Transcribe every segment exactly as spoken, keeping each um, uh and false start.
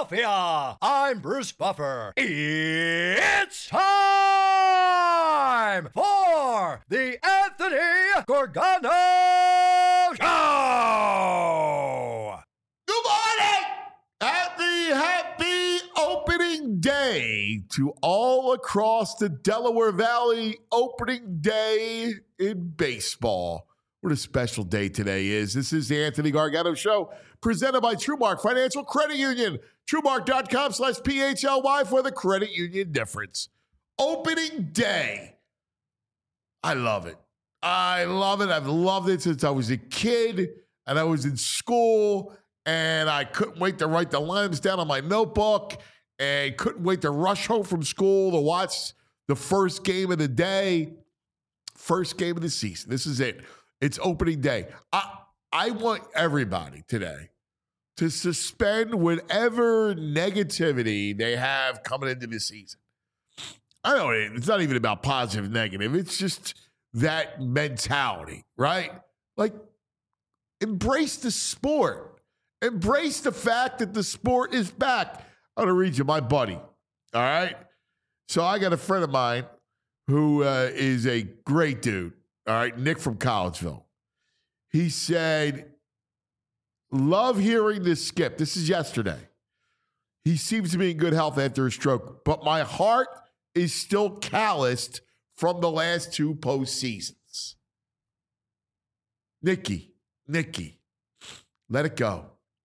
Philadelphia. I'm Bruce Buffer. It's time for the Anthony Gargano Show. Good morning! Happy, happy opening day to all across the Delaware Valley. Opening day in baseball. What a special day today is. This is the Anthony Gargano Show, presented by TrueMark Financial Credit Union. TrueMark.com slash P-H-L-Y for the credit union difference. Opening day. I love it. I love it. I've loved it since I was a kid and I was in school and I couldn't wait to write the lines down on my notebook and couldn't wait to rush home from school to watch the first game of the day, first game of the season. This is it. It's opening day. I, I want everybody today to suspend whatever negativity they have coming into the season. I know it's not even about positive, negative. It's just that mentality, right? Like, embrace the sport. Embrace the fact that the sport is back. I'm going to read you my buddy, all right? So I got a friend of mine who uh, is a great dude. All right, Nick from Collegeville. He said, love hearing this skip. This is yesterday. He seems to be in good health after a stroke, but my heart is still calloused from the last two postseasons. Nicky, Nicky, let it go.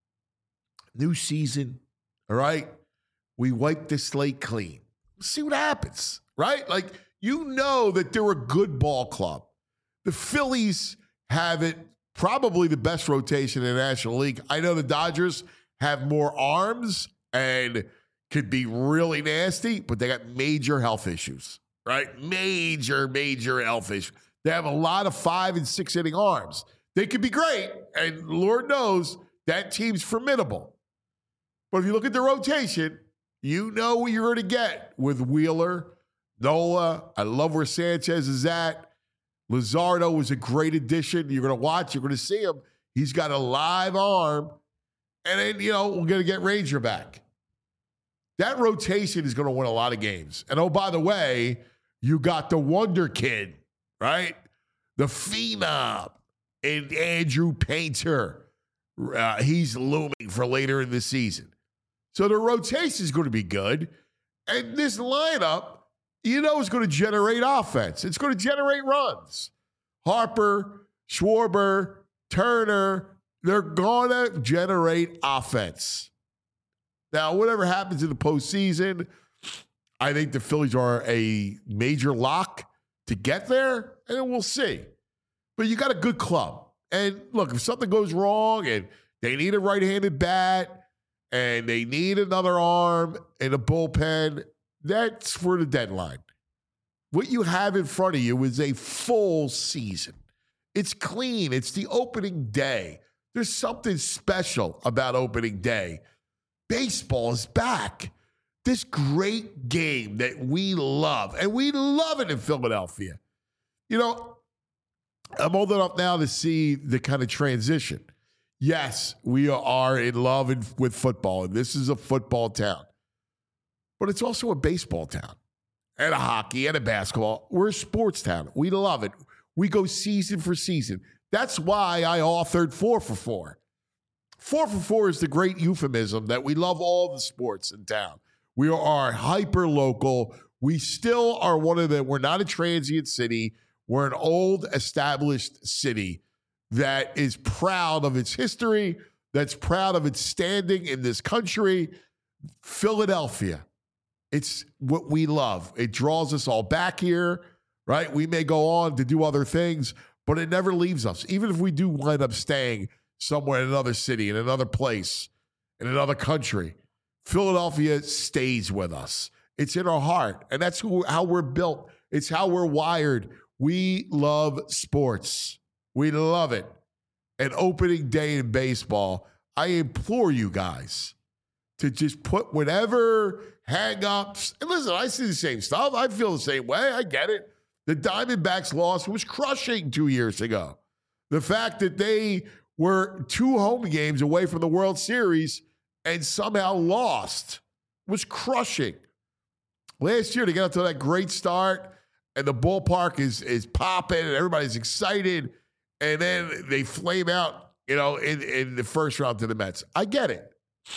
New season, all right? We wipe the slate clean. We'll see what happens, right? Like, you know that they're a good ball club. The Phillies have it, probably the best rotation in the National League. I know the Dodgers have more arms and could be really nasty, but they got major health issues, right? Major, major health issues. They have a lot of five and six inning arms. They could be great, and Lord knows that team's formidable. But if you look at the rotation, you know what you're going to get with Wheeler, Nola. I love where Sanchez is at. Luzardo was a great addition. You're going to watch. You're going to see him. He's got a live arm. And then, you know, we're going to get Ranger back. That rotation is going to win a lot of games. And, oh, by the way, you got the Wonder Kid, right? The Phenom and Andrew Painter. Uh, he's looming for later in the season. So the rotation is going to be good. And this lineup, you know, it's going to generate offense. It's going to generate runs. Harper, Schwarber, Turner, they're going to generate offense. Now, whatever happens in the postseason, I think the Phillies are a major lock to get there, and we'll see. But you got a good club. And look, if something goes wrong and they need a right-handed bat and they need another arm in a bullpen, that's for the deadline. What you have in front of you is a full season. It's clean. It's the opening day. There's something special about opening day. Baseball is back. This great game that we love, and we love it in Philadelphia. You know, I'm old enough now to see the kind of transition. Yes, we are in love with football, and this is a football town. But it's also a baseball town and a hockey and a basketball. We're a sports town. We love it. We go season for season. That's why I authored Four for Four. Four for Four is the great euphemism that we love all the sports in town. We are hyper local. We still are one of the, we're not a transient city. We're an old established city that is proud of its history, that's proud of its standing in this country. Philadelphia. It's what we love. It draws us all back here, right? We may go on to do other things, but it never leaves us. Even if we do wind up staying somewhere in another city, in another place, in another country, Philadelphia stays with us. It's in our heart, and that's who, how we're built. It's how we're wired. We love sports. We love it. And opening day in baseball, I implore you guys to just put whatever hang-ups. And listen, I see the same stuff. I feel the same way. I get it. The Diamondbacks loss was crushing two years ago. The fact that they were two home games away from the World Series and somehow lost. It was crushing. Last year, they got off to that great start, and the ballpark is is popping, and everybody's excited, and then they flame out, you know, in, in the first round to the Mets. I get it.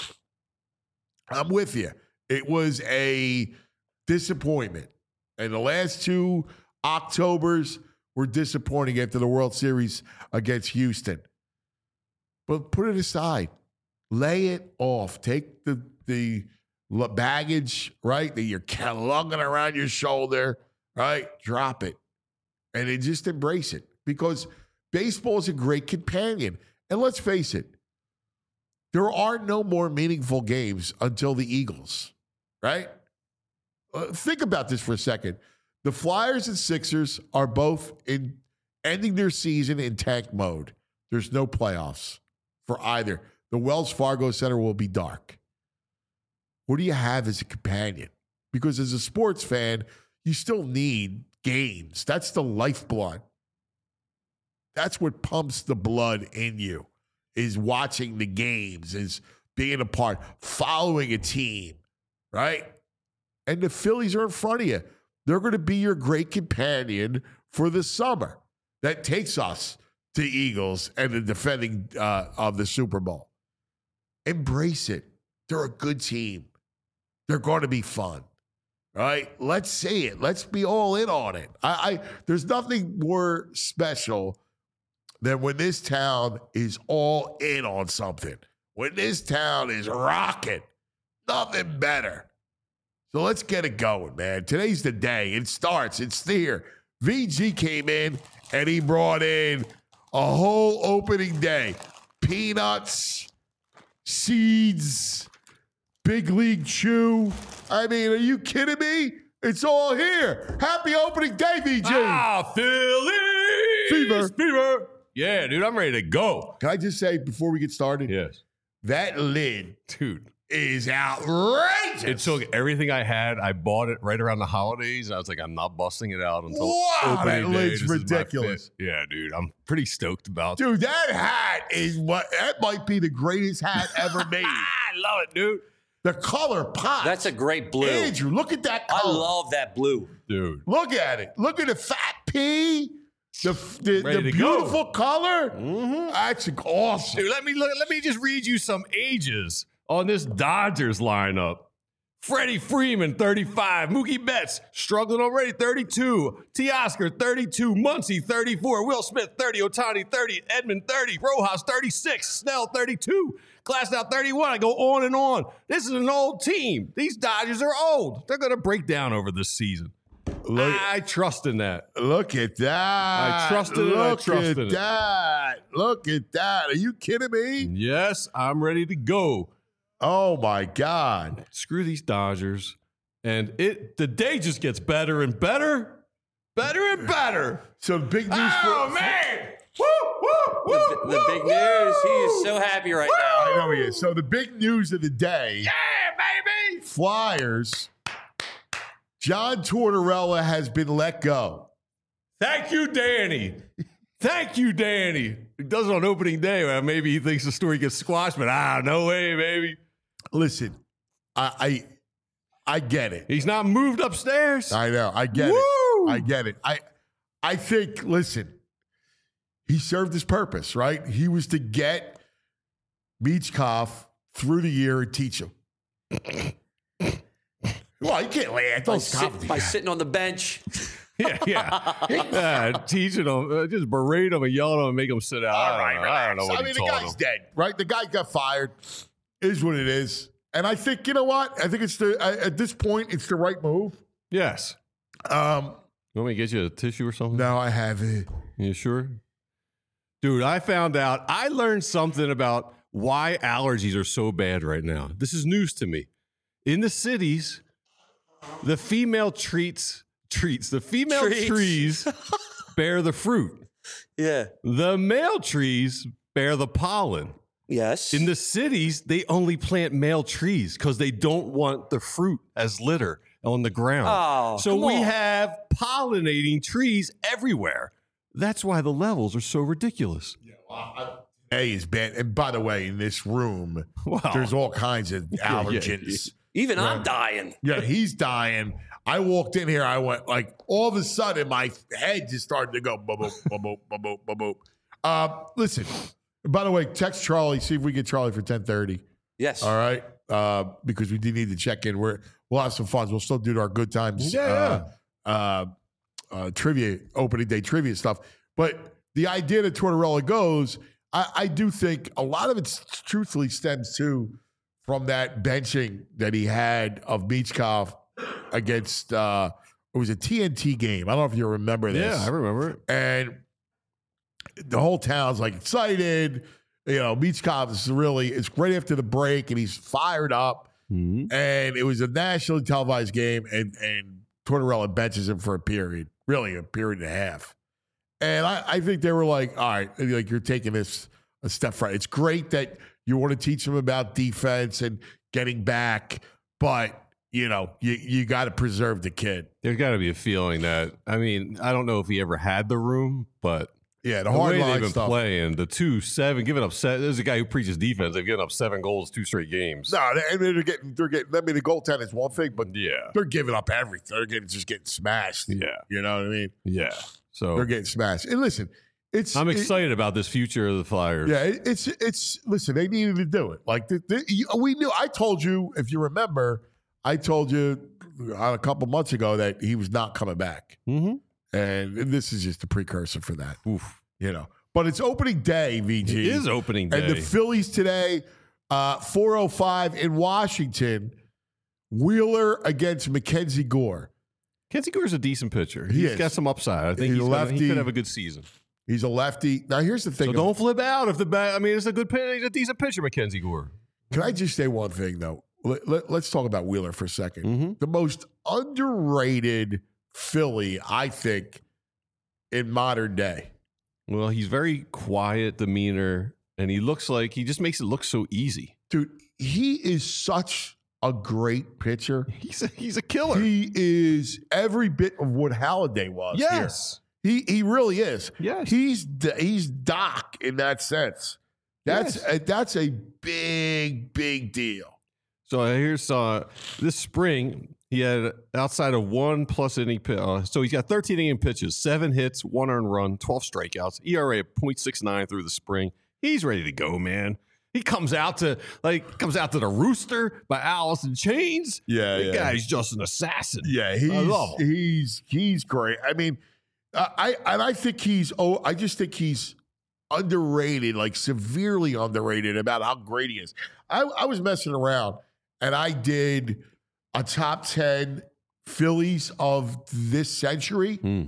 I'm with you. It was a disappointment. And the last two Octobers were disappointing after the World Series against Houston. But put it aside. Lay it off. Take the the baggage, right, that you're lugging around your shoulder, right? Drop it. And then just embrace it. Because baseball is a great companion. And let's face it, there are no more meaningful games until the Eagles, right? Uh, think about this for a second. The Flyers and Sixers are both in ending their season in tank mode. There's no playoffs for either. The Wells Fargo Center will be dark. What do you have as a companion? Because as a sports fan, you still need games. That's the lifeblood. That's what pumps the blood in you, is watching the games, is being a part, following a team, right? And the Phillies are in front of you. They're going to be your great companion for the summer. That takes us to Eagles and the defending uh, of the Super Bowl. Embrace it. They're a good team. They're going to be fun, right? Let's see it. Let's be all in on it. I, I there's nothing more special than when this town is all in on something. When this town is rocking, nothing better. So let's get it going, man. Today's the day. It starts. It's here. V G came in, and he brought in a whole opening day. Peanuts, seeds, Big League Chew. I mean, are you kidding me? It's all here. Happy opening day, V G. Ah, Philly Fever. Fever. Yeah, dude, I'm ready to go. Can I just say before we get started? Yes. That lid, Dude, is outrageous. it took everything I had. I bought it right around the holidays. And I was like, I'm not busting it out until Wow, opening that day. lid's This is my ridiculous. fit. Yeah, dude, I'm pretty stoked about it. Dude, that hat is what, that might be the greatest hat ever made. I love it, dude. The color pops. That's a great blue. Andrew, look at that I color. love that blue. Dude. Look at it. Look at the fat pea. The, the, Ready the to go. beautiful color. Mm-hmm. That's awesome. Dude, let me look, let me just read you some ages on this Dodgers lineup. Freddie Freeman, thirty-five. Mookie Betts, struggling already, thirty-two. Teoscar, thirty-two. Muncy, thirty-four. Will Smith, thirty. Ohtani, thirty. Edmund, thirty. Rojas, thirty-six. Snell, thirty-two. Glasnow, thirty-one. I go on and on. This is an old team. These Dodgers are old. They're going to break down over this season. Look, I trust in that. look at that. I trusted it, I Look trusted at it. that. Look at that. Are you kidding me? Yes, I'm ready to go. Oh, my God. Screw these Dodgers. And it the day just gets better and better. Better and better. So big news Oh, for... man. Woo, woo, woo, The, the woo, big woo. news. He is so happy right now. I know he is. So the big news of the day, Yeah, baby. Flyers, John Tortorella has been let go. Thank you, Danny. Thank you, Danny. He does it on opening day. Well, maybe he thinks the story gets squashed, but ah, no way, baby. Listen, I I, I get it. He's not moved upstairs. I know. I get Woo! it. I get it. I I think, listen, he served his purpose, right? He was to get Michkov through the year and teach him. Well, you can't laugh. By, Don't sit, stop. by sitting on the bench. Yeah, yeah. yeah teaching him, uh, just berate him and yell at him and make him sit out. All I right, don't know. I don't know relax. what I he mean, the taught guy's him. dead, right? The guy got fired. Is what it is. And I think, you know what? I think it's the, I- at this point, it's the right move. Yes. Um, You want me to get you a tissue or something? now I have it. You sure? Dude, I found out, I learned something about why allergies are so bad right now. This is news to me. In the cities, the female treats, treats, the female Treats. trees bear the fruit. Yeah. The male trees bear the pollen. Yes. In the cities, they only plant male trees because they don't want the fruit as litter on the ground. Oh, so come we on. have pollinating trees everywhere. That's why the levels are so ridiculous. Yeah, well, I, A is bad. And by the way, in this room, Wow. there's all kinds of Yeah, yeah, allergens. Even I'm Right. dying. Yeah, he's dying. I walked in here. I went like all of a sudden my head just started to go boop boop boop boop boop boop boop boop. Uh, listen. By the way, text Charlie. See if we get Charlie for ten thirty. Yes. All right, uh, because we do need to check in. We're we'll have some fun. We'll still do our good times. Yeah, Uh, uh, uh, trivia, opening day trivia stuff. But the idea that Tortorella goes, I, I do think a lot of it truthfully stems too from that benching that he had of Michkov against uh it was a T N T game. I don't know if you remember this. Yeah, I remember it. And the whole town's like excited. You know, Michkov is really it's right after the break and he's fired up. Mm-hmm. And it was a nationally televised game, and and Tortorella benches him for a period, really a period and a half. And I, I think they were like, all right, like you're taking this a step further. It's great that you want to teach them about defense and getting back, but you know, you, you got to preserve the kid. There's got to be a feeling that, I mean, I don't know if he ever had the room, but Yeah, the, the hard way line they've been stuff. playing, the two seven, giving up seven. There's a guy who preaches defense. They've given up seven goals, two straight games. No, they, I mean, they're getting, they're getting. I mean, the goaltending is one thing, but Yeah, they're giving up everything. They're getting just getting smashed. yeah, You know what I mean? yeah. So They're getting smashed. And listen, it's I'm it- excited about this future of the Flyers. Yeah, it, it's it's. Listen, they needed to do it. Like the, the, you, we knew. I told you, if you remember, I told you uh, a couple months ago that he was not coming back, Mm-hmm. and this is just a precursor for that. Oof. You know, but it's opening day, V G. It is opening day. and the Phillies today, uh, four oh five in Washington. Wheeler against Mackenzie Gore. Kenzie Gore's a decent pitcher. He He's is. got some upside. I think He's he's gonna, he lefty. could have a good season. He's a lefty. Now, here's the thing. So don't flip out if the bat. I mean, it's a good pitcher. He's a decent pitcher, Mackenzie Gore. Can I just say one thing, though? Let, let, let's talk about Wheeler for a second. Mm-hmm. The most underrated Philly, I think, in modern day. Well, he's very quiet demeanor, and he looks like he just makes it look so easy. Dude, he is such a great pitcher. He's a, he's a killer. He is every bit of what Halladay was. here. yes. He he really is. Yes. He's D- he's Doc in that sense. That's Yes. a, that's a big big deal. So here's uh, this spring. He had outside of one plus inning. pi- Uh, so he's got thirteen inning pitches, seven hits, one earned run, twelve strikeouts, E R A of point six nine through the spring. He's ready to go, man. He comes out to like comes out to the Rooster by Alice in Chains. Yeah, the guy's just an assassin. Yeah, he's love him. he's he's great. I mean, I, I and I think he's oh, I just think he's underrated, like severely underrated about how great he is. I, I was messing around and I did a top ten Phillies of this century. Hmm.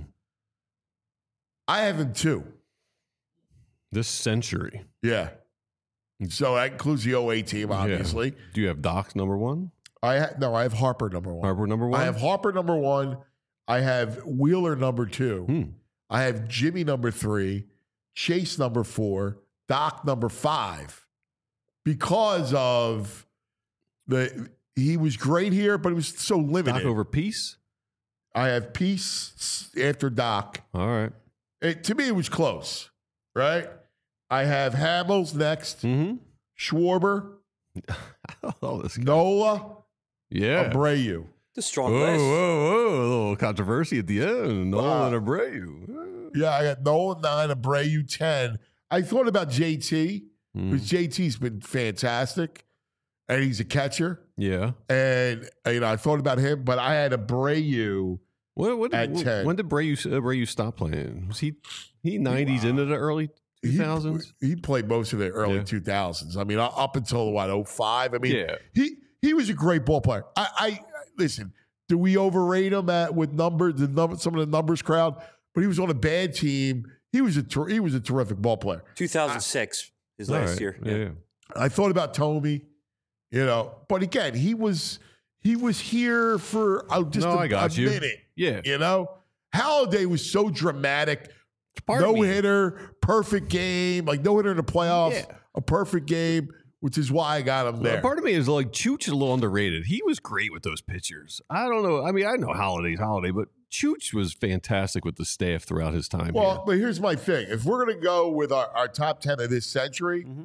I have him too. This century. Yeah. So that includes the oh eight team, obviously. Yeah. Do you have Doc's number one? I ha- no, I have Harper number one. Harper number one? I have Harper number one. I have Wheeler number two. Hmm. I have Jimmy number three, Chase number four, Doc number five, because of the he was great here, but it was so limited. Doc over Peace? I have Peace after Doc. All right. It, to me, it was close, right? I have Hamels next, Mm-hmm. Schwarber, oh, this guy. Nola, Yeah. Abreu. The strong Whoa, whoa, list. whoa. A little controversy at the end. Wow. Nolan Abreu. Yeah, I got Nola nine, Abreu ten. I thought about J T Mm. because J T's been fantastic, and he's a catcher. Yeah. And you know, I thought about him, but I had Abreu. What, what, At when, ten. when did Abreu, Abreu stop playing? Was he he nineties into the early two thousands? He, he played most of the early Yeah. two thousands. I mean, up until what oh five. I mean, Yeah. he he was a great ball player. I, I listen. Do we overrate him at with numbers? The number, some of the numbers crowd, but he was on a bad team. He was a ter- he was a terrific ball player. two thousand six, his All last right. year. Yeah. yeah. I thought about Tomey, you know, but again, he was he was here for uh, just No, a, I got a you. minute. Yeah. You know, Halladay was so dramatic. Part of No me. hitter, perfect game, like no hitter in the playoffs, Yeah. a perfect game. which is why I got him Well, there. part of me is like Chooch is a little underrated. He was great with those pitchers. I don't know. I mean, I know Holiday's Holiday, but Chooch was fantastic with the staff throughout his time Well, here. but here's my thing. If we're going to go with our, our top ten of this century, Mm-hmm.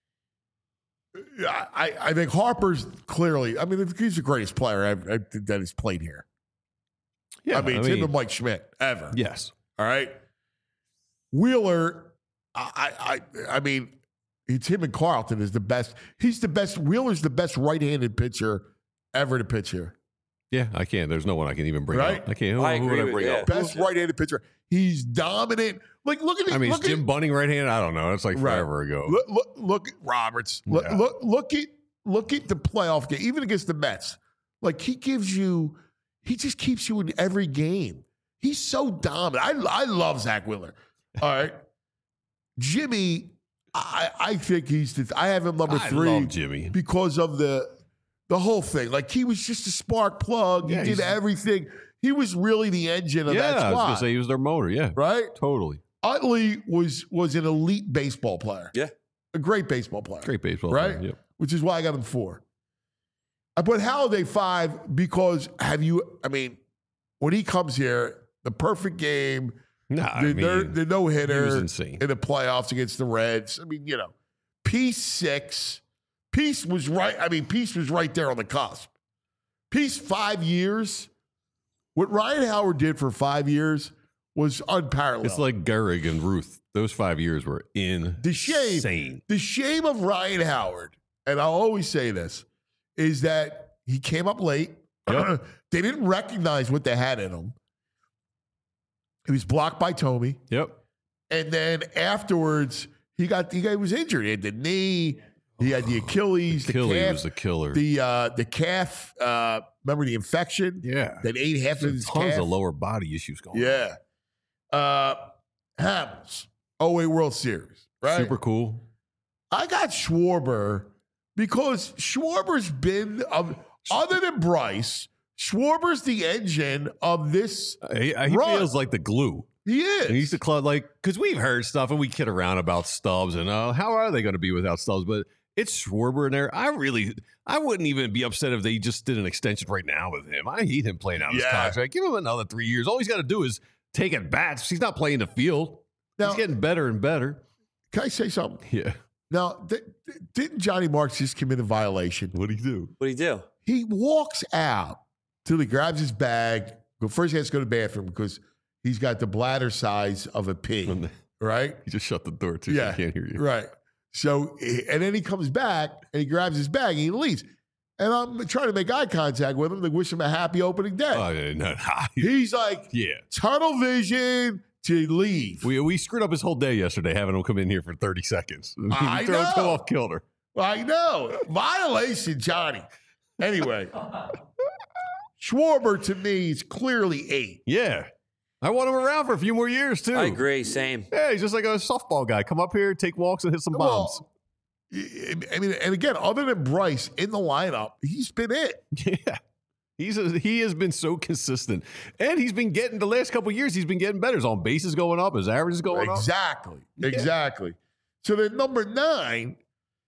I, I think Harper's clearly, I mean, he's the greatest player I've, I, that has played here. Yeah, I mean, it's him and Mike Schmidt ever. yes. All right. Wheeler, I, I, I mean, it's him and Carlton is the best. He's the best. Wheeler's the best right-handed pitcher ever to pitch here. Yeah, I can't. There's no one I can even bring Right? up. I can't. Who, I who agree would I with bring you. up? Best right-handed pitcher. He's dominant. Like, look at it. I mean, is look at Jim Bunning right-handed? I don't know. It's like Right. forever ago. Look, look, look at Roberts. Look, Yeah. look, look at look at the playoff game, even against the Mets. Like he gives you, he just keeps you in every game. He's so dominant. I I love Zach Wheeler. All right, Jimmy. I I think he's. The, I have him number I three love Jimmy. because of the the whole thing. Like he was just a spark plug. Yeah, he did he's- everything. He was really the engine of Yeah, that I was squad. gonna say he was their motor. Yeah, Right? totally. Utley was was an elite baseball player. Yeah. A great baseball player. Great baseball, Right? player. Yep. Which is why I got him four. I put Halladay five because have you, I mean, when he comes here, the perfect game, Nah, the, I ner- mean, the no he was hitter insane. in the playoffs against the Reds. I mean, you know, Peace six. Peace was right. I mean, Peace was right there on the cusp. Peace five years. What Ryan Howard did for five years was unparalleled. It's like Gehrig and Ruth. Those five years were The shame, insane. the shame of Ryan Howard, and I'll always say this, is that he came up late. Yep. They didn't recognize what they had in him. He was blocked by Tomey, Yep. and then afterwards he got he, got, he was injured. He had the knee, he had the Achilles, the Achilles calf, was a killer. the uh, the calf. Uh, remember the infection yeah. that ate half of his Tons calf. of lower body issues going on. Yeah. Uh, Hamels, oh eight World Series, right? Super cool. I got Schwarber because Schwarber's been, um, other than Bryce, Schwarber's the engine of this. Uh, He, he Run. feels like the glue. He is. And he's the club, like, because we've heard stuff and we kid around about Stubbs and uh, how are they going to be without Stubbs? But it's Schwarber in there. I really, I wouldn't even be upset if they just did an extension right now with him. I hate him playing out his Yeah. contract. Give him another three years. All he's got to do is take at bats. He's not playing the field. Now- he's getting better and better. Can I say something? Yeah. Now, th- th- didn't Johnny Marks just commit a violation? What do you do? What do you do? He walks out till he grabs his bag. But first, he has to go to the bathroom because he's got the bladder size of a pig, right? He just shut the door too. Yeah. So I can't hear you. Right. So, and then he comes back and he grabs his bag and he leaves. And I'm trying to make eye contact with him to wish him a happy opening day. Oh, yeah, no, He's like, yeah. tunnel vision to leave. We we screwed up his whole day yesterday having him come in here for thirty seconds. I Throw him know. off kilter. I know. Violation, Johnny. Anyway, Schwarber to me is clearly eight. Yeah. I want him around for a few more years too. I agree. Same. Yeah, he's just like a softball guy. Come up here, take walks, and hit some bombs. Well, I mean, and again, other than Bryce in the lineup, he's been it. Yeah. He's a, he has been so consistent. And he's been getting the last couple of years, he's been getting better. His on bases going up, his average is going up. Exactly. Exactly. So then number nine,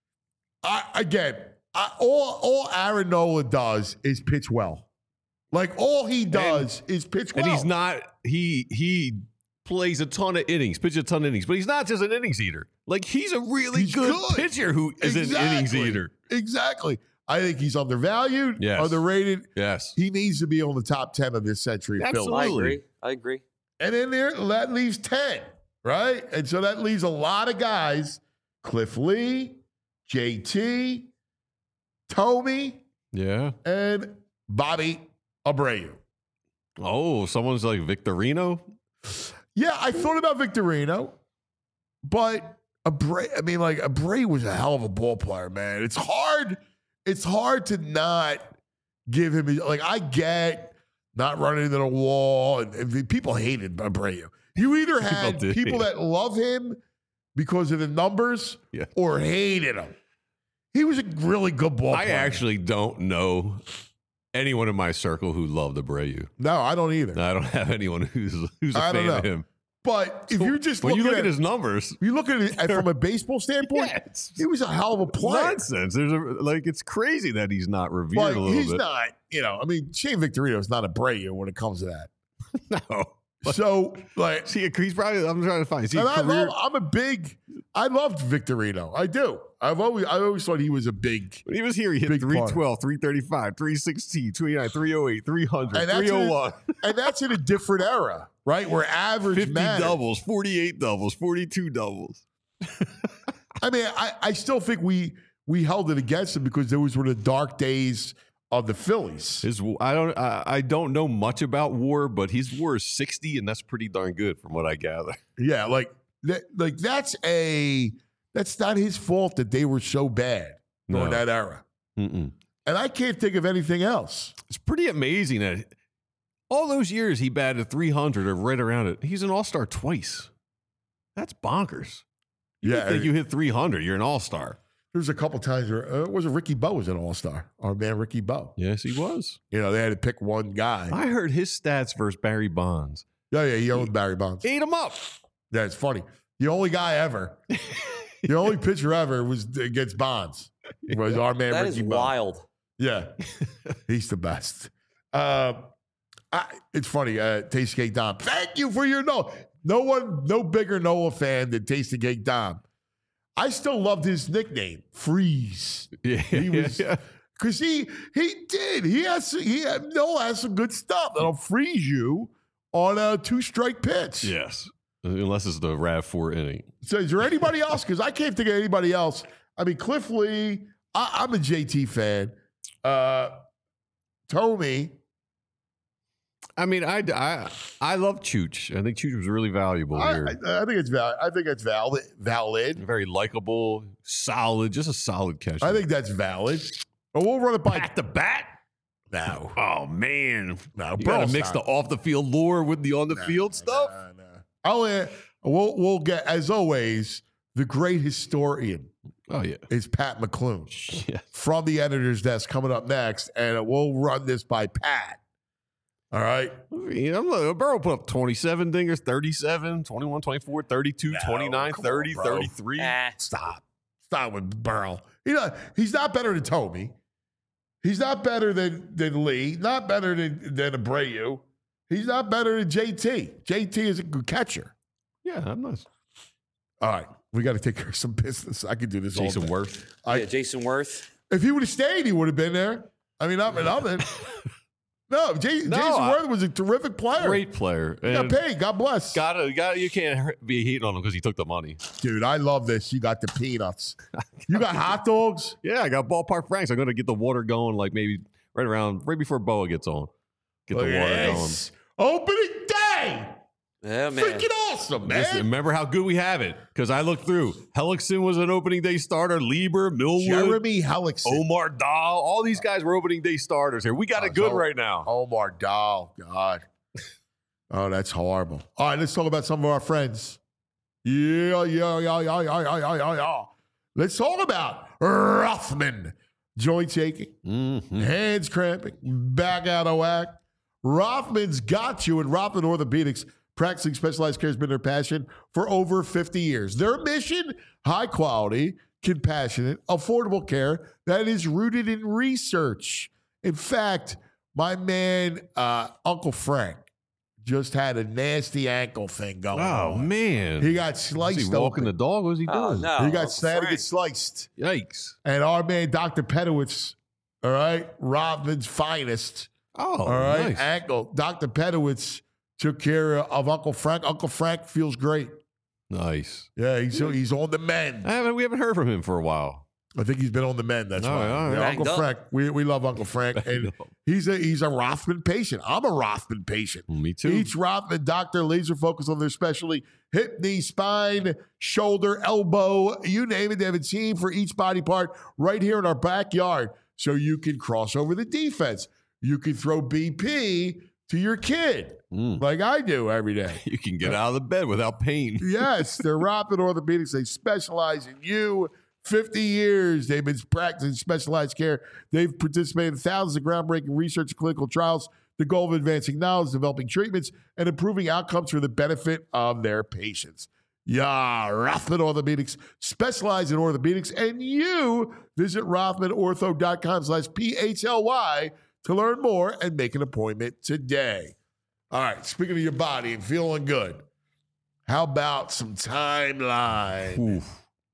I, again, I, all all Aaron Nola does is pitch well. Like all he does is pitch well. And he's not he he plays a ton of innings, pitches a ton of innings, but he's not just an innings eater. Like he's a really He's good, good. pitcher who is an innings Exactly. eater. Exactly. I think he's undervalued, Yes. underrated. Yes. He needs to be on the top ten of this century. Philly. Absolutely. I agree. I agree. And then there, that leaves ten, right? And so that leaves a lot of guys: Cliff Lee, J T, Tomey, Yeah. and Bobby Abreu. Oh, someone's like Victorino. Yeah, I thought about Victorino, but Abreu, I mean, like Abreu was a hell of a ball player, man. It's hard. It's hard to not give him. Like I get not running into the wall, and, and people hated Abreu. You either had did. people that love him because of the numbers, Yeah. or hated him. He was a really good ball I player. actually don't know anyone in my circle who loved Abreu. no, I don't either. I don't have anyone who's who's a I don't fan of know. him. But if you're just when looking you look at, at his numbers, you look at it from a baseball standpoint, yeah, it's he was a hell of a player. nonsense. There's a like it's crazy that he's not revered But a little he's bit. not, you know, I mean, Shane Victorino is not a Abreu when it comes to that. No. So, like, See, he's probably. I'm trying to find. Is he a and I career? love, I'm a big, I loved Victorino. I do. I've always, I always thought he was a big, When he was here, he hit Big three part. twelve, three thirty-five, three sixteen, two eighty-nine, three oh eight, three hundred, And that's three oh one, and that's in a different era, right? Where average fifty matters. doubles, forty-eight doubles, forty-two doubles. I mean, I, I still think we we held it against him because those were the dark days of the Phillies. His, I don't, I, I don't know much about WAR, but his WAR is sixty, and that's pretty darn good from what I gather. Yeah, like that, like that's a that's not his fault that they were so bad during No. that era. Mm-mm. And I can't think of anything else. It's pretty amazing that all those years he batted three hundred or right around it. He's an all-star twice. That's bonkers. You Yeah, think you hit three hundred, you're an all-star. There's a couple times where uh, it was a Ricky Bowe was an all star. Our man Ricky Bowe. Yes, he was. You know, they had to pick one guy. I heard his stats versus Barry Bonds. Yeah, yeah, he owned Barry Bonds. Ate him up. Yeah, it's funny. The only guy ever, the only pitcher ever was against Bonds. Was our man That Ricky is Bowe. wild. Yeah, he's the best. Uh, I, it's funny. Uh, Tasty Cake Dom. Thank you for your no. No one, no bigger Noah fan than Tasty Cake Dom. I still loved his nickname, Freeze. Yeah, He was yeah. because he he did. He has he had, Noah has some good stuff that'll freeze you on a two strike pitch. Yes, unless it's the Rav four inning. So is there anybody else? Because I can't think of anybody else. I mean, Cliff Lee. I, I'm a J T fan. Uh, Tommy. I mean, I, I, I love Chooch. I think Chooch was really valuable I, here. I, I think it's valid. I think it's valid. Valid. Very likable, solid, just a solid catcher. I think that's valid. But we'll run it by Back to bat. now. Oh man, No, you got Burl's to mix not. the off the field lore with the on the field stuff. Nah, nah. I'll, uh, we'll we'll get as always. The great historian Oh yeah, is Pat McClune yeah. from the editor's desk coming up next, and we'll run this by Pat. All right. I mean, I'm like, Burrow put up twenty-seven dingers, thirty-seven, twenty-one, twenty-four, thirty-two, No, twenty-nine, come on, thirty, bro. thirty-three. Ah, Stop. Stop with Burl. You know, he's not better than Tomey. He's not better than, than Lee. Not better than, than Abreu. He's not better than J T. J T is a good catcher. Yeah, I'm not. All right. We got to take care of some business. I could do this Jason all day. Worth. I, yeah, Jason Worth. If he would have stayed, he would have been there. I mean, I'm nothing. No, J- No, Jason I- Worth was a terrific player. Great player. He got And paid. God bless. gotta, gotta, you can't hurt- be hating on him because he took the money. Dude, I love this. You got the peanuts. You got hot dogs? Yeah, I got ballpark Franks. I'm gonna get the water going, like maybe right around right before Boa gets on. Get the Look water at going. this. Opening day. Yeah, man. Freaking awesome, man. Listen, remember how good we have it? Because I looked through. Hellickson was an opening day starter. Lieber, Millwood, Jeremy Hellickson. Omar Dahl. All these guys were opening day starters here. We got it good Oh, right now. Omar Dahl. God. Oh, that's horrible. All right, let's talk about some of our friends. Yeah, yeah, yeah, yeah, yeah, yeah, yeah, yeah, yeah. Let's talk about Rothman. Joints aching, Mhm. hands cramping, back out of whack. Rothman's got you, and Rothman Orthopedics, practicing specialized care has been their passion for over fifty years. Their mission, high quality, compassionate, affordable care that is rooted in research. In fact, my man, uh, Uncle Frank, just had a nasty ankle thing going Oh on. man, He got was sliced he walking open. the dog? What was he doing? Oh, no. He got Uncle sad to Frank. get sliced. Yikes! And our man, Doctor Pedowitz, all right, Rothman's finest, Oh, all right, nice. ankle. Doctor Pedowitz took care of Uncle Frank. Uncle Frank feels great. Nice. Yeah, he's he's on the mend. I haven't. We haven't heard from him for a while. I think he's been on the mend. That's All why. right, all right. Yeah, Banged Uncle up. Frank. We we love Uncle Frank, and Banged up. he's a he's a Rothman patient. I'm a Rothman patient. Me too. Each Rothman doctor laser focused on their specialty: hip, knee, spine, shoulder, elbow, you name it. They have a team for each body part right here in our backyard, so you can cross over the defense. You can throw B P to your kid Mm. like I do every day. You can get out of the bed without pain. Yes, they're Rothman Orthopedics. They specialize in you. fifty years they've been practicing specialized care. They've participated in thousands of groundbreaking research and clinical trials. The goal of advancing knowledge, developing treatments, and improving outcomes for the benefit of their patients. Yeah, Rothman Orthopedics, specialize in orthopedics, and you visit rothman ortho dot com slash P H L Y to learn more and make an appointment today. All right, speaking of your body and feeling good, how about some timeline? Oof.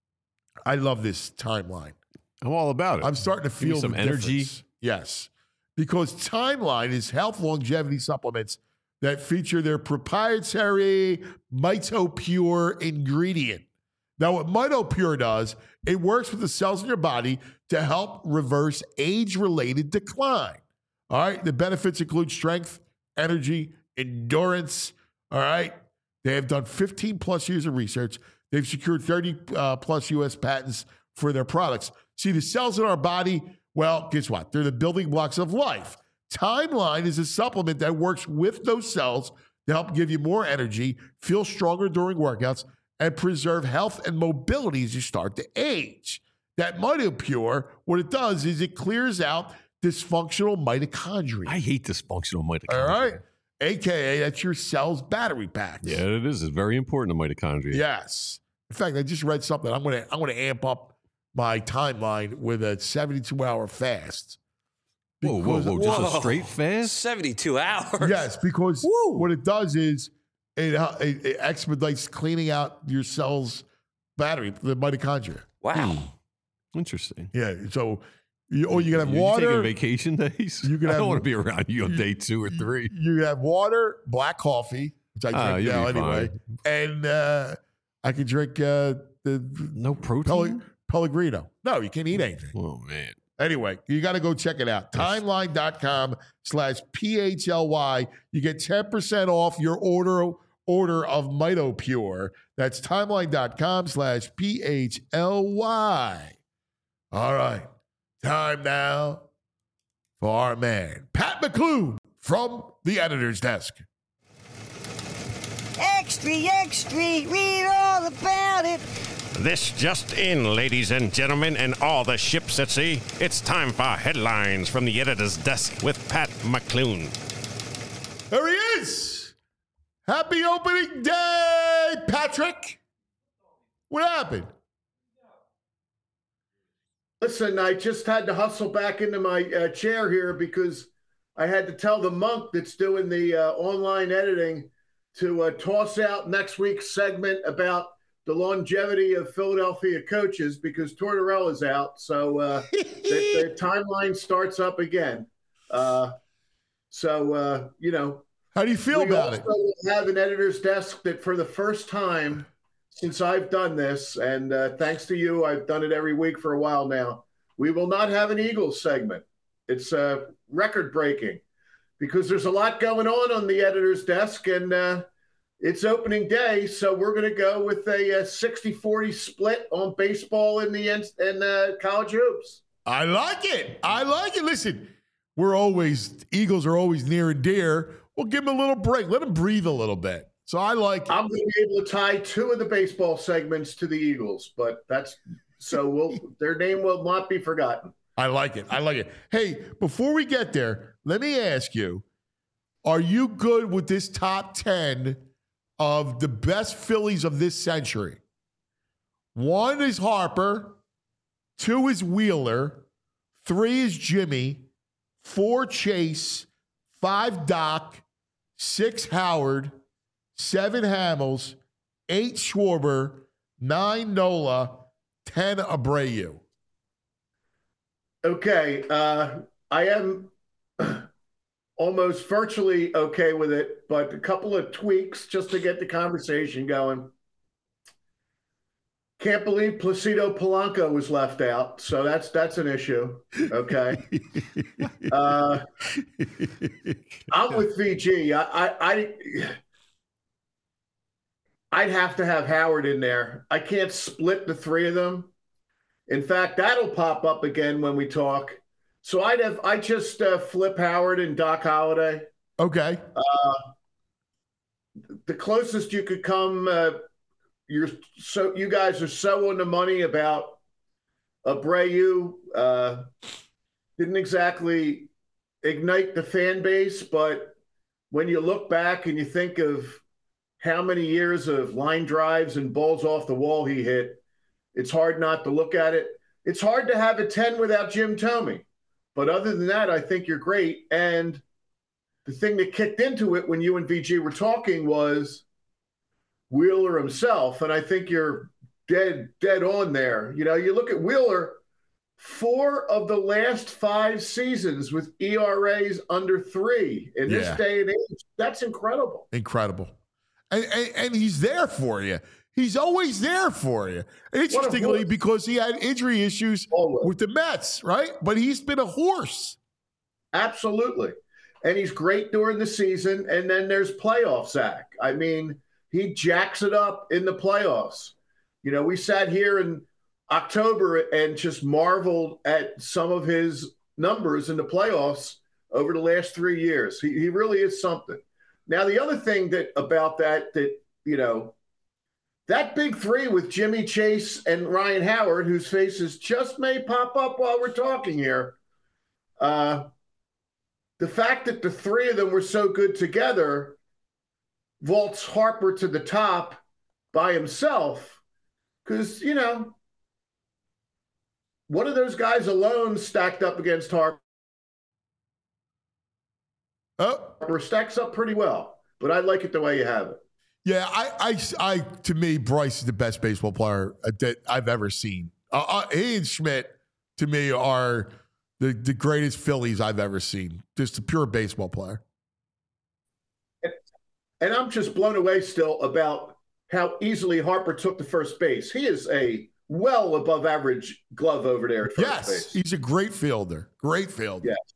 I love this timeline. I'm all about it. I'm starting to Give me feel some the energy. difference. Yes, because Timeline is health longevity supplements that feature their proprietary MitoPure ingredient. Now, what MitoPure does, it works with the cells in your body to help reverse age-related decline. All right, the benefits include strength, energy, endurance. All right, they have done fifteen plus years of research. They've secured thirty uh, plus U S patents for their products. See, the cells in our body, well, guess what? They're the building blocks of life. Timeline is a supplement that works with those cells to help give you more energy, feel stronger during workouts, and preserve health and mobility as you start to age. That MitoPure, what it does is it clears out dysfunctional mitochondria. I hate dysfunctional mitochondria. All right? A K A that's your cell's battery packs. Yeah, it is. It's very important to mitochondria. Yes. In fact, I just read something. I'm gonna I'm gonna amp up my timeline with a seventy-two hour fast. Whoa, whoa, Because- whoa. Just Whoa. a straight fast? seventy-two hours. Yes, because Woo. what it does is it, uh, it, it expedites cleaning out your cell's battery, the mitochondria. Wow. Interesting. Yeah, so you, or you can have You water. taking vacation days? You can I have- don't want to be around you on day two or three. You can have water, black coffee, which I Ah, drink you'll now be anyway, and uh, I can drink uh, the No protein? Pele- Pellegrino. No, you can't eat anything. Oh, man. Anyway, you got to go check it out. Timeline.com slash P H L Y. You get ten percent off your order order of MitoPure. That's timeline.com slash P H L Y. All right. Time now for our man, Pat McClune from the editor's desk. Extra, extra, read all about it. This just in, ladies and gentlemen, and all the ships at sea. It's time for headlines from the editor's desk with Pat McClune. There he is. Happy opening day, Patrick. What happened? Listen, I just had to hustle back into my uh, chair here because I had to tell the monk that's doing the uh, online editing to uh, toss out next week's segment about the longevity of Philadelphia coaches because Tortorella's out. So uh, the, the timeline starts up again. Uh, so, uh, you know. How do you feel we about it? also have an editor's desk that for the first time since I've done this, and uh, thanks to you, I've done it every week for a while now, we will not have an Eagles segment. It's uh, record breaking because there's a lot going on on the editor's desk, and uh, it's opening day, so we're going to go with a, a sixty forty split on baseball in the end and uh, college hoops. I like it. I like it. Listen, we're always, Eagles are always near and dear. We'll give them a little break. Let them breathe a little bit. So I like it. I'm going to be able to tie two of the baseball segments to the Eagles, but that's so we'll their name will not be forgotten. I like it. I like it. Hey, before we get there, let me ask you, are you good with this top ten of the best Phillies of this century? One is Harper, two is Wheeler, three is Jimmy, four Chase, five Doc, six Howard, seven Hamels, eight Schwarber, nine Nola, ten Abreu. Okay, uh, I am almost virtually okay with it, but a couple of tweaks just to get the conversation going. Can't believe Placido Polanco was left out, so that's that's an issue. Okay, uh, I'm with V G. I, I, I I'd have to have Howard in there. I can't split the three of them. In fact, that'll pop up again when we talk. So I'd have I just uh, flip Howard and Doc Holliday. Okay. Uh, the closest you could come. Uh, you're so you guys are so on the money about Abreu uh, didn't exactly ignite the fan base, but when you look back and you think of how many years of line drives and balls off the wall he hit, it's hard not to look at it. It's hard to have a ten without Jim Thome. But other than that, I think you're great. And the thing that kicked into it when you and V G were talking was Wheeler himself. And I think you're dead, dead on there. You know, you look at Wheeler, four of the last five seasons with E R As under three in this Yeah. day and age. That's incredible. Incredible. And, and, and he's there for you. He's always there for you. Interestingly, horse. because he had injury issues Always. with the Mets, right? But he's been a horse. Absolutely. And he's great during the season. And then there's playoff Zach. I mean, he jacks it up in the playoffs. You know, we sat here in October and just marveled at some of his numbers in the playoffs over the last three years. He, he really is something. Now, the other thing that about that, that, you know, that big three with Jimmy Chase and Ryan Howard, whose faces just may pop up while we're talking here, uh, the fact that the three of them were so good together vaults Harper to the top by himself because, you know, one of those guys alone stacked up against Harper Oh, stacks up pretty well, but I like it the way you have it. yeah. I, I, I, to me, Bryce is the best baseball player that I've ever seen. Uh, uh, he and Schmidt, to me, are the, the greatest Phillies I've ever seen. Just a pure baseball player. And I'm just blown away still about how easily Harper took the first base. He is a well above average glove over there at first Yes, base. he's a great fielder. Great fielder. Yes.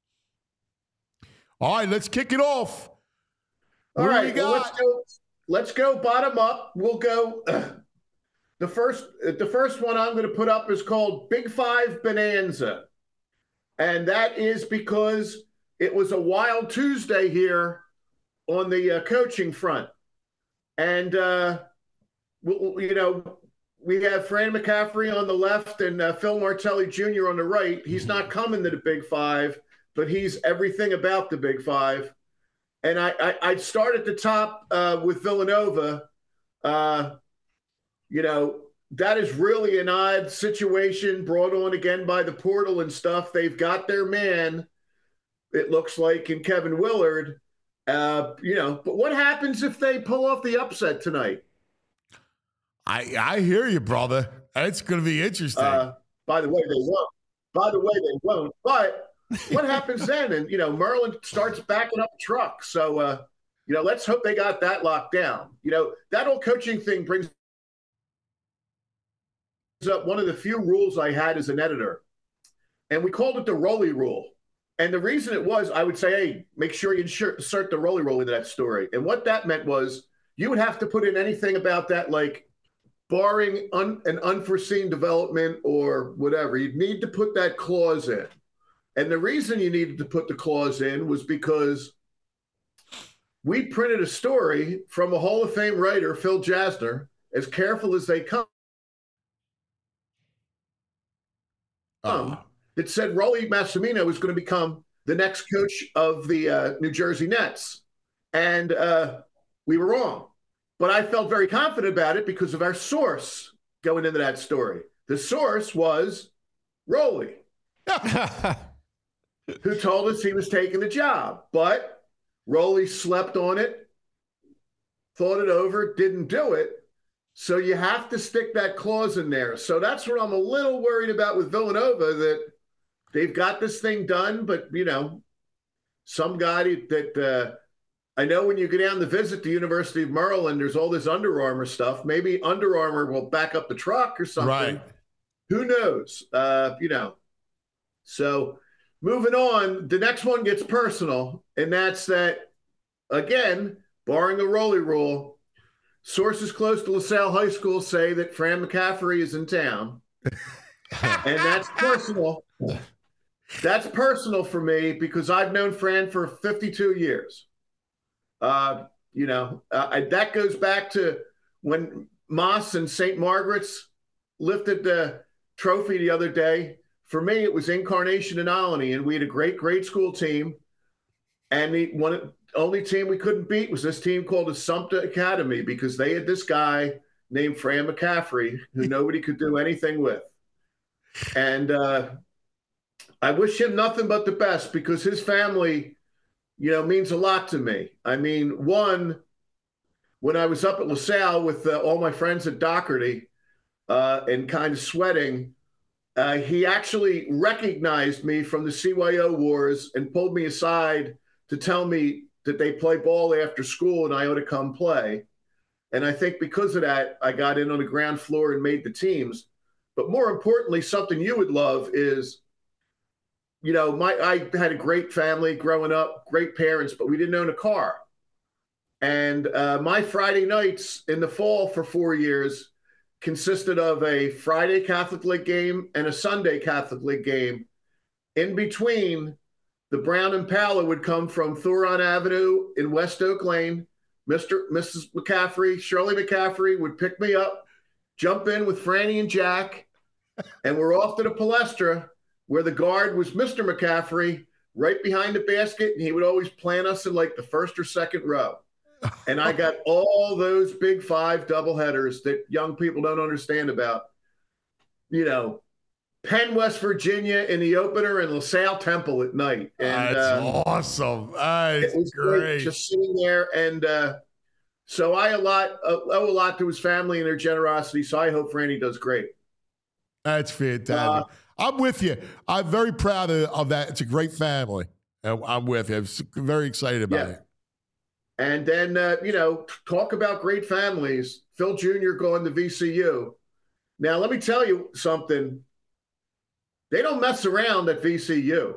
All right, let's kick it off. All What do right, we well, got? let's go. Let's go bottom up. We'll go. Uh, the first, the first one I'm going to put up is called Big Five Bonanza, and that is because it was a wild Tuesday here on the uh, coaching front, and uh, we, you know we have Fran McCaffrey on the left and uh, Phil Martelli Junior on the right. He's not coming to the Big Five, but he's everything about the Big Five. And I, I, I'd start at the top uh, with Villanova. Uh, you know, that is really an odd situation brought on again by the portal and stuff. They've got their man, it looks like, in Kevin Willard. Uh, you know, but what happens if they pull off the upset tonight? I I hear you, brother. It's going to be interesting. Uh, by the way, they won't. By the way, they won't. But what happens then? And, you know, Merlin starts backing up the truck. So, uh, you know, let's hope they got that locked down. You know, that whole coaching thing brings up one of the few rules I had as an editor. And we called it the Rolly rule. And the reason it was, I would say, hey, make sure you insert the Rolly rule into that story. And what that meant was you would have to put in anything about that, like barring un- an unforeseen development or whatever. You'd need to put that clause in. And the reason you needed to put the clause in was because we printed a story from a Hall of Fame writer, Phil Jasner, as careful as they come, Uh, that said Rolly Massimino is going to become the next coach of the uh, New Jersey Nets. And uh, we were wrong. But I felt very confident about it because of our source going into that story. The source was Rolly, who told us he was taking the job. But Rolly slept on it, thought it over, didn't do it. So you have to stick that clause in there. So that's what I'm a little worried about with Villanova, that they've got this thing done, but, you know, some guy that uh, I know when you go down to visit the University of Maryland, there's all this Under Armour stuff. Maybe Under Armour will back up the truck or something. Right. Who knows? Uh, you know, so moving on, the next one gets personal, and that's that, again, barring a Rolly rule, sources close to LaSalle High School say that Fran McCaffrey is in town, and that's personal. That's personal for me because I've known Fran for fifty-two years. Uh, you know, uh, I, that goes back to when Moss and Saint Margaret's lifted the trophy the other day. For me, it was Incarnation and Olney, and we had a great grade school team. And the one only team we couldn't beat was this team called Assumpta Academy, because they had this guy named Fran McCaffrey who nobody could do anything with. And uh, I wish him nothing but the best, because his family, you know, means a lot to me. I mean, one, when I was up at LaSalle with uh, all my friends at Doherty uh, and kind of sweating, uh, he actually recognized me from the C Y O wars and pulled me aside to tell me that they play ball after school and I ought to come play. And I think because of that, I got in on the ground floor and made the teams. But more importantly, something you would love is, you know, my I had a great family growing up, great parents, but we didn't own a car. And uh, my Friday nights in the fall for four years consisted of a Friday Catholic League game and a Sunday Catholic League game. In between, the Brown Impala would come from Thuron Avenue in West Oak Lane. Mister Missus McCaffrey, Shirley McCaffrey would pick me up, jump in with Franny and Jack, and we're off to the Palestra, where the guard was Mister McCaffrey, right behind the basket, and he would always plant us in like the first or second row. And I got all those big five doubleheaders that young people don't understand about. You know, Penn, West Virginia in the opener, and LaSalle Temple at night. And, That's uh, awesome. That's it was great. great just sitting there. And uh, so I a lot, uh, owe a lot to his family and their generosity. So I hope Franny does great. That's fantastic. Uh, I'm with you. I'm very proud of, of that. It's a great family. And I'm with you. I'm very excited about Yeah. it. And then, uh, you know, talk about great families. Phil Junior going to V C U. Now, let me tell you something. They don't mess around at V C U.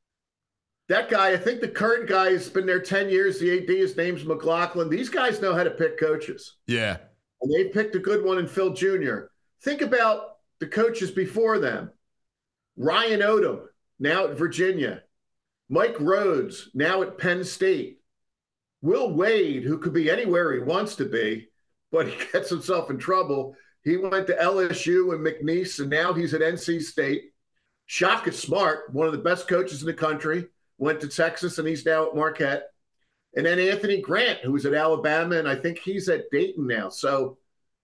That guy, I think the current guy has been there ten years. The A D, his name's McLaughlin. These guys know how to pick coaches. Yeah. And they picked a good one in Phil Junior Think about the coaches before them. Ryan Odom, now at Virginia. Mike Rhodes, now at Penn State. Will Wade, who could be anywhere he wants to be, but he gets himself in trouble. He went to L S U and McNeese, and now he's at N C State. Shaka Smart, one of the best coaches in the country, went to Texas, and he's now at Marquette. And then Anthony Grant, who was at Alabama, and I think he's at Dayton now. So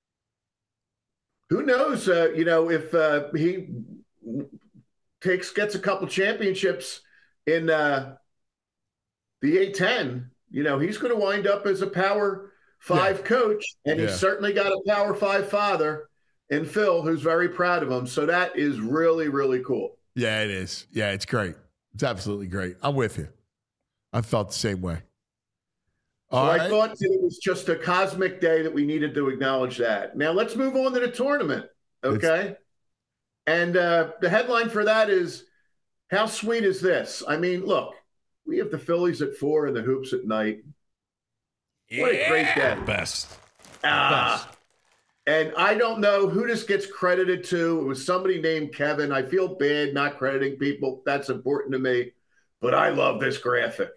who knows, uh, you know, if uh, he takes gets a couple championships in uh, the A ten, you know, he's going to wind up as a Power Five yeah. coach, and yeah. he's certainly got a Power Five father in Phil, who's very proud of him. So that is really, really cool. Yeah, it is. Yeah, it's great. It's absolutely great. I'm with you. I felt the same way. All so right. I thought that it was just a cosmic day that we needed to acknowledge that. Now let's move on to the tournament, okay? It's- and uh, the headline for that is, how sweet is this? I mean, look, we have the Phillies at four and the Hoops at night. What yeah. a great day. Best. Ah. Best. And I don't know who this gets credited to. It was somebody named Kevin. I feel bad not crediting people. That's important to me. But I love this graphic.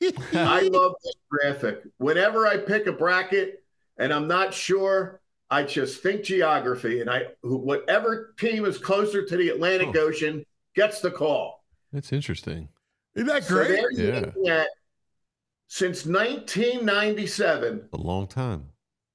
I love this graphic. Whenever I pick a bracket and I'm not sure, I just think geography. And I, whatever team is closer to the Atlantic oh. Ocean gets the call. That's interesting. Isn't that great? So yeah. At, since nineteen ninety-seven, a long time.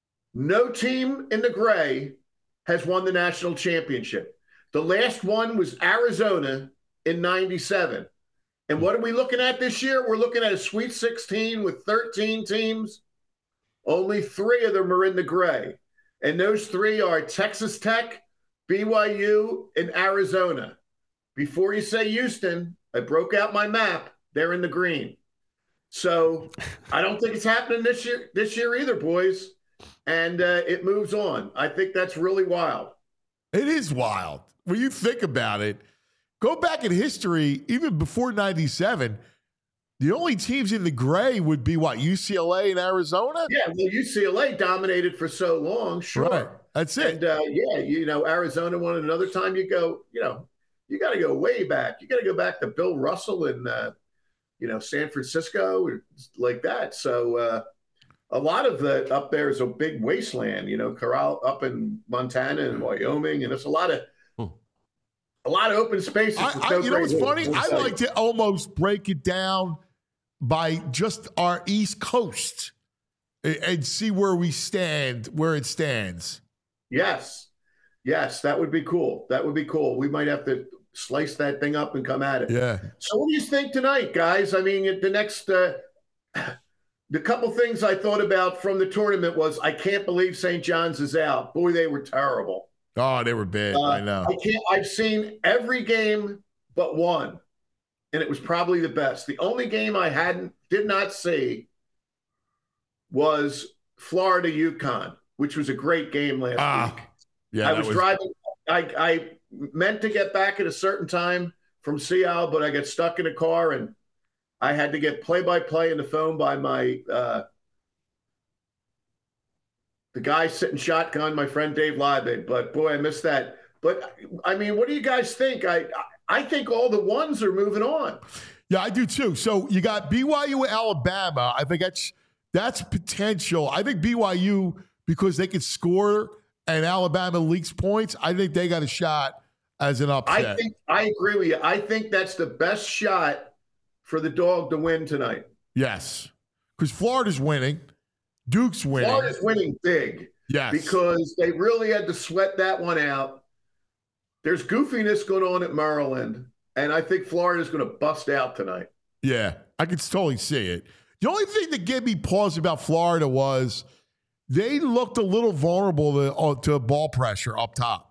No team in the gray has won the national championship. The last one was Arizona in ninety-seven. And what are we looking at this year? We're looking at a Sweet sixteen with thirteen teams. Only three of them are in the gray. And those three are Texas Tech, B Y U, and Arizona. Before you say Houston, I broke out my map. They're in the green. So I don't think it's happening this year, this year either, boys. And uh, it moves on. I think that's really wild. It is wild. When you think about it, go back in history, even before ninety-seven, the only teams in the gray would be what, U C L A and Arizona? Yeah, well, U C L A dominated for so long, sure. Right. That's it. And, uh, yeah, you know, Arizona won it another time. You go, you know, you got to go way back. You got to go back to Bill Russell in, uh, you know, San Francisco, or like that. So, uh, a lot of the up there is a big wasteland, you know, Corral up in Montana and Wyoming, and it's a lot of, hmm. a lot of open spaces. I, I, you know what's funny? I like to almost break it down by just our East Coast and, and see where we stand, where it stands. Yes. Yes, that would be cool. That would be cool. We might have to slice that thing up and come at it. Yeah. So what do you think tonight, guys? I mean, the next uh, the couple things I thought about from the tournament was I can't believe Saint John's is out. Boy, they were terrible. Oh, they were bad. Uh, I know. I can't, I've seen every game but one, and it was probably the best. The only game I hadn't did not see was Florida UConn, which was a great game last ah, week. Yeah, I was, was driving. I, I meant to get back at a certain time from Seattle, but I got stuck in a car, and I had to get play-by-play in the phone by my uh, the guy sitting shotgun, my friend Dave Liebig. But boy, I missed that. But I mean, what do you guys think? I I think all the ones are moving on. Yeah, I do too. So you got B Y U, Alabama. I think that's that's potential. I think B Y U, because they could score and Alabama leaks points, I think they got a shot as an upset. I think I agree with you. I think that's the best shot for the dog to win tonight. Yes, because Florida's winning, Duke's winning. Florida's winning big. Yes, because they really had to sweat that one out. There's goofiness going on at Maryland, and I think Florida's going to bust out tonight. Yeah, I could totally see it. The only thing that gave me pause about Florida was they looked a little vulnerable to, uh, to ball pressure up top.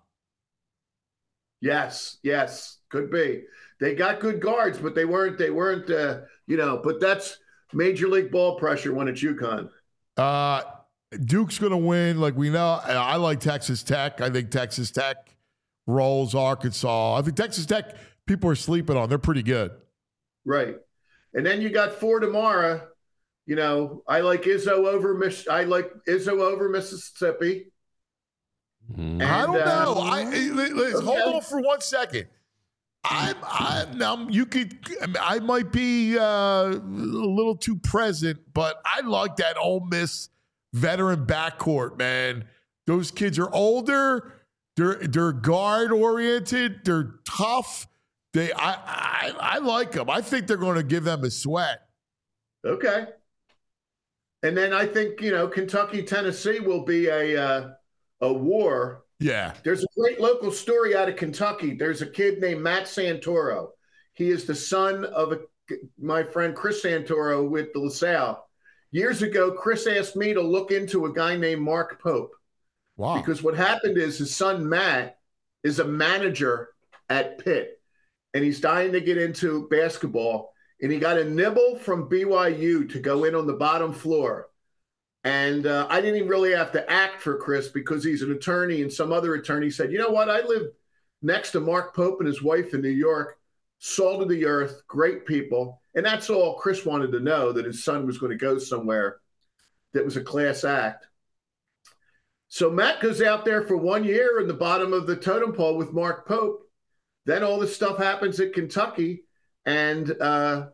Yes, yes, could be. They got good guards, but they weren't. They weren't. Uh, you know, but that's major league ball pressure when it's UConn. Uh, Duke's going to win, like we know. I like Texas Tech. I think Texas Tech rolls Arkansas. I think Texas Tech, people are sleeping on. They're pretty good. Right. And then you got four tomorrow. You know, I like Izzo over Mich- I like Izzo over Mississippi. And, I don't know. Um, I let's okay. hold on for one second. I'm, I'm now. You could. I might be uh, a little too present, but I like that Ole Miss veteran backcourt. Man, those kids are older. They're they're guard oriented. They're tough. They. I I, I like them. I think they're going to give them a sweat. Okay. And then I think, you know, Kentucky, Tennessee will be a uh, a war. Yeah. There's a great local story out of Kentucky. There's a kid named Matt Santoro. He is the son of a, my friend Chris Santoro with the LaSalle. Years ago, Chris asked me to look into a guy named Mark Pope. Wow. Because what happened is his son Matt is a manager at Pitt, and he's dying to get into basketball. And he got a nibble from B Y U to go in on the bottom floor. And uh, I didn't even really have to act for Chris because he's an attorney, and some other attorney said, you know what? I live next to Mark Pope and his wife in New York, salt of the earth, great people. And that's all Chris wanted to know, that his son was going to go somewhere that was a class act. So Matt goes out there for one year in the bottom of the totem pole with Mark Pope. Then all this stuff happens at Kentucky. And uh,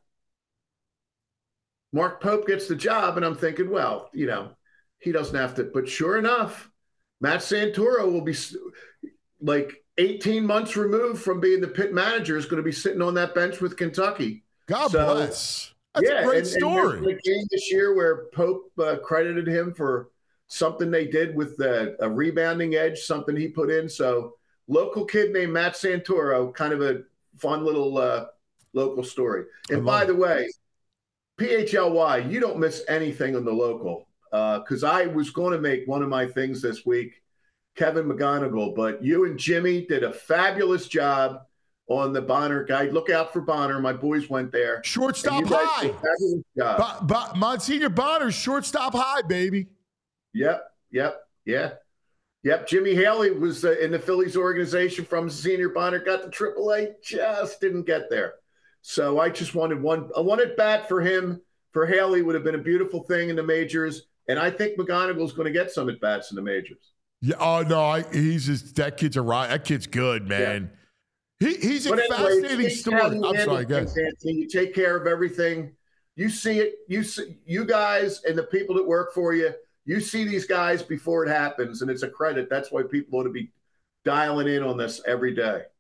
Mark Pope gets the job, and I'm thinking, well, you know, he doesn't have to. But sure enough, Matt Santoro will be like eighteen months removed from being the Pitt manager, is going to be sitting on that bench with Kentucky. God so, bless. That's yeah, a great and, story. And the game this year where Pope uh, credited him for something they did with the, a rebounding edge, something he put in. So local kid named Matt Santoro, kind of a fun little uh, – local story. And by it. the way, P H L Y, you don't miss anything on the local. Because uh, I was going to make one of my things this week, Kevin McGonigal, but you and Jimmy did a fabulous job on the Bonner guide. Look out for Bonner. My boys went there. Shortstop high. Fabulous job. Bo- Bo- Monsignor Bonner's shortstop high, baby. Yep, yep, yeah. Yep, Jimmy Haley was uh, in the Phillies organization from Senior Bonner, got to triple A, just didn't get there. So I just wanted one, I wanted bat for him. For Haley would have been a beautiful thing in the majors. And I think McGonigal's going to get some at bats in the majors. Yeah. Oh no, I, he's just, that kid's a right. That kid's good, man. Yeah. He he's a but anyway, fascinating story. I'm sorry, guys. You take care of everything. You see it. You see, you guys and the people that work for you. You see these guys before it happens, and it's a credit. That's why people ought to be dialing in on this every day.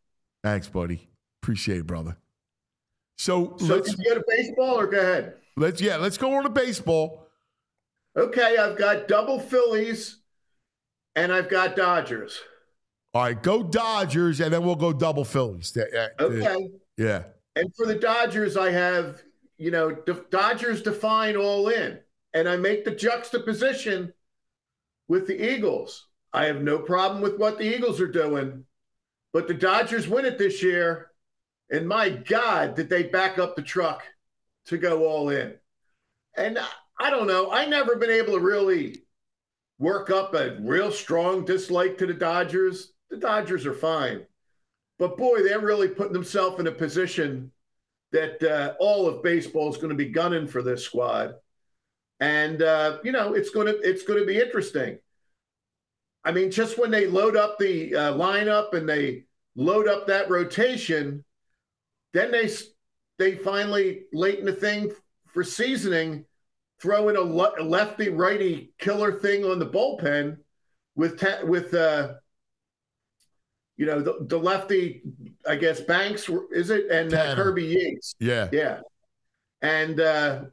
Thanks, buddy. Appreciate it, brother. So, So let's can you go to baseball or go ahead? let's yeah, let's go on to baseball. Okay, I've got double Phillies and I've got Dodgers. All right, go Dodgers, and then we'll go double Phillies. Yeah, yeah, Okay. Yeah. And for the Dodgers, I have, you know, the Dodgers define all in. And I make the juxtaposition with the Eagles. I have no problem with what the Eagles are doing, but the Dodgers win it this year. And my God, did they back up the truck to go all in? And I don't know. I never been able to really work up a real strong dislike to the Dodgers. The Dodgers are fine. But boy, they're really putting themselves in a position that uh, all of baseball is going to be gunning for this squad. And, uh, you know, it's going to it's going to be interesting. I mean, just when they load up the uh, lineup and they load up that rotation, then they they finally, late in the thing for seasoning, throw in a, le- a lefty-righty killer thing on the bullpen with, ta- with uh, you know, the, the lefty, I guess, Banks, is it? And uh, Kirby Yates. Yeah. Yeah. And uh,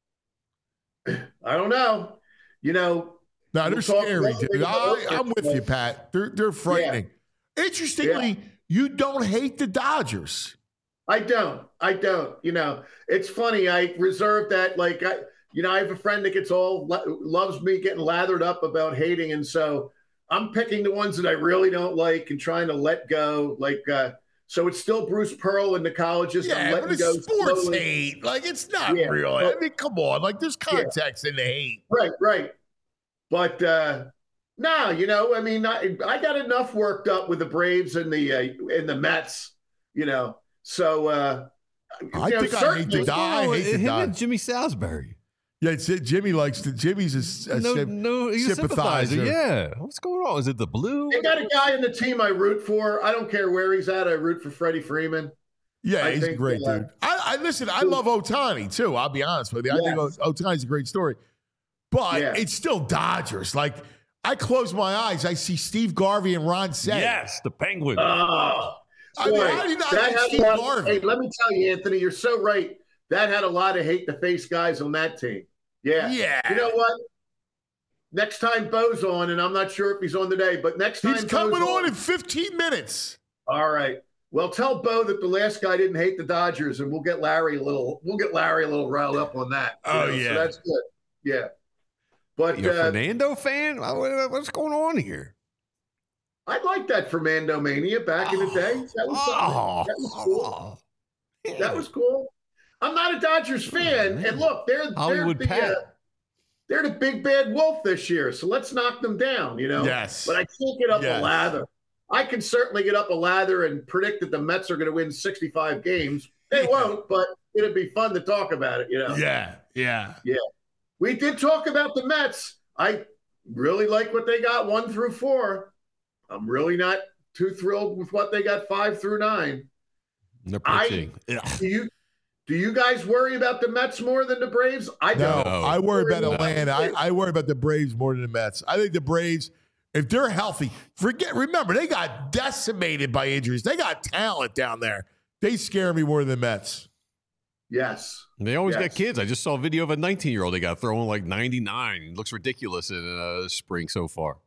I don't know. You know, No, they're we'll talk scary, about dude. it. I, I'm with you, Pat. They're they're frightening. Interestingly, Yeah. you don't hate the Dodgers. I don't. I don't. You know, it's funny. I reserve that. Like, I, you know, I have a friend that gets all loves me getting lathered up about hating, and so I'm picking the ones that I really don't like and trying to let go. Like, uh, so it's still Bruce Pearl in the colleges. I'm Yeah, letting but go it's sports slowly. hate. Like, it's not Yeah, real. but- I mean, come on. Like, there's context in the hate. Right, right. But uh, no, you know, I mean, I, I got enough worked up with the Braves and the uh, and the Mets. You know, so uh, I you know, think I hate certainly- the die. I hate the Him die. and Jimmy Salisbury. Yeah, it's it. Jimmy likes to. Jimmy's a, a No, symp- no, he's a sympathizer. sympathizer. Yeah. What's going on? Is it the blue? They got a guy in the team I root for. I don't care where he's at. I root for Freddie Freeman. Yeah, I he's a think, great uh, dude. I, I listen. I love Otani too. I'll be honest with you. I Yes. think O- Otani's a great story, but Yeah. it's still Dodgers. Like, I close my eyes, I see Steve Garvey and Ron Cey. Yes, the Penguin. Oh, I mean, boy, how do you not that hate had Steve a lot- Garvey? Hey, let me tell you, Anthony, you're so right. That had a lot of hate to face guys on that team. Yeah. Yeah. You know what? Next time Bo's on, and I'm not sure if he's on today, but next time He's Bo's coming on in fifteen minutes. All right. Well, tell Bo that the last guy didn't hate the Dodgers, and we'll get Larry a little. We'll get Larry a little riled up on that. you Oh, know, yeah. so that's good. Yeah, but You're a uh, Fernando fan? What- What's going on here? I like that Fernando Mania back in the day. That was something. Oh, That was cool. yeah. That was cool. I'm not a Dodgers fan, man. and look, they're Hollywood they're the, Pat. uh, they're the big bad wolf this year. So let's knock them down. You know. Yes. But I can't get up Yes. a lather. I can certainly get up a lather and predict that the Mets are going to win sixty-five games. They won't, but it'd be fun to talk about it. You know. Yeah, yeah. We did talk about the Mets. I really like what they got one through four. I'm really not too thrilled with what they got five through nine. They're I- pitching. Ugh. Do you do you guys worry about the Mets more than the Braves? I No, don't. I worry about No. Atlanta. I, I worry about the Braves more than the Mets. I think the Braves, if they're healthy, forget. Remember, they got decimated by injuries. They got talent down there. They scare me more than the Mets. Yes. They always Yes. got kids. I just saw a video of a nineteen-year-old. They got throwing like ninety-nine. It looks ridiculous in uh, spring so far.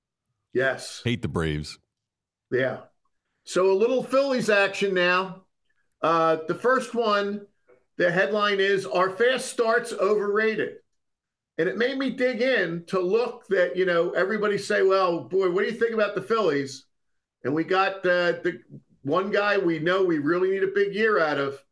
Yes. Hate the Braves. Yeah. So a little Phillies action now. Uh, the first one, the headline is, "Are fast starts overrated?" And it made me dig in to look that, you know, everybody say, well, boy, what do you think about the Phillies? And we got uh, the one guy we know we really need a big year out of.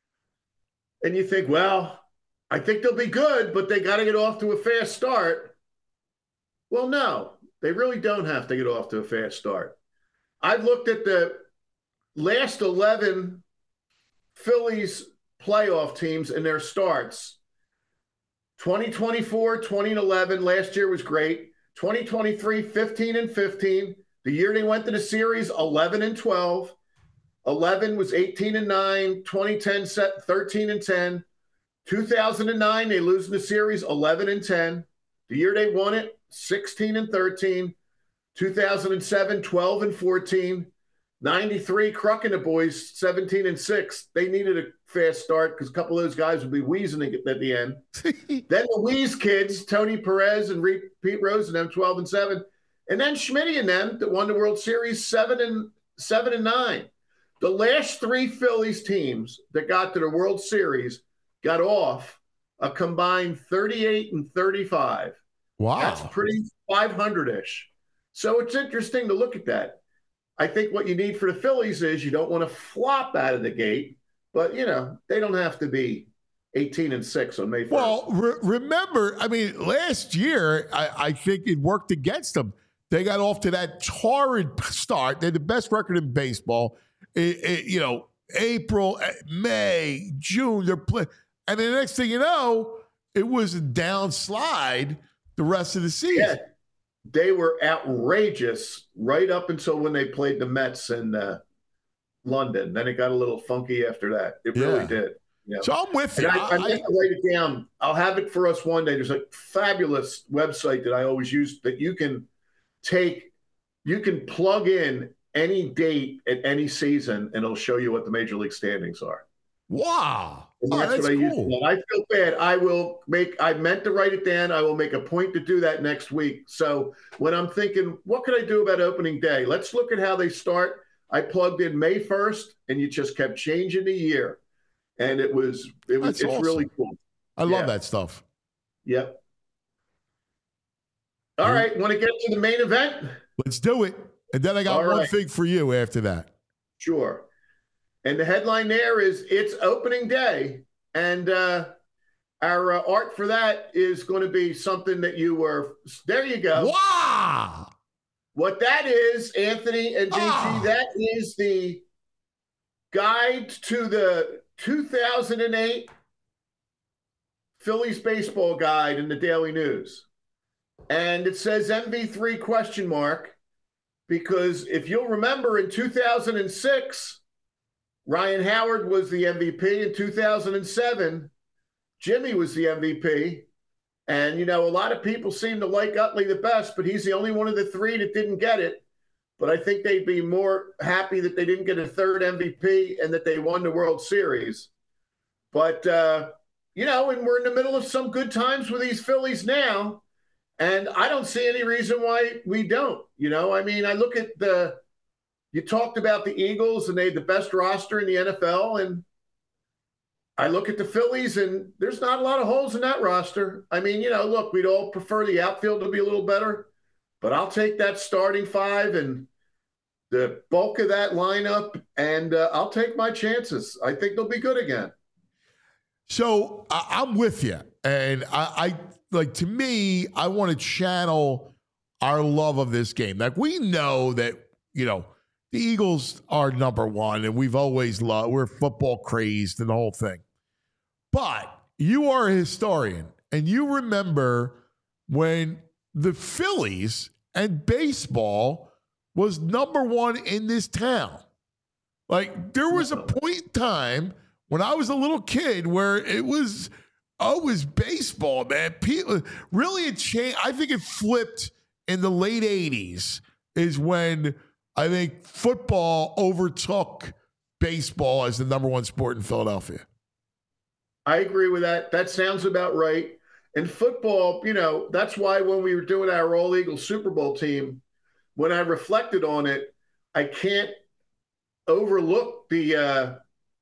And you think, well, I think they'll be good, but they got to get off to a fast start. Well, no, they really don't have to get off to a fast start. I've looked at the last eleven Phillies playoff teams and their starts. twenty twenty-four, twenty eleven, last year was great. twenty twenty-three, fifteen and fifteen. The year they went to the series, eleven and twelve. eleven was eighteen and nine. twenty ten, set thirteen and ten. two thousand nine, they lose in the series, eleven and ten. The year they won it, sixteen and thirteen. two thousand seven, twelve and fourteen. ninety-three, Cruck and the boys, seventeen and six. They needed a fast start because a couple of those guys would be wheezing at the end. Then the Wheeze kids, Tony Perez and Re- Pete Rose and them, twelve and seven. And then Schmitty and them that won the World Series, seven and seven and nine. The last three Phillies teams that got to the World Series got off a combined thirty-eight and thirty-five. Wow. That's pretty five hundred-ish. So it's interesting to look at that. I think what you need for the Phillies is you don't want to flop out of the gate, but, you know, they don't have to be eighteen and six on May first. Well, re- remember, I mean, last year, I, I think it worked against them. They got off to that torrid start. They had the best record in baseball. It, it, you know, April, May, June, they're playing. And the next thing you know, it was a downslide the rest of the season. Yeah, they were outrageous right up until when they played the Mets in uh, London. Then it got a little funky after that. It Yeah. really did. Yeah. So I'm with And you. I, I I- meant to write it down. I'll have it for us one day. There's a fabulous website that I always use that you can take, you can plug in any date at any season, and it'll show you what the major league standings are. wow. And Oh, that's, that's what I use. cool. I feel bad. I will make, I meant to write it down. I will make a point to do that next week. So when I'm thinking, what could I do about opening day? Let's look at how they start. I plugged in May first, and you just kept changing the year. And it was, it was, That's it's awesome. really cool. I love Yeah. that stuff. Yep. All right. Want to get to the main event? Let's do it. And then I got All one right. thing for you after that. Sure. And the headline there is it's opening day. And uh, our uh, art for that is going to be something that you were, there you go. Wow. What that is, Anthony and G G, Ah. that is the guide to the two thousand eight Phillies baseball guide in the Daily News. And it says M V three question mark, because if you'll remember in two thousand six, Ryan Howard was the M V P. In two thousand seven, Jimmy was the M V P. And, you know, a lot of people seem to like Utley the best, but he's the only one of the three that didn't get it. But I think they'd be more happy that they didn't get a third M V P and that they won the World Series. But, uh, you know, and we're in the middle of some good times with these Phillies now. And I don't see any reason why we don't. You know, I mean, I look at the, you talked about the Eagles and they had the best roster in the N F L. And I look at the Phillies and there's not a lot of holes in that roster. I mean, you know, look, we'd all prefer the outfield to be a little better, but I'll take that starting five and the bulk of that lineup, and uh, I'll take my chances. I think they'll be good again. So I, I'm with you. And I, I like, to me, I want to channel our love of this game. Like, we know that, you know, the Eagles are number one, and we've always loved, we're football crazed and the whole thing. But you are a historian, and you remember when the Phillies and baseball was number one in this town. Like, there was a point in time when I was a little kid where it was, oh, it was baseball, man. People, really, it changed. I think it flipped in the late eighties is when I think football overtook baseball as the number one sport in Philadelphia. I agree with that. That sounds about right. And football, you know, that's why when we were doing our All Eagles Super Bowl team, when I reflected on it, I can't overlook the uh,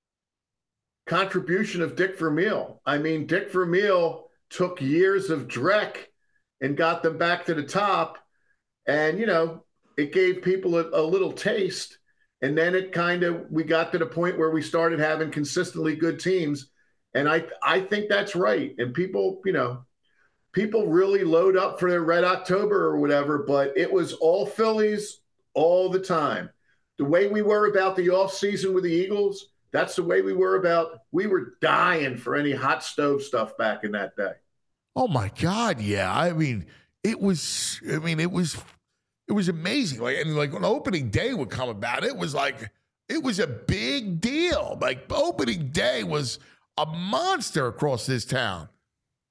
contribution of Dick Vermeil. I mean, Dick Vermeil took years of Drek and got them back to the top. And, you know, it gave people a, a little taste. And then it kind of, we got to the point where we started having consistently good teams. And I, I think that's right. And people, you know, people really load up for their Red October or whatever, but it was all Phillies all the time. The way we were about the offseason with the Eagles, that's the way we were about, we were dying for any hot stove stuff back in that day. Oh my God, yeah. I mean, it was, I mean, it was, it was amazing. Like, and like when opening day would come about, it was like, it was a big deal. Like, opening day was a monster across this town.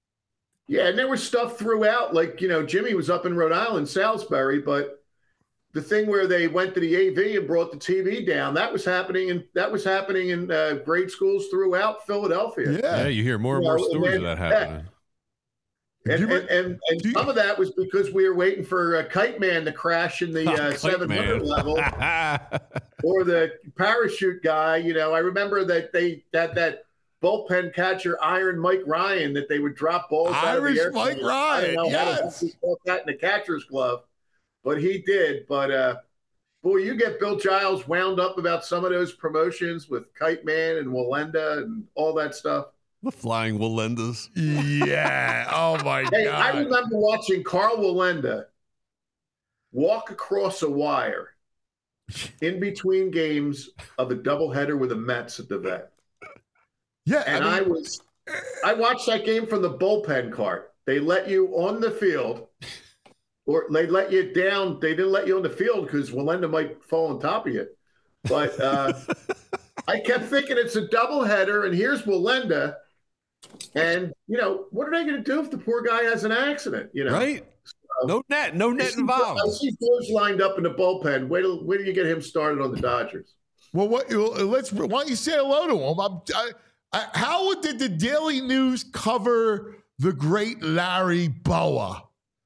Yeah, and there was stuff throughout, like, you know, Jimmy was up in Rhode Island, Salisbury, but the thing where they went to the A V and brought the T V down, that was happening in that was happening in uh, grade schools throughout Philadelphia. Yeah. Yeah, you hear more and You more know, stories and of that then- happening. And, You and, re- and, and do you- some of that was because we were waiting for uh, Kite Man to crash in the uh, Kite seven hundred Man. level, or the parachute guy. You know, I remember that they that that bullpen catcher Iron Mike Ryan that they would drop balls out of Irish the airplane. Mike I Ryan, don't know how the yes. heck he caught that in the catcher's glove, but he did. But uh, boy, you get Bill Giles wound up about some of those promotions with Kite Man and Walenda and all that stuff. The flying Walendas. Yeah. Oh, my Hey, I God. remember watching Carl Walenda walk across a wire in between games of a doubleheader with the Mets at the Vet. Yeah. And I, mean, was, I watched that game from the bullpen cart. They let you on the field, or they let you down. They didn't let you on the field because Walenda might fall on top of you. But uh, I kept thinking it's a doubleheader, and here's Walenda. And, you know, what are they going to do if the poor guy has an accident? You know, Right? No net. No I net see, involved. I see George lined up in the bullpen. Wait till, wait till you get him started on the Dodgers. well, what, let's, why don't you say hello to him? I'm, I, I, how did the Daily News cover the great Larry Bowa?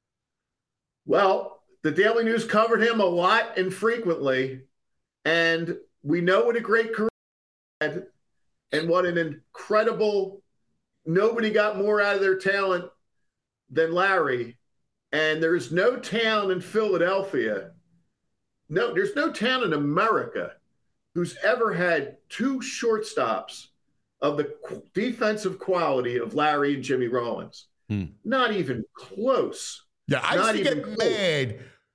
Well, the Daily News covered him a lot and frequently, and we know what a great career he had and what an incredible – nobody got more out of their talent than Larry. And there's no town in Philadelphia – no, there's no town in America who's ever had two shortstops of the qu- defensive quality of Larry and Jimmy Rollins. Hmm. Not even close. Yeah, I used Not to even get close. mad.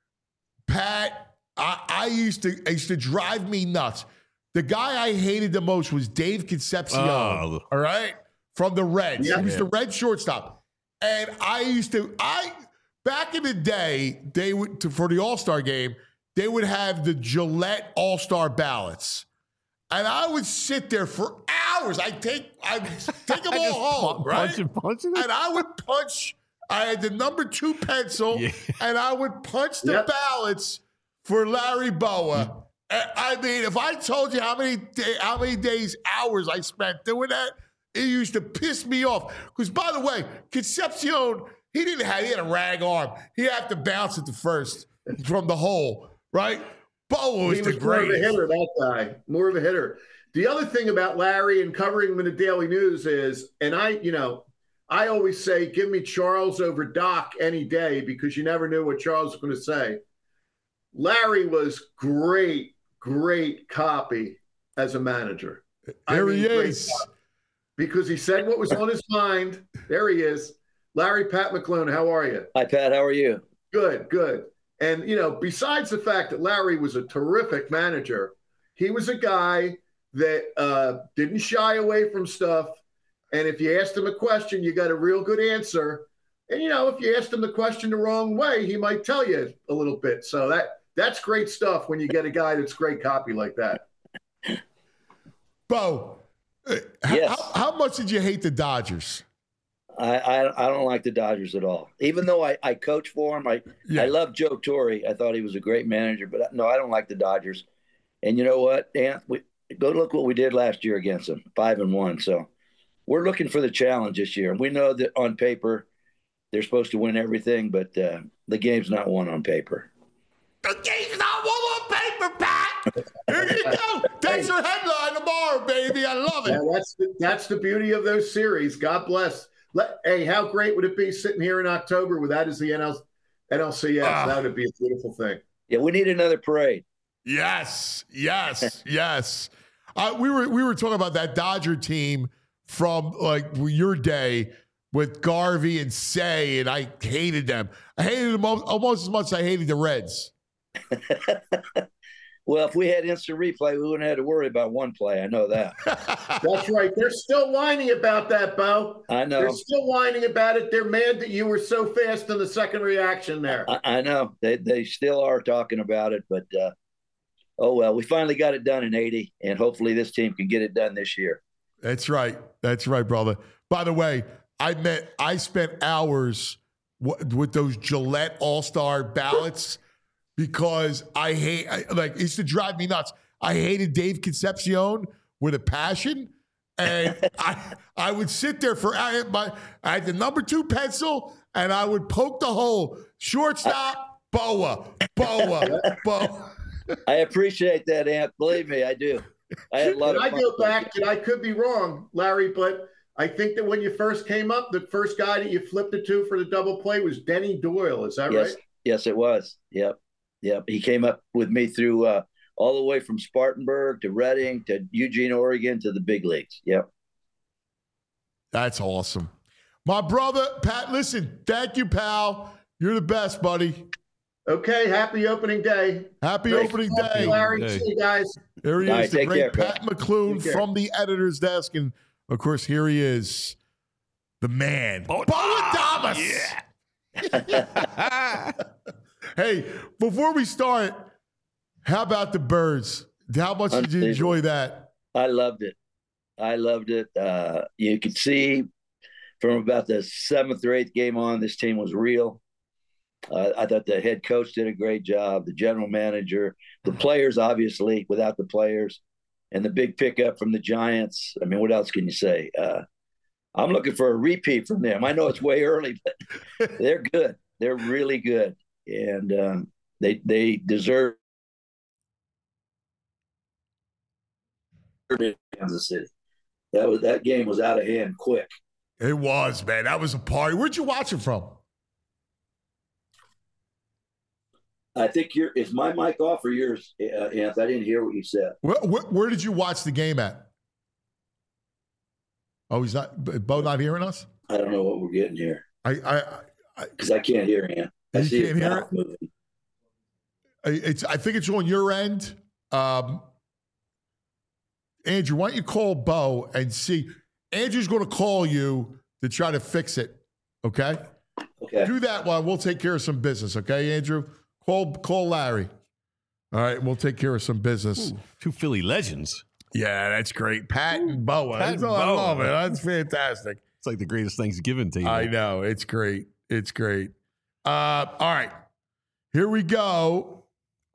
Pat, I, I used to it used to drive me nuts. The guy I hated the most was Dave Concepcion. Oh. All right, from the Reds. Yeah. He was the Red shortstop, and I used to I back in the day they would to, for the All Star game they would have the Gillette All Star ballots, and I would sit there for hours. I take I take them all home, right? Punching, punching. And I would punch. I had the number two pencil, Yeah. and I would punch the Yep. ballots for Larry Bowa. I I mean, if I told you how many day, how many days, hours I spent doing that, it used to piss me off. Because by the way, Concepcion, he didn't have he had a rag arm. He had to bounce it to first from the hole, right? Bowa was He the was more of a greatest. hitter, that guy. More of a hitter. The other thing about Larry and covering him in the Daily News is, and I, you know, I always say, give me Charles over Doc any day because you never knew what Charles was going to say. Larry was great, great copy as a manager. I There mean, he great is. copy. Because he said what was on his mind. There he is. Larry Pat McClune, how are you? Hi, Pat. How are you? Good, good. And, you know, besides the fact that Larry was a terrific manager, he was a guy that uh, didn't shy away from stuff. And if you asked him a question, you got a real good answer. And, you know, if you asked him the question the wrong way, he might tell you a little bit. So that that's great stuff when you get a guy that's great copy like that. Bo, uh, Yes. how, how much did you hate the Dodgers? I, I I don't like the Dodgers at all. Even though I, I coach for them, I Yeah. I love Joe Torre. I thought he was a great manager, but no, I don't like the Dodgers. And you know what, Dan? We, go look what we did last year against them, five and one. So we're looking for the challenge this year. We know that on paper they're supposed to win everything, but uh, the game's not won on paper. The game's not one on paper, Pat. Here you go. That's your headline tomorrow, baby. I love Yeah, it. that's the, that's the beauty of those series. God bless. Let, hey, how great would it be sitting here in October with that as the N L, N L C S? Ah. That would be a beautiful thing. Yeah, we need another parade. Yes, yes, yes. Uh, we were we were talking about that Dodger team from like your day with Garvey and Say, and I hated them. I hated them al- almost as much as I hated the Reds. Well, if we had instant replay, we wouldn't have to worry about one play. I know that. That's right. They're still whining about that, Bo. I know. They're still whining about it. They're mad that you were so fast in the second reaction there. I, I know they they still are talking about it, but uh, oh well. We finally got it done in eighty, and hopefully this team can get it done this year. That's right. That's right, brother. By the way, I met. I spent hours w- with those Gillette All Star ballots. because I hate, I, like, it used to drive me nuts. I hated Dave Concepcion with a passion. And I I would sit there for, I had, my, I had the number two pencil, and I would poke the hole. Shortstop, Boa, Boa, Boa. I appreciate that, Ant. Believe me, I do. I had a lot Can of I fun go with back, it. and I could be wrong, Larry, but I think that when you first came up, the first guy that you flipped it to for the double play was Denny Doyle. Is that Yes, right? yes, it was. Yep, yep. He came up with me through uh, all the way from Spartanburg to Reading to Eugene, Oregon to the big leagues. Yep. That's awesome. My brother, Pat, listen, thank you, pal. You're the best, buddy. Okay, happy opening day. Happy Great opening to talk to day. you, Larry. Hey. See you guys. Here he All is, right, the take great care, Pat McClune Take care. from the editor's desk. And, of course, here he is, the man, Bo Adames. Yeah. Hey, before we start, how about the birds? How much did you enjoy that? I loved it. I loved it. Uh, you could see from about the seventh or eighth game on, this team was real. Uh, I thought the head coach did a great job, the general manager, the players, obviously, without the players, and the big pickup from the Giants. I mean, what else can you say? Uh, I'm looking for a repeat from them. I know it's way early, but they're good. They're really good. And um, they they deserve Kansas City. That was that game was out of hand quick. It was, man. That was a party. Where'd you watch it from? I think your is my mic off or yours, uh, Anth? I didn't hear what you said. Where, where, where did you watch the game at? Oh, he's not. Bo not hearing us. I don't know what we're getting here I, I, I because I can't hear Anth. I You see can't his hear mouth it? moving. it's. I think it's on your end. Um, Andrew, why don't you call Bo and see? Andrew's going to call you to try to fix it. Okay. Okay. Do that while we'll take care of some business. Okay, Andrew. Call call Larry. All right, we'll take care of some business. Ooh, two Philly legends. Yeah, that's great. Pat and Boa. Pat That's and all I Boa. love it. That's fantastic. It's like the greatest Thanksgiving table. I know. It's great. It's great. Uh, all right. Here we go.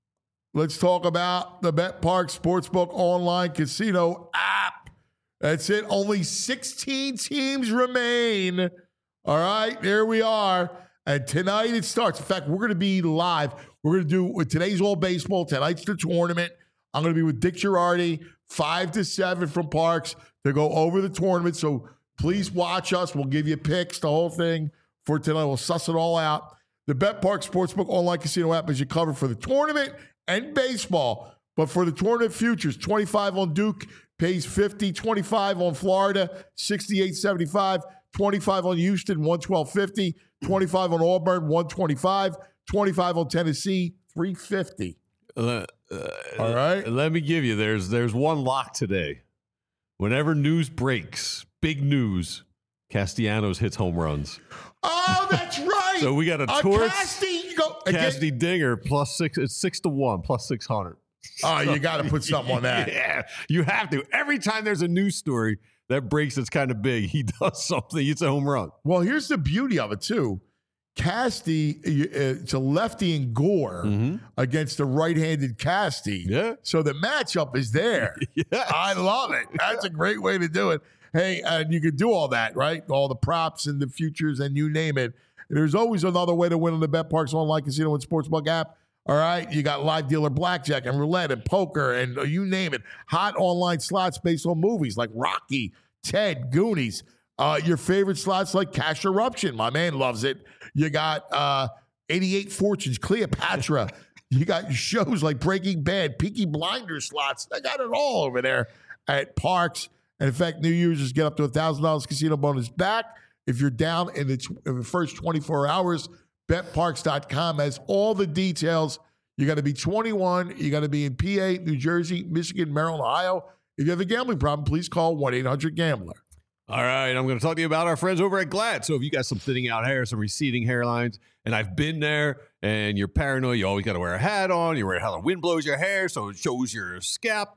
Let's talk about the BetParx Sportsbook online casino app. That's it. Only sixteen teams remain. All right. There we are. And tonight it starts. In fact, we're going to be live. We're going to do with today's all baseball. Tonight's the tournament. I'm going to be with Dick Girardi, five to seven from Parks to go over the tournament. So please watch us. We'll give you picks, the whole thing for tonight. We'll suss it all out. The BetParx Sportsbook online casino app is your cover for the tournament and baseball. But for the tournament futures, twenty-five on Duke pays fifty, twenty-five on Florida, sixty-eight seventy-five, twenty-five on Houston, one twelve fifty, twenty-five on Auburn, one twenty-five, twenty-five on Tennessee, three fifty. Uh, uh, All right. Let me give you. There's there's one lock today. Whenever news breaks, big news, Castellanos hits home runs. Oh, that's right. So we got a Uh, Torts, Casti, you go again. Cassidy Dinger plus six. It's six to one plus six hundred. Oh, you got to put something on that. Yeah, you have to. Every time there's a news story that breaks, it's kind of big. He does something. It's a home run. Well, here's the beauty of it, too. Casti, uh, it's a lefty in Gore Mm-hmm. against a right-handed Casti. Yeah. So the matchup is there. Yes. I love it. That's a great way to do it. Hey, and you can do all that, right? All the props and the futures and you name it. There's always another way to win on the BetParx online casino and sportsbook app. All right, you got live dealer blackjack and roulette and poker and uh, you name it. Hot online slots based on movies like Rocky, Ted, Goonies. Uh, your favorite slots like Cash Eruption. My man loves it. You got uh, eighty-eight Fortunes, Cleopatra. You got shows like Breaking Bad, Peaky Blinders slots. They got it all over there at Parks. And in fact, new users get up to one thousand dollars casino bonus back if you're down in the, t- in the first twenty-four hours. Bet Parx dot com has all the details. You got to be twenty-one. You got to be in P A, New Jersey, Michigan, Maryland, Ohio. If you have a gambling problem, please call one eight hundred gambler. All right, I'm going to talk to you about our friends over at Glad. So if you got some thinning out hair, some receding hairlines, and I've been there, and you're paranoid, you always got to wear a hat on, you wear a hat, the wind blows your hair, so it shows your scalp.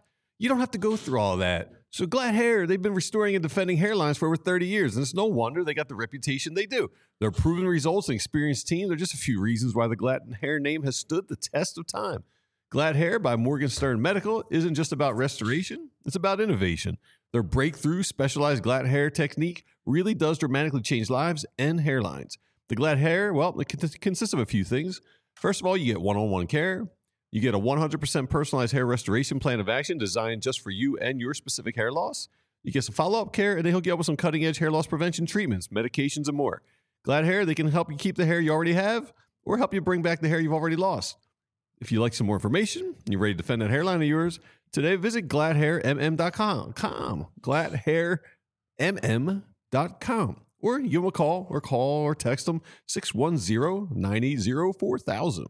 You don't have to go through all that. So Glad Hair, they've been restoring and defending hairlines for over thirty years, and it's no wonder they got the reputation they do. Their proven results and experienced team are just a few reasons why the Glad Hair name has stood the test of time. Glad Hair by Morgenstern Medical isn't just about restoration, it's about innovation. Their breakthrough specialized Glad Hair technique really does dramatically change lives and hairlines. The Glad Hair, well, it consists of a few things. First of all, you get one-on-one care. You get a one hundred percent personalized hair restoration plan of action designed just for you and your specific hair loss. You get some follow-up care, and they hook you up with some cutting-edge hair loss prevention treatments, medications, and more. Glad Hair, they can help you keep the hair you already have or help you bring back the hair you've already lost. If you'd like some more information and you're ready to defend that hairline of yours, today visit glad hair m m dot com. glad hair m m dot com. Or give them a call or call or text them six one zero, nine eight zero, four thousand.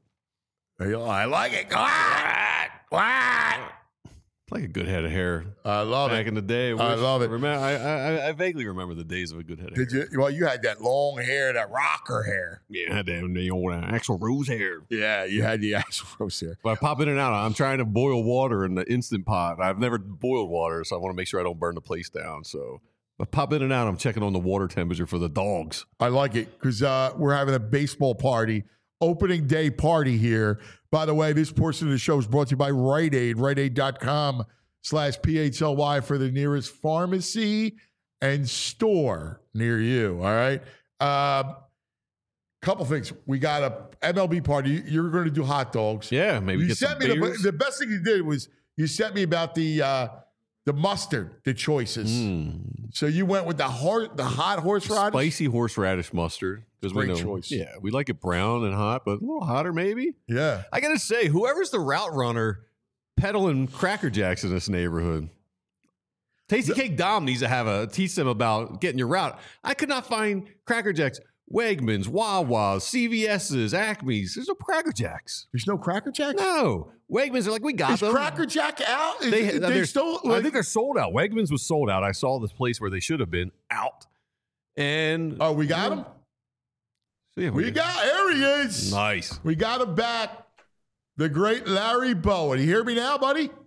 I like it. What? What? Like a good head of hair. I love Back it. in the day. I love it. Remember, I, I I vaguely remember the days of a good head of hair. Did you? Well, you had that long hair, that rocker hair. Yeah, I had that the old uh, Axl Rose hair. Yeah, you had the actual rose hair. But I pop in and out. I'm trying to boil water in the Instant Pot. I've never boiled water, so I want to make sure I don't burn the place down. So I pop in and out. I'm checking on the water temperature for the dogs. I like it because uh, we're having a baseball party, opening day party here. By the way, this portion of the show is brought to you by Rite Aid, rite aid dot com slash P H L Y for the nearest pharmacy and store near you. All right. Uh, couple things. We got a M L B party. You're going to do hot dogs. Yeah, maybe you get sent some me the, beers. the best thing you did was you sent me about the uh, the mustard, the choices. Mm. So you went with the hor- the hot horseradish. Spicy horseradish mustard. Because we Great know, choice. Yeah, we like it brown and hot, but a little hotter maybe. Yeah. I got to say, whoever's the route runner peddling Cracker Jacks in this neighborhood, Tasty Cake Dom needs to have a teach them about getting your route. I could not find Cracker Jacks. Wegmans, Wawa's, C V S's, Acme's. There's no Cracker Jacks. There's no Cracker Jack? No. Wegmans are like, we got Is them. Cracker Jack out? Is, They, they, they're still. I think they're sold out. Wegmans was sold out. I saw this place where they should have been out. And Oh, we got him? so yeah, We got, there he is. nice. We got him back. The great Larry Bowen. You hear me now, buddy? Can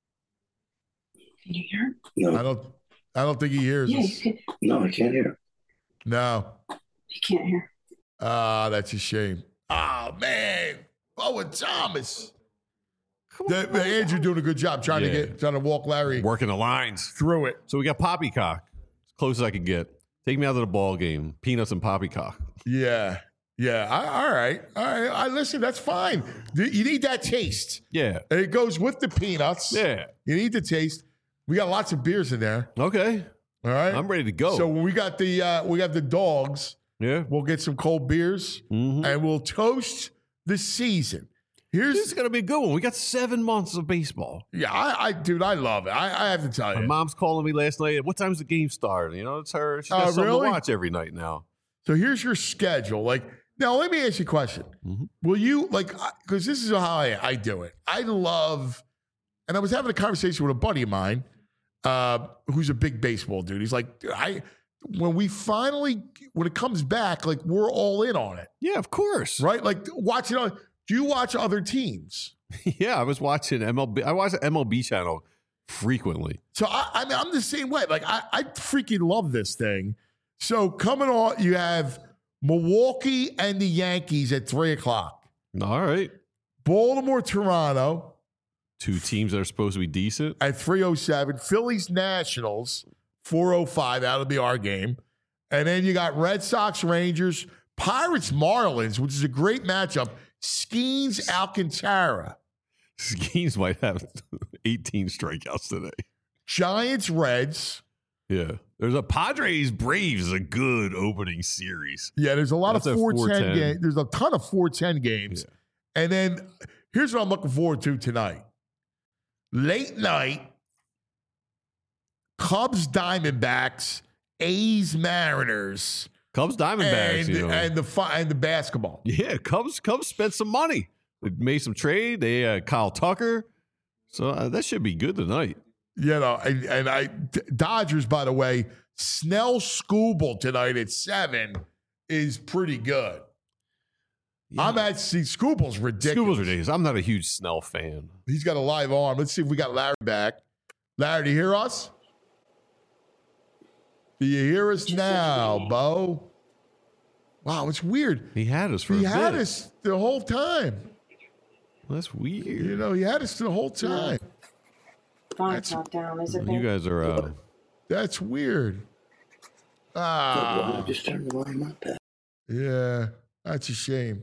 you hear? I No. don't I don't think he hears Yeah, you us. can. No, I can't hear. No. You can't hear. Ah, that's a shame. Oh, man. Bowen Thomas. The, the Andrew doing a good job trying Yeah. to get trying to walk Larry Working the lines. through it. So we got poppycock. As close as I could get. Take me out to the ball game. Peanuts and poppycock. Yeah. Yeah. I, all right. All right. I listen, that's fine. You need that taste. Yeah. And it goes with the peanuts. Yeah. You need the taste. We got lots of beers in there. Okay. All right. I'm ready to go. So when we got the uh, we got the dogs, yeah. we'll get some cold beers Mhm. and we'll toast the season. Here's This is going to be a good one. We got seven months of baseball. yeah, I, I dude, I love it. I, I have to tell My you. mom's calling me last night. What time's the game start? You know, it's her. She's got Oh, something really? to watch every night now. So here's your schedule. Like now, let me ask you a question. Mhm. Will you like because this is how I, I do it. I love, and I was having a conversation with a buddy of mine, uh, who's a big baseball dude. He's like, dude, I when we finally when it comes back, like we're all in on it, Yeah, of course. right? Like watching. On, do you watch other teams? Yeah, I was watching M L B. I watch the M L B channel frequently. So I, I mean, I'm the same way. Like I, I freaking love this thing. So coming on, you have Milwaukee and the Yankees at three o'clock. All right. Baltimore, Toronto Two teams that are supposed to be decent. at three oh seven. Phillies, Nationals, four oh five. That'll be our game. And then you got Red Sox, Rangers, Pirates, Marlins, which is a great matchup. Skeens, Alcantara. Skeens might have eighteen strikeouts today. Giants, Reds. Yeah. There's a Padres Braves is a good opening series. Yeah, there's a lot That's of a four ten four ten. games. There's a ton of four ten games. And then here's what I'm looking forward to tonight. Late night, Cubs, Diamondbacks, A's, Mariners, Cubs Diamondbacks. and, you know. and the fi- and the basketball. Yeah, Cubs Cubs spent some money. They made some trade. They uh, Kyle Tucker. So uh, that should be good tonight. You know, and, and I D- Dodgers, by the way, Snell Scooble tonight at seven is pretty good. I'm at see Scooble's ridiculous. Scooble's ridiculous. I'm not a huge Snell fan. He's got a live arm. Let's see if we got Larry back. Larry, do you hear us? Do you hear us now, Bo? Wow, it's weird. He had us for he a had bit. us the whole time. That's weird. You know, he had us the whole time. Phone's not down, is it? You babe? guys are. Uh, That's weird. Ah, Just turn the volume up. Pat. yeah, that's a shame.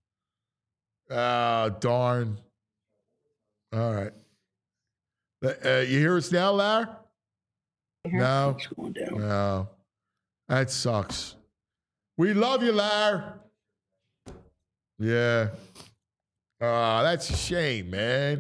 Ah, darn. All right. Uh, you hear us now, Larry? No. It's going down. No. That sucks. We love you, Larry. Yeah. Ah, that's a shame, man.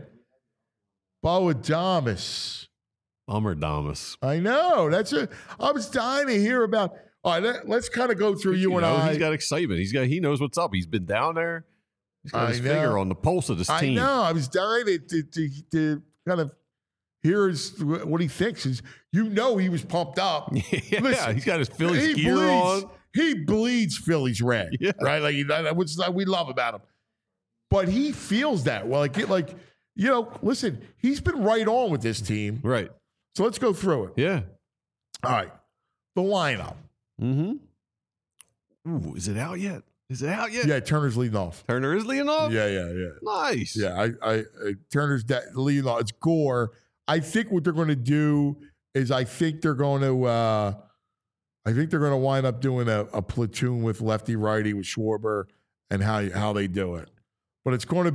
Bo Adamas. Bummer Damas. I know. That's a. I was dying to hear about. All right, let, let's kind of go through you, You and know, I. he's got excitement. He's got. He knows what's up. He's been down there. He's got I his know. finger on the pulse of this I team. know. I was dying to, to, to, to kind of hear his, what he thinks. Is you know he was pumped up. yeah, Listen, he's got his Phillies he gear bleeds, on. He bleeds Phillies red, Yeah. right? Like that, which we love about him. But he feels that well. Like, like you know, listen, he's been right on with this team. Right. So let's go through it. Yeah. All right, the lineup. Mm-hmm. Ooh, is it out yet? Is it out yet? Yeah, Turner's leading off. Turner is leading off? Yeah, yeah, yeah. Nice. Yeah, I, I, I Turner's da- leading off. It's Gore. I think what they're going to do is I think they're going to, uh, I think they're going to wind up doing a, a platoon with lefty righty with Schwarber and how how they do it. But it's going to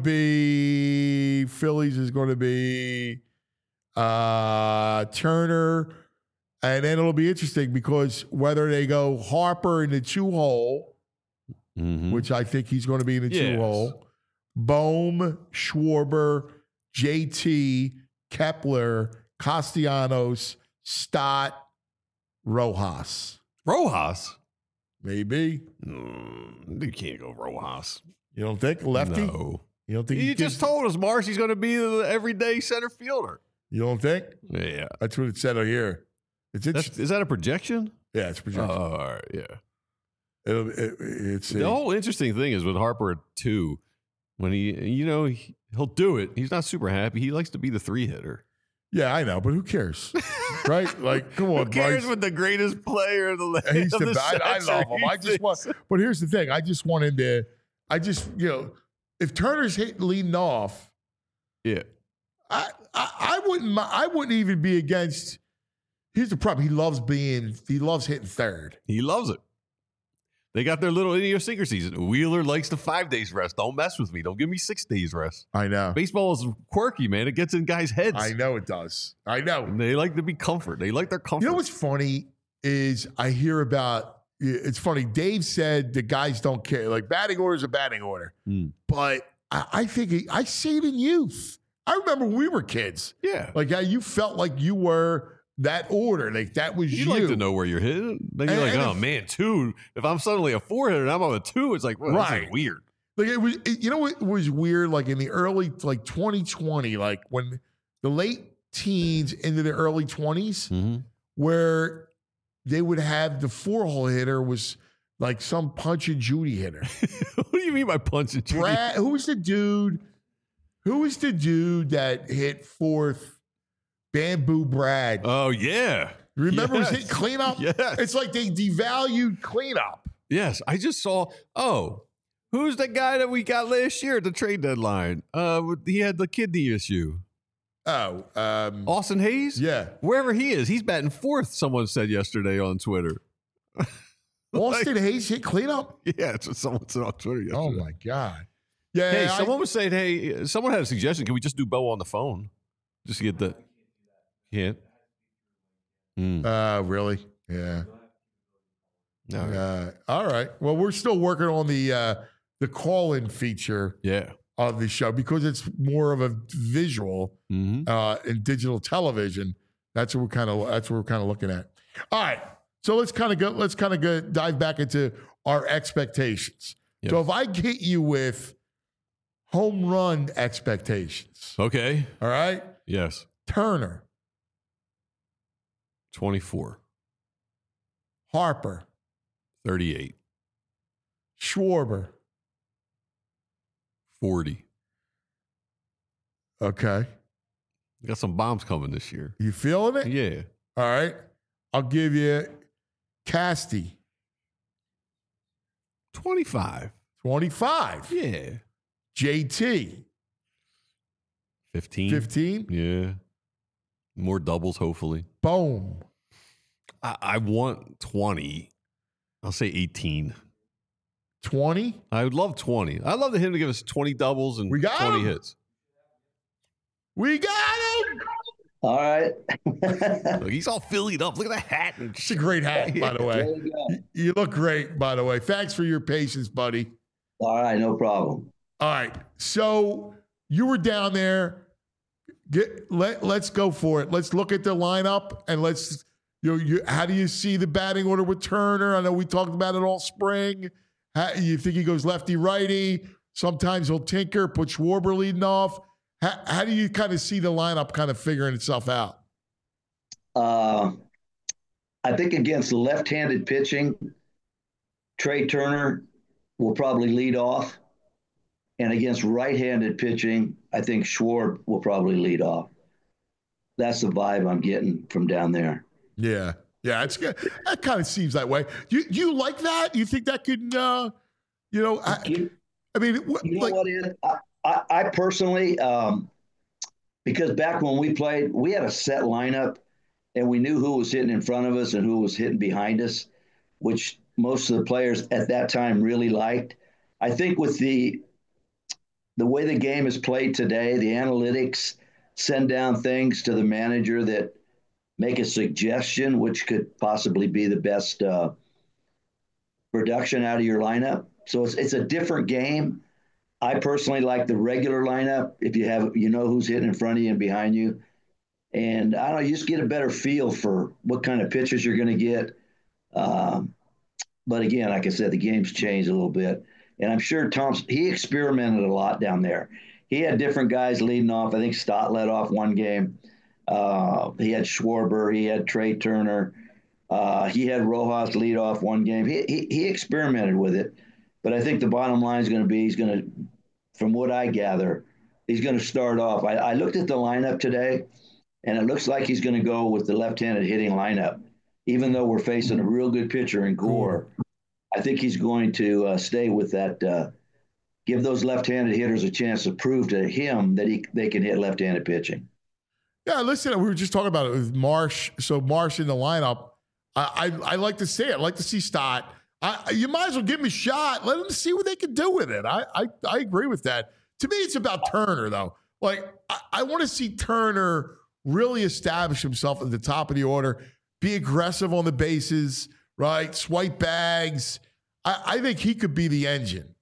be Phillies is going to be uh, Turner, and then it'll be interesting because whether they go Harper in the two hole, Mm-hmm. which I think he's going to be in the Yes. two hole, Bohm, Schwarber, J T, Kepler, Castellanos, Stott, Rojas. Rojas? Maybe. Mm, you can't go Rojas. You don't think lefty? No. You don't think You he just gives- told us, Marsh, he's going to be the everyday center fielder. You don't think? Yeah. That's what it said out here. It's That's, interesting. is that a projection? Yeah, it's a projection. Oh, all right. Yeah. It'll, it, it's The whole interesting thing is with Harper at two, when he, you know, he, he'll do it. He's not super happy. He likes to be the three hitter. yeah, I know, but who cares, right? Like, come on, Who cares Bryce. with the greatest player of the, He's of the the best. I century? love him. I just want, but here's the thing. I just want him to. I just, you know, if Turner's hitting leading off, Yeah. I, I, I wouldn't, mi- I wouldn't even be against. Here's the problem. He loves being. He loves hitting third. He loves it. They got their little idiosyncrasies. Wheeler likes the five days rest. Don't mess with me. Don't give me six days rest. I know. Baseball is quirky, man. It gets in guys' heads. I know it does. I know. And they like to be comfort. They like their comfort. You know what's funny is I hear about. It's funny. Dave said the guys don't care. Like batting order is a batting order, Mm. but I, I think he, I see it in youth. I remember when we were kids. Yeah. Like how you felt like you were that order. Like that was You you. like to know where you're hitting. Then you're And- like, and oh if- man, two. If I'm suddenly a four hitter and I'm on a two, it's like, well, this Right. is weird. Like it was, it- you know, what was weird. Like in the early, like twenty twenty, like when the late teens into the early twenties, Mm-hmm. where they would have the four hole hitter was like some punch and Judy hitter. What do you mean by punching? Brad, who was the dude? Who was the dude that hit fourth? Bamboo Brad. Oh yeah. Remember, yes. was hit cleanup? Yes. It's like they devalued cleanup. Yes. I just saw. Oh, who's the guy that we got last year at the trade deadline? Uh, he had the kidney issue. Oh, um, Austin Hayes. yeah. Wherever he is, he's batting fourth. Someone said yesterday on Twitter. Austin Hayes hit cleanup. Yeah, that's what someone said on Twitter yesterday. Oh my god. Yeah. Hey, I- someone was saying, hey, someone had a suggestion. Can we just do Bo on the phone? Just to get the. Can't. Mm. Uh, really? Yeah. All right. Uh, all right. Well, we're still working on the uh, the call-in feature Yeah. of the show because it's more of a visual Mm-hmm. uh, in digital television. That's what we're kind of that's what we're kind of looking at. All right. So let's kind of go. Let's kind of go dive back into our expectations. Yep. So if I hit you with home run expectations, Okay. all right, Yes. Turner, twenty-four. Harper, thirty-eight. Schwarber. forty. Okay. Got some bombs coming this year. You feeling it? Yeah. All right. I'll give you Casty. twenty-five. twenty-five. Yeah. J T. fifteen. fifteen. Yeah. More doubles, hopefully. Boom. I, I want twenty. I'll say eighteen. twenty. I would love twenty. I'd love him to give us twenty doubles and We got twenty him. hits. We got him. All right. Look, he's all Phillied up. Look at that hat. And It's a great hat, by the way. There you go. You- You look great, by the way. Thanks for your patience, buddy. All right, no problem. All right. So you were down there. Get let let's go for it. Let's look at the lineup and let's you know you how do you see the batting order with Turner? I know we talked about it all spring. How, you think he goes lefty righty? Sometimes he'll tinker, put Schwarber leading off. How, how do you kind of see the lineup kind of figuring itself out? Uh, I think against left-handed pitching, Trey Turner will probably lead off. And against right-handed pitching, I think Schwarber will probably lead off. That's the vibe I'm getting from down there. Yeah, yeah, it's good. That kind of seems that way. You you like that? You think that could, uh, you know, I, You, I mean, what, you know like, what is? I, I, I personally, um, because back when we played, we had a set lineup, and we knew who was hitting in front of us and who was hitting behind us, which most of the players at that time really liked. I think with the the way the game is played today, the analytics send down things to the manager that make a suggestion, which could possibly be the best uh, production out of your lineup. So it's it's a different game. I personally like the regular lineup. If you have, you know who's hitting in front of you and behind you. And I don't know, you just get a better feel for what kind of pitches you're going to get. Um, but again, like I said, the game's changed a little bit. And I'm sure Thompson, he experimented a lot down there. He had different guys leading off. I think Stott led off one game. Uh, he had Schwarber. He had Trey Turner. Uh, he had Rojas lead off one game. He, he, he experimented with it. But I think the bottom line is going to be he's going to, from what I gather, he's going to start off. I, I looked at the lineup today, and it looks like he's going to go with the left-handed hitting lineup. Even though we're facing a real good pitcher in Gore, I think he's going to uh, stay with that, uh, give those left-handed hitters a chance to prove to him that he they can hit left-handed pitching. Yeah, listen, we were just talking about it with Marsh. So Marsh in the lineup, I I, I like to see it. I like to see Stott. I, you might as well give him a shot. Let them see what they can do with it. I, I, I agree with that. To me, it's about Turner, though. Like, I, I want to see Turner really establish himself at the top of the order, be aggressive on the bases, right? Swipe bags. I, I think he could be the engine.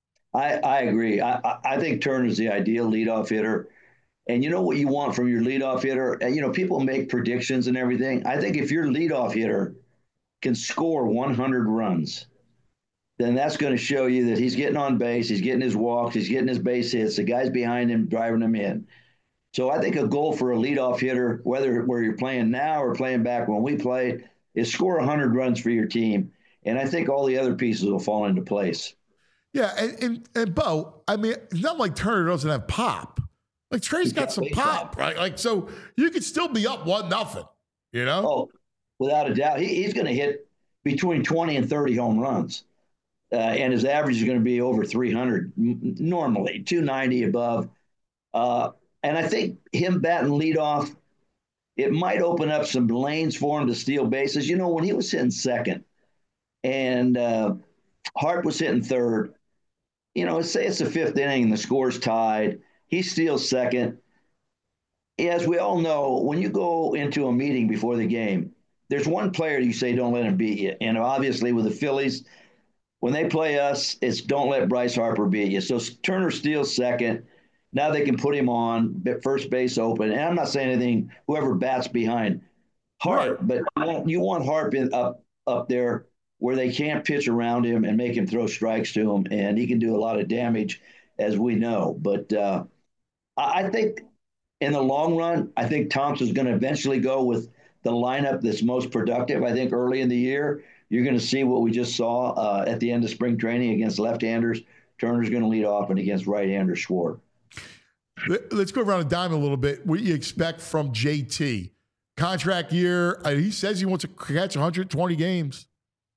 I, I agree. I, I, I think Turner's the ideal leadoff hitter. And you know what you want from your leadoff hitter? And, you know, people make predictions and everything. I think if your leadoff hitter can score one hundred runs, then that's going to show you that he's getting on base, he's getting his walks, he's getting his base hits, the guys behind him driving him in. So I think a goal for a leadoff hitter, whether where you're playing now or playing back when we played, is score one hundred runs for your team. And I think all the other pieces will fall into place. Yeah, and, and, and Bo, I mean, it's not like Turner doesn't have pop. Like, Trey's got some pop, right? Like, so you could still be up one nothing, you know? Oh, without a doubt. He, he's going to hit between twenty and thirty home runs. Uh, and his average is going to be over three hundred normally, two ninety above. Uh, and I think him batting leadoff, it might open up some lanes for him to steal bases. You know, when he was hitting second and uh, Hart was hitting third, you know, say it's the fifth inning and the score's tied. He steals second. As we all know, when you go into a meeting before the game, there's one player you say don't let him beat you. And obviously with the Phillies, when they play us, it's don't let Bryce Harper beat you. So Turner steals second. Now they can put him on first base open. And I'm not saying anything, whoever bats behind Hart, but you want, you want Hart in, up, up there where they can't pitch around him and make him throw strikes to him. And he can do a lot of damage, as we know. But uh, I think in the long run, I think Thompson's going to eventually go with the lineup that's most productive. I think early in the year, you're going to see what we just saw uh, at the end of spring training against left-handers. Turner's going to lead off, and against right-handers, Schwarber. Let- Let's go around the dime a little bit. What do you expect from J T? Contract year. uh, He says he wants to catch one hundred twenty games.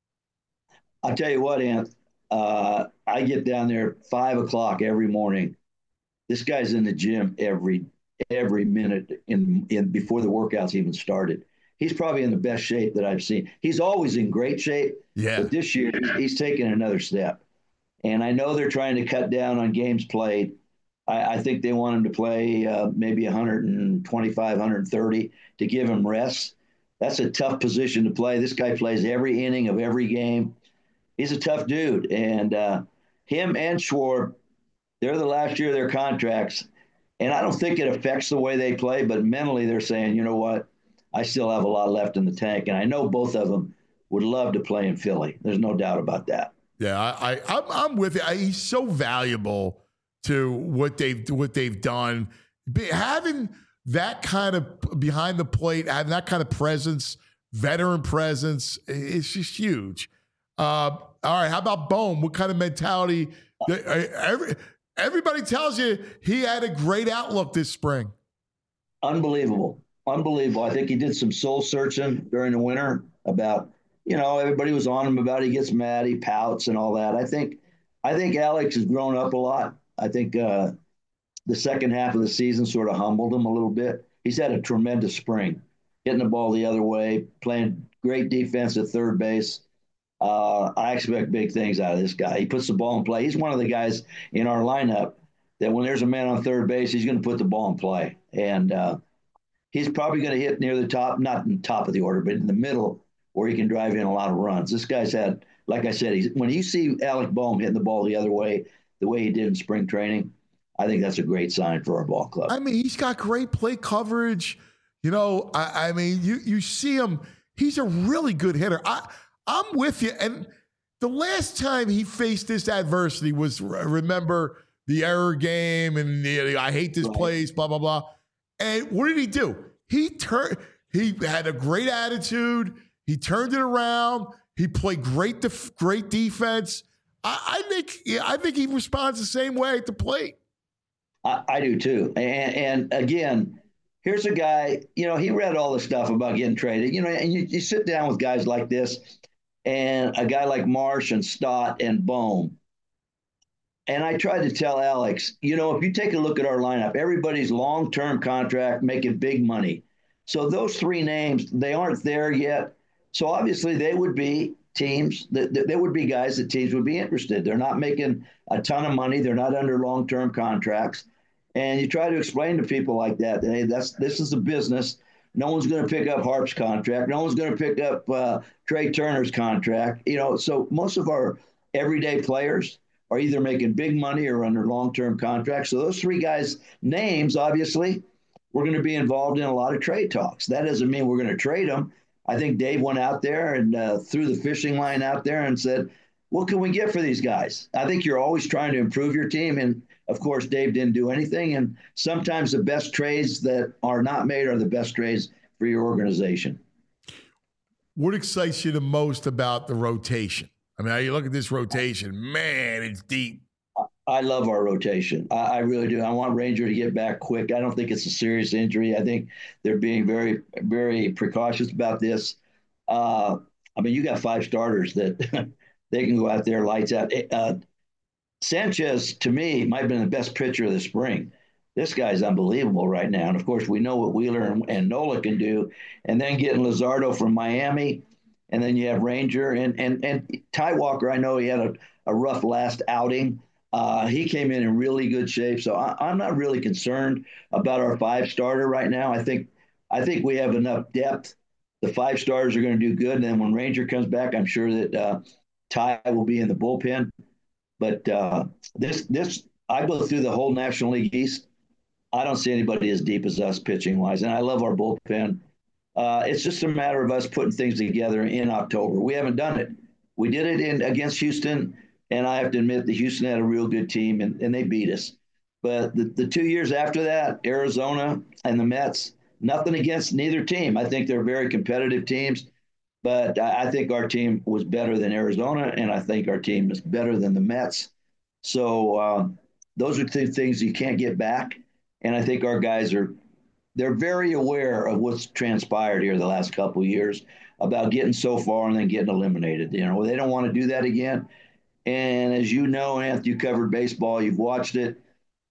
I'll tell you what, Ant. Uh, I get down there at five o'clock every morning. This guy's in the gym every every minute in, in before the workouts even started. He's probably in the best shape that I've seen. He's always in great shape, Yeah. but this year he's, he's taken another step. And I know they're trying to cut down on games played. I, I think they want him to play uh, maybe one twenty-five, one thirty to give him rest. That's a tough position to play. This guy plays every inning of every game. He's a tough dude. And uh, him and Schwarb, they're the last year of their contracts. And I don't think it affects the way they play, but mentally they're saying, you know what, I still have a lot left in the tank. And I know both of them would love to play in Philly. There's no doubt about that. Yeah, I, I I'm, I'm with you. I, he's so valuable to what they've what they've done. Be, having that kind of behind the plate, having that kind of presence, veteran presence, it's just huge. Uh, all right, how about Bohm? What kind of mentality? Every, everybody tells you he had a great outlook this spring. Unbelievable. Unbelievable. I think he did some soul searching during the winter about, you know, everybody was on him about he gets mad, he pouts and all that. I think I think Alex has grown up a lot. I think uh, the second half of the season sort of humbled him a little bit. He's had a tremendous spring, hitting the ball the other way, playing great defense at third base. Uh, I expect big things out of this guy. He puts the ball in play. He's one of the guys in our lineup that when there's a man on third base, he's going to put the ball in play. And uh, he's probably going to hit near the top, not in the top of the order, but in the middle where he can drive in a lot of runs. This guy's had, like I said, he's, when you see Alec Bohm hitting the ball the other way, the way he did in spring training, I think that's a great sign for our ball club. I mean, he's got great play coverage. You know, I, I mean, you you see him. He's a really good hitter. I, I'm with you. And the last time he faced this adversity was, remember, the error game and the, I hate this right. place, blah, blah, blah. And what did he do? He turned. He had a great attitude. He turned it around. He played great, def- great defense. I, I think. Yeah, I think he responds the same way at the plate. I, I do too. And, and again, here's a guy. You know, he read all the stuff about getting traded. You know, and you, you sit down with guys like this, and a guy like Marsh and Stott and Bohm. And I tried to tell Alex, you know, if you take a look at our lineup, everybody's long-term contract, making big money. So those three names, they aren't there yet. So obviously they would be teams, that, that there would be guys that teams would be interested. They're not making a ton of money. They're not under long-term contracts. And you try to explain to people like that, hey, that's this is a business. No one's going to pick up Harp's contract. No one's going to pick up uh, Trey Turner's contract. You know, so most of our everyday players are either making big money or under long-term contracts. So those three guys' names, obviously, we're going to be involved in a lot of trade talks. That doesn't mean we're going to trade them. I think Dave went out there and uh, threw the fishing line out there and said, what can we get for these guys? I think you're always trying to improve your team. And, of course, Dave didn't do anything. And sometimes the best trades that are not made are the best trades for your organization. What excites you the most about the rotation? I mean, you look at this rotation, man, it's deep. I love our rotation. I, I really do. I want Ranger to get back quick. I don't think it's a serious injury. I think they're being very, very precautious about this. Uh, I mean, you got five starters that they can go out there, lights out. Uh, Sanchez, to me, might have been the best pitcher of the spring. This guy's unbelievable right now. And, of course, we know what Wheeler and, and Nola can do. And then getting Luzardo from Miami, and then you have Ranger. And and and Ty Walker, I know he had a, a rough last outing. Uh, he came in in really good shape. So I, I'm not really concerned about our five-starter right now. I think I think we have enough depth. The five starters are going to do good. And then when Ranger comes back, I'm sure that uh, Ty will be in the bullpen. But uh, this, this, I go through the whole National League East. I don't see anybody as deep as us pitching-wise. And I love our bullpen. Uh, it's just a matter of us putting things together in October. We haven't done it. We did it in against Houston, and I have to admit that Houston had a real good team, and, and they beat us. But the, the two years after that, Arizona and the Mets, nothing against neither team. I think they're very competitive teams, but I, I think our team was better than Arizona, and I think our team is better than the Mets. So uh, those are two things you can't get back. And I think our guys are, they're very aware of what's transpired here the last couple of years about getting so far and then getting eliminated. You know, they don't want to do that again. And as you know, Anthony, you covered baseball, you've watched it.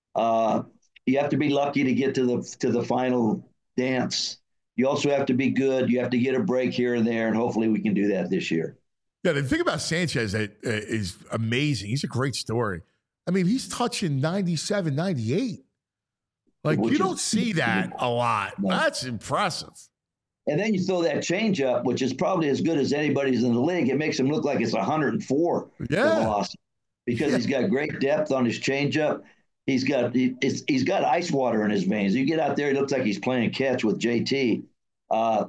Uh, you have to be lucky to get to the to the final dance. You also have to be good. You have to get a break here and there, and hopefully we can do that this year. Yeah, the thing about Sanchez that uh, is amazing. He's a great story. I mean, he's touching ninety-seven, ninety-eight. Like, Which you don't is, see that a lot. No. That's impressive. And then you throw that changeup, which is probably as good as anybody's in the league. It makes him look like it's one hundred four Yeah. velocity because Yeah. he's got great depth on his changeup. He's got he, it's, he's got ice water in his veins. You get out there, he looks like he's playing catch with J T. Uh,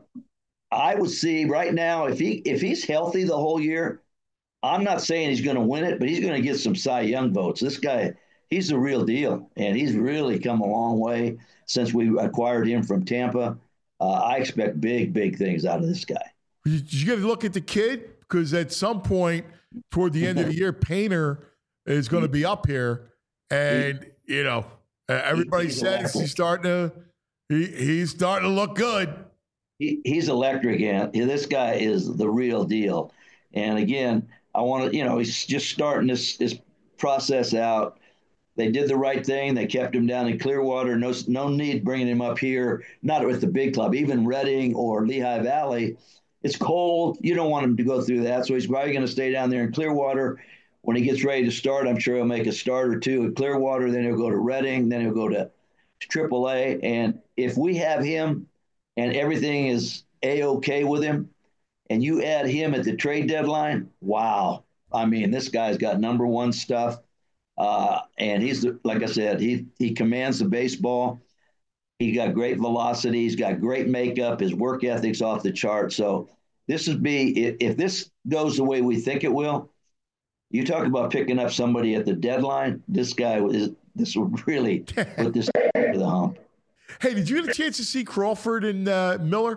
I would see right now if he if he's healthy the whole year, I'm not saying he's going to win it, but he's going to get some Cy Young votes. This guy, he's the real deal, and he's really come a long way since we acquired him from Tampa. Uh, I expect big, big things out of this guy. You, you got to look at the kid because at some point toward the end of the year, Painter is going to be up here, and you know uh, everybody he's says electric. he's starting to he, he's starting to look good. He, he's electric, and this guy is the real deal. And again, I want to, you know, he's just starting this this process out. They did the right thing. They kept him down in Clearwater. No, no need bringing him up here, not with the big club, even Reading or Lehigh Valley. It's cold. You don't want him to go through that. So he's probably going to stay down there in Clearwater. When he gets ready to start, I'm sure he'll make a start or two at Clearwater. Then he'll go to Reading. Then he'll go to triple A. And if we have him and everything is A-okay with him, and you add him at the trade deadline, wow. I mean, this guy's got number one stuff. Uh, and he's, like I said, he he commands the baseball. He got great velocity. He's got great makeup. His work ethic's off the chart. So this would be, if, if this goes the way we think it will, you talk about picking up somebody at the deadline, this guy, is this would really put this over the hump. Hey, did you get a chance to see Crawford and uh, Miller?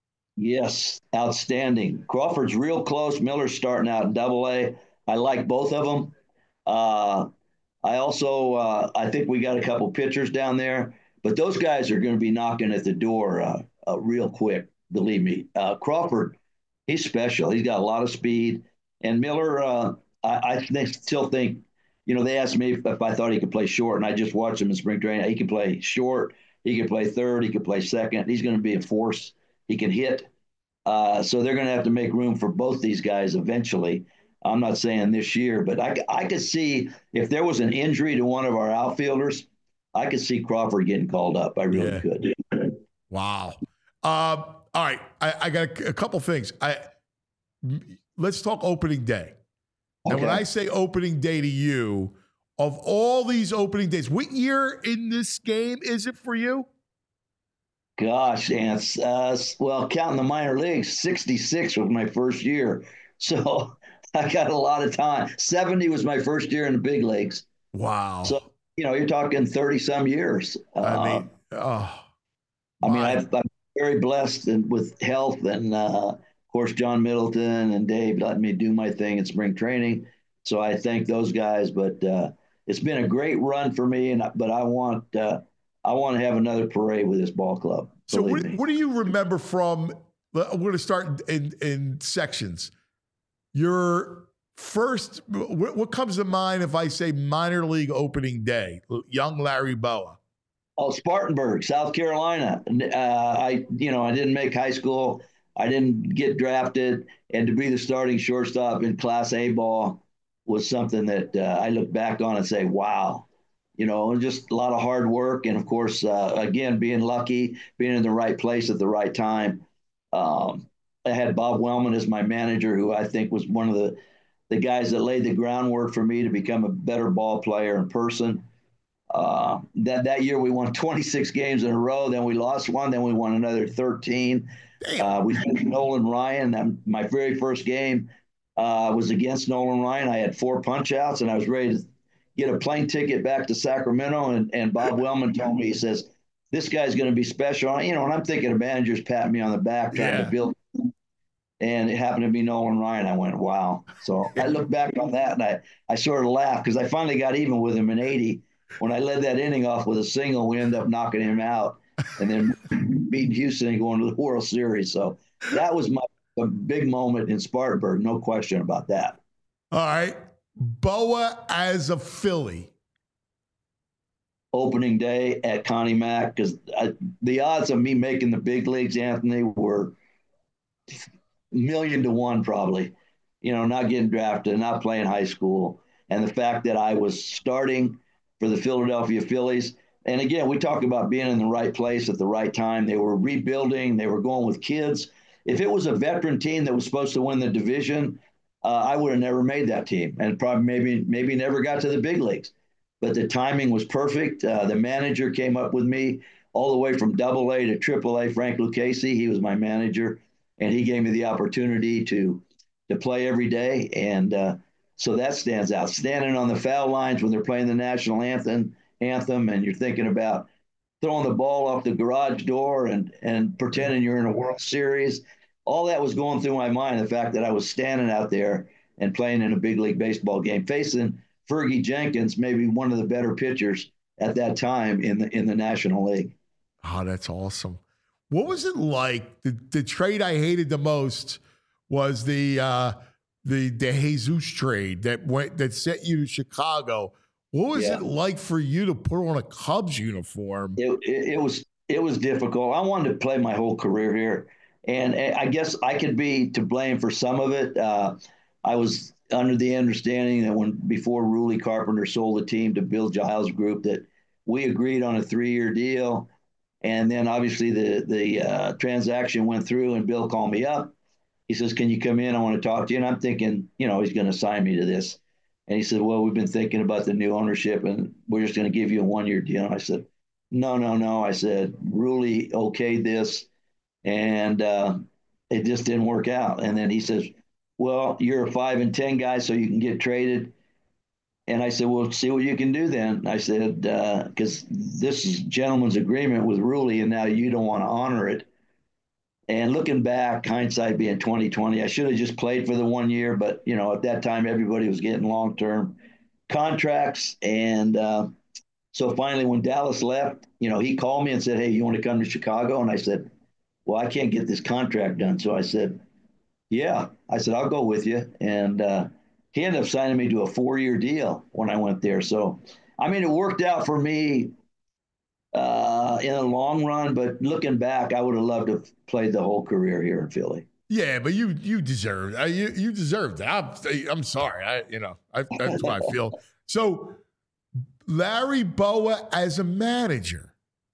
Yes, outstanding. Crawford's real close. Miller's starting out in double A. I like both of them. Uh, I also, uh, I think we got a couple pitchers down there, but those guys are going to be knocking at the door uh, uh, real quick, believe me. Uh, Crawford, he's special. He's got a lot of speed. And Miller, uh, I, I think, still think, you know, they asked me if, if I thought he could play short, and I just watched him in spring training. He can play short. He can play third. He can play second. He's going to be a force. He can hit. Uh, so they're going to have to make room for both these guys eventually. I'm not saying this year, but I, I could see if there was an injury to one of our outfielders, I could see Crawford getting called up. I really Yeah. could. Wow. Um, all right. I, I got a, a couple things. I Let's talk opening day. And Okay. when I say opening day to you, of all these opening days, what year in this game is it for you? Gosh, Ants. Uh, well, counting the minor leagues, sixty-six was my first year. So I got a lot of time. seventy was my first year in the big leagues. Wow. So, you know, you're talking thirty some years. Uh, I mean, oh, I mean, my- I've, I'm very blessed and with health, and uh, of course, John Middleton and Dave letting me do my thing in spring training. So I thank those guys. But uh, it's been a great run for me, and but I want uh, I want to have another parade with this ball club. So believe what, me. what do you remember from, I'm going to start in, in sections. Your first, what, what comes to mind if I say minor league opening day, young Larry Boa? Oh, Spartanburg, South Carolina. Uh, I, you know, I didn't make high school. I didn't get drafted, and to be the starting shortstop in Class A ball was something that uh, I look back on and say, wow. You know, just a lot of hard work. And, of course, uh, again, being lucky, being in the right place at the right time. Um, I had Bob Wellman as my manager, who I think was one of the, the guys that laid the groundwork for me to become a better ball player in person. Uh, that, that year we won twenty-six games in a row. Then we lost one. Then we won another thirteen. Uh, we faced Nolan Ryan. That, my very first game uh, was against Nolan Ryan. I had four punch outs, and I was ready to get a plane ticket back to Sacramento, and, and Bob Wellman told me, he says, this guy's going to be special. You know, and I'm thinking of managers patting me on the back trying Yeah. to build, and it happened to be Nolan Ryan. I went, wow. So I look back on that, and I, I sort of laughed because I finally got even with him in eighty, when I led that inning off with a single, we ended up knocking him out and then beating Houston and going to the World Series. So that was my a big moment in Spartanburg, no question about that. All right. Boa as a Philly. Opening day at Connie Mack, because the odds of me making the big leagues, Anthony, were million to one probably. You know, not getting drafted, not playing high school, and the fact that I was starting for the Philadelphia Phillies. And again, we talk about being in the right place at the right time. They were rebuilding. They were going with kids. If it was a veteran team that was supposed to win the division, uh, I would have never made that team and probably maybe maybe never got to the big leagues. But the timing was perfect. Uh, the manager came up with me all the way from double A to triple A, Frank Lucchesi. He was my manager, and he gave me the opportunity to to play every day. And uh, so that stands out. Standing on the foul lines when they're playing the national anthem, anthem, and you're thinking about throwing the ball off the garage door and, and pretending you're in a World Series. All that was going through my mind, the fact that I was standing out there and playing in a big league baseball game, facing Fergie Jenkins, maybe one of the better pitchers at that time in the in the National League. Oh, that's awesome. What was it like? The, the trade I hated the most was the uh, the the Jesus trade that went that sent you to Chicago. What was Yeah. it like for you to put on a Cubs uniform? It, it, it was it was difficult. I wanted to play my whole career here, and I guess I could be to blame for some of it. Uh, I was under the understanding that when before Ruley Carpenter sold the team to Bill Giles Group, that we agreed on a three-year deal, and then obviously the the uh, transaction went through, and Bill called me up. He says, "Can you come in? I want to talk to you." And I'm thinking, you know, he's going to sign me to this. And he said, "Well, we've been thinking about the new ownership, and we're just going to give you a one-year deal." And I said, "No, no, no." I said, "Ruley okayed this, and uh, it just didn't work out." And then he says, "Well, you're a five and ten guy, so you can get traded." And I said, "Well, see what you can do then." I said, because uh, this is gentleman's agreement with Ruley, and now you don't want to honor it. And looking back, hindsight being twenty twenty, I should have just played for the one year. But, you know, at that time, everybody was getting long-term contracts. And uh, so finally, when Dallas left, you know, he called me and said, "Hey, you want to come to Chicago?" And I said, "Well, I can't get this contract done." So I said, "Yeah." I said, "I'll go with you." And uh, he ended up signing me to a four-year deal when I went there. So, I mean, it worked out for me uh, in the long run, but looking back, I would have loved to have played the whole career here in Philly. Yeah, but you you deserved uh, you you deserved it. I'm, I'm sorry. I you know I, that's how I feel. So Larry Bowa as a manager.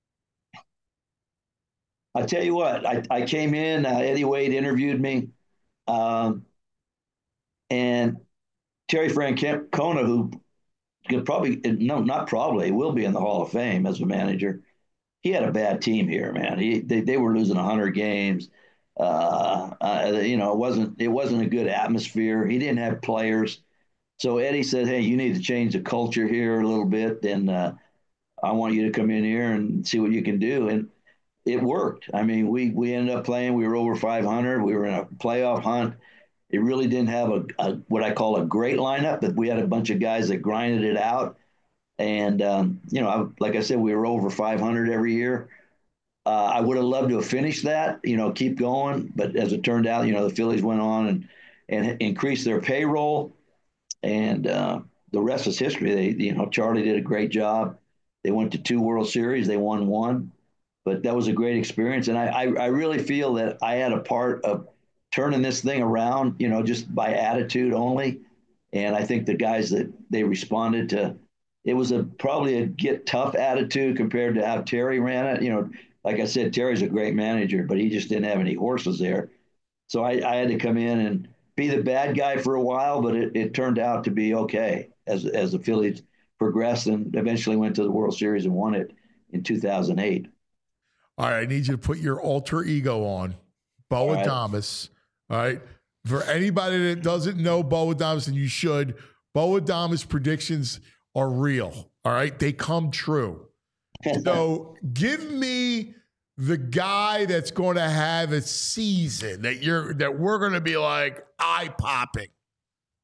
I tell you what, I, I came in. Uh, Eddie Wade interviewed me, um, and Terry Francona, who could probably no, not probably will be in the Hall of Fame as a manager. He had a bad team here, man. He they, they were losing one hundred games. Uh, uh, you know, it wasn't it wasn't a good atmosphere. He didn't have players. So Eddie said, "Hey, you need to change the culture here a little bit, and uh, I want you to come in here and see what you can do." And it worked. I mean, we we ended up playing. We were over five hundred. We were in a playoff hunt. It really didn't have a, a what I call a great lineup, but we had a bunch of guys that grinded it out. And um, you know, I, like I said, we were over five hundred every year. Uh, I would have loved to have finished that, you know, keep going. But as it turned out, you know, the Phillies went on and and increased their payroll, and uh, the rest is history. They, you know, Charlie did a great job. They went to two World Series. They won one, but that was a great experience. And I, I, I really feel that I had a part of turning this thing around, you know, just by attitude only. And I think the guys that they responded to, it was a probably a get tough attitude compared to how Terry ran it. You know, like I said, Terry's a great manager, but he just didn't have any horses there. So I, I had to come in and be the bad guy for a while, but it, it turned out to be okay as as the Phillies progressed and eventually went to the World Series and won it in two thousand eight. All right, I need you to put your alter ego on, Bo All right. Adames. All right. For anybody that doesn't know Bo Adames, and you should, Bo Adames predictions are real. All right. They come true. So give me the guy that's going to have a season that you're that we're going to be like eye popping.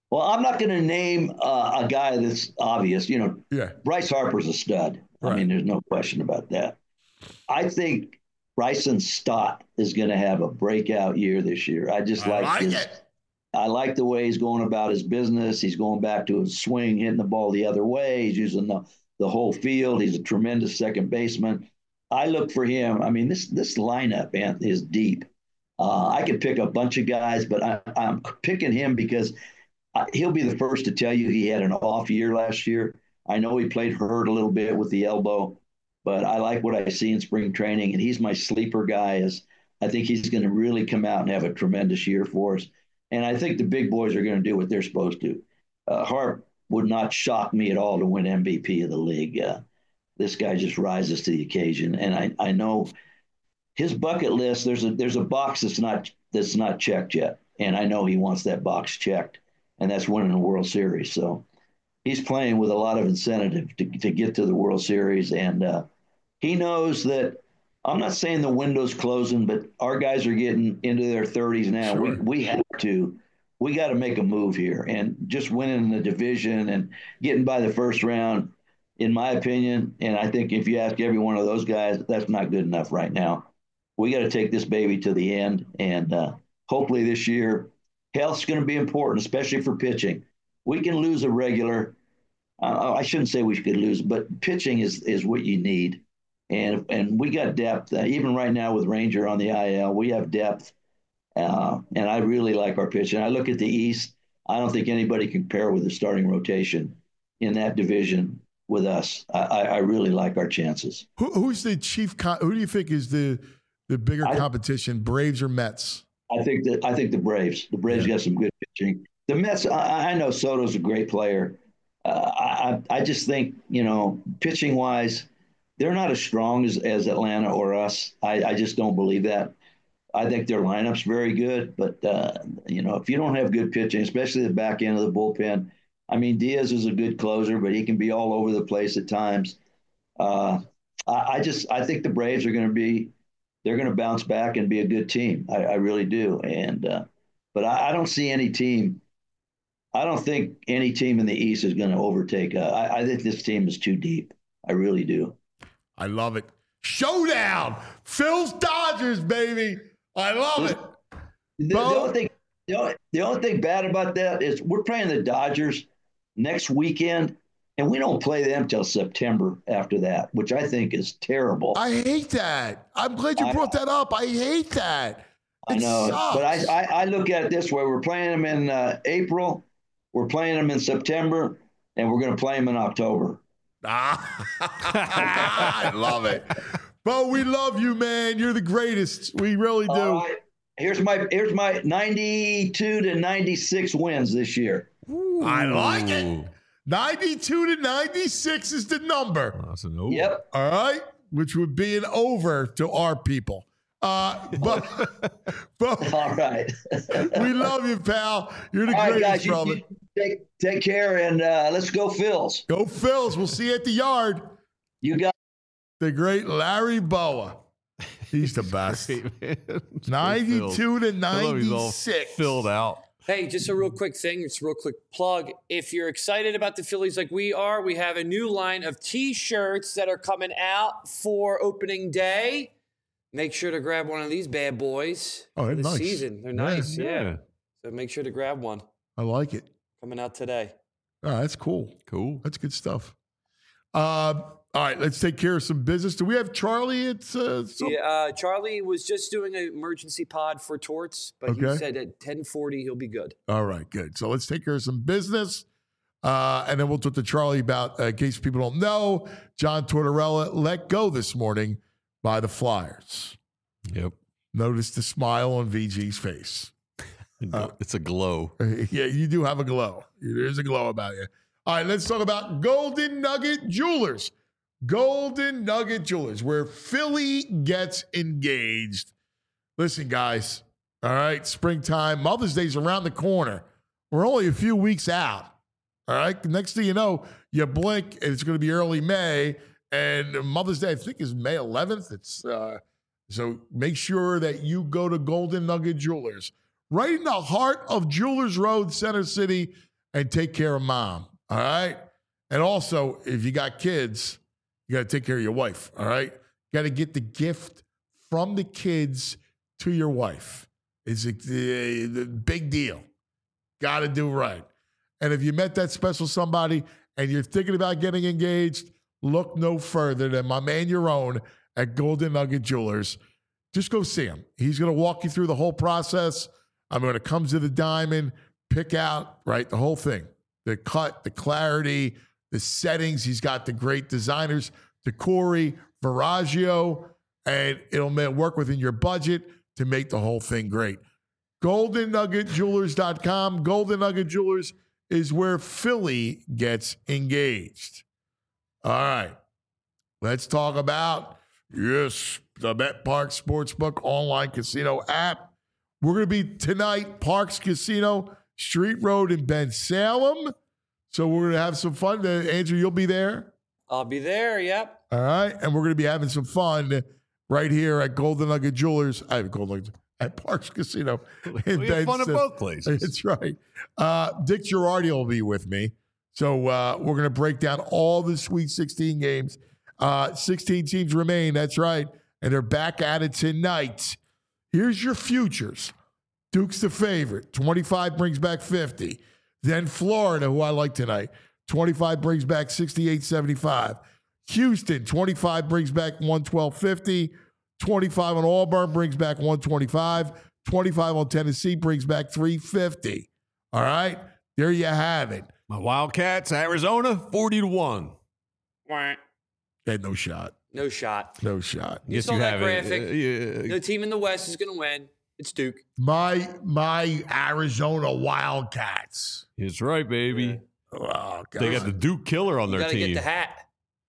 Well, I'm not going to name uh, a guy that's obvious. You know, Yeah. Bryce Harper's a stud. Right. I mean, there's no question about that. I think Bryson Stott is going to have a breakout year this year. I just I like, like his, it. I like the way he's going about his business. He's going back to his swing, hitting the ball the other way. He's using the, the whole field. He's a tremendous second baseman. I look for him. I mean, this this lineup, man, is deep. Uh, I could pick a bunch of guys, but I, I'm picking him because I, he'll be the first to tell you he had an off year last year. I know he played hurt a little bit with the elbow, but I like what I see in spring training, and he's my sleeper guy. As I think he's going to really come out and have a tremendous year for us. And I think the big boys are going to do what they're supposed to. Uh, Harp would not shock me at all to win M V P of the league. Uh, this guy just rises to the occasion, and I, I know his bucket list. There's a there's a box that's not that's not checked yet, and I know he wants that box checked, and that's winning the World Series. So he's playing with a lot of incentive to to get to the World Series, and uh, he knows that. I'm not saying the window's closing, but our guys are getting into their thirties now. Sure. We we have to. We got to make a move here, and just winning the division and getting by the first round, in my opinion, and I think if you ask every one of those guys, that's not good enough right now. We got to take this baby to the end, and uh, hopefully this year, health's going to be important, especially for pitching. We can lose a regular. Uh, I shouldn't say we could lose, but pitching is is what you need, and and we got depth. Uh, even right now with Ranger on the I L, we have depth. Uh, and I really like our pitching. I look at the East. I don't think anybody can compare with the starting rotation in that division with us. I, I, I really like our chances. Who, who's the chief? Con- who do you think is the the bigger I, competition, Braves or Mets? I think that I think the Braves. The Braves yeah. got some good pitching. The Mets. I, I know Soto's a great player. Uh, I I just think you know pitching wise, they're not as strong as, as Atlanta or us. I, I just don't believe that. I think their lineup's very good, but uh, you know, if you don't have good pitching, especially the back end of the bullpen, I mean, Diaz is a good closer, but he can be all over the place at times. Uh, I, I just, I think the Braves are going to be, they're going to bounce back and be a good team. I, I really do. And, uh, but I, I don't see any team. I don't think any team in the East is going to overtake. Uh, I, I think this team is too deep. I really do. I love it. Showdown, Phil's Dodgers, baby. I love it. The, the, only thing, the, only, the only thing bad about that is we're playing the Dodgers next weekend, and we don't play them till September after that, which I think is terrible. I hate that. I'm glad you I, brought that up. I hate that. It I know, sucks. but I, I, I look at it this way. We're playing them in uh, April, we're playing them in September, and we're going to play them in October. Ah, I love it. Bo, we love you, man. You're the greatest. We really do. Uh, here's my here's my ninety-two to ninety-six wins this year. Ooh. I like it. ninety-two to ninety-six is the number. Oh, that's an over. Yep. All right, which would be an over to our people. Uh, but, but all right. We love you, pal. You're the all greatest, right, guys, brother. You, you take take care, and uh, let's go, Phils. Go, Phils. We'll see you at the yard. You got. The great Larry Boa. He's the best. ninety-two to ninety-six. Filled out. Hey, just a real quick thing. It's a real quick plug. If you're excited about the Phillies like we are, we have a new line of T-shirts that are coming out for opening day. Make sure to grab one of these bad boys oh, for the nice. season. They're yeah, nice, yeah. yeah. So make sure to grab one. I like it. Coming out today. Oh, that's cool. Cool. That's good stuff. Um, All right, let's take care of some business. Do we have Charlie? It's uh, some- yeah. Uh, Charlie was just doing an emergency pod for Torts, but okay. he said at ten forty he'll be good. All right, good. So let's take care of some business, uh, and then we'll talk to Charlie about, uh, in case people don't know, John Tortorella let go this morning by the Flyers. Yep. Notice the smile on V G's face. Uh, it's a glow. Yeah, you do have a glow. There's a glow about you. All right, let's talk about Golden Nugget Jewelers. Golden Nugget Jewelers, where Philly gets engaged. Listen, guys, all right, springtime, Mother's Day's around the corner. We're only a few weeks out, all right? Next thing you know, you blink, and it's going to be early May, and Mother's Day, I think, is May eleventh. It's uh, so make sure that you go to Golden Nugget Jewelers, right in the heart of Jewelers Road, Center City, and take care of mom. All right. And also, if you got kids, you got to take care of your wife. All right. You got to get the gift from the kids to your wife. It's a, a, a big deal. Got to do right. And if you met that special somebody and you're thinking about getting engaged, look no further than my man, your own, at Golden Nugget Jewelers. Just go see him. He's going to walk you through the whole process. I mean, when it comes to the diamond, pick out, right, the whole thing. The cut, the clarity, the settings. He's got the great designers, Tacori, Viraggio, and it'll work within your budget to make the whole thing great. golden nugget jewelers dot com. Golden Nugget Jewelers is where Philly gets engaged. All right. Let's talk about, yes, the BetParx Sportsbook online casino app. We're going to be tonight, Parks Casino, Street Road in Ben Salem. So we're going to have some fun. Andrew, you'll be there? I'll be there, yep. All right. And we're going to be having some fun right here at Golden Nugget Jewelers. I have Golden Nugget at Parks Casino. We have fun at both places. That's right. Uh, Dick Girardi will be with me. So uh, we're going to break down all the Sweet sixteen games. Uh, sixteen teams remain. That's right. And they're back at it tonight. Here's your futures. Duke's the favorite. twenty-five brings back fifty. Then Florida, who I like tonight. twenty-five brings back sixty-eight seventy-five. Houston, twenty-five brings back one twelve fifty. twenty-five on Auburn brings back one twenty-five. twenty-five on Tennessee brings back three fifty. All right? There you have it. My Wildcats, Arizona, forty to one. Wah. They had no shot. No shot. No shot. You Yes, saw you that have graphic. it. Uh, yeah. The team in the West is going to win. It's Duke. My my Arizona Wildcats. That's right, baby. Oh, God. They got the Duke Killer on You their got to team. get the hat.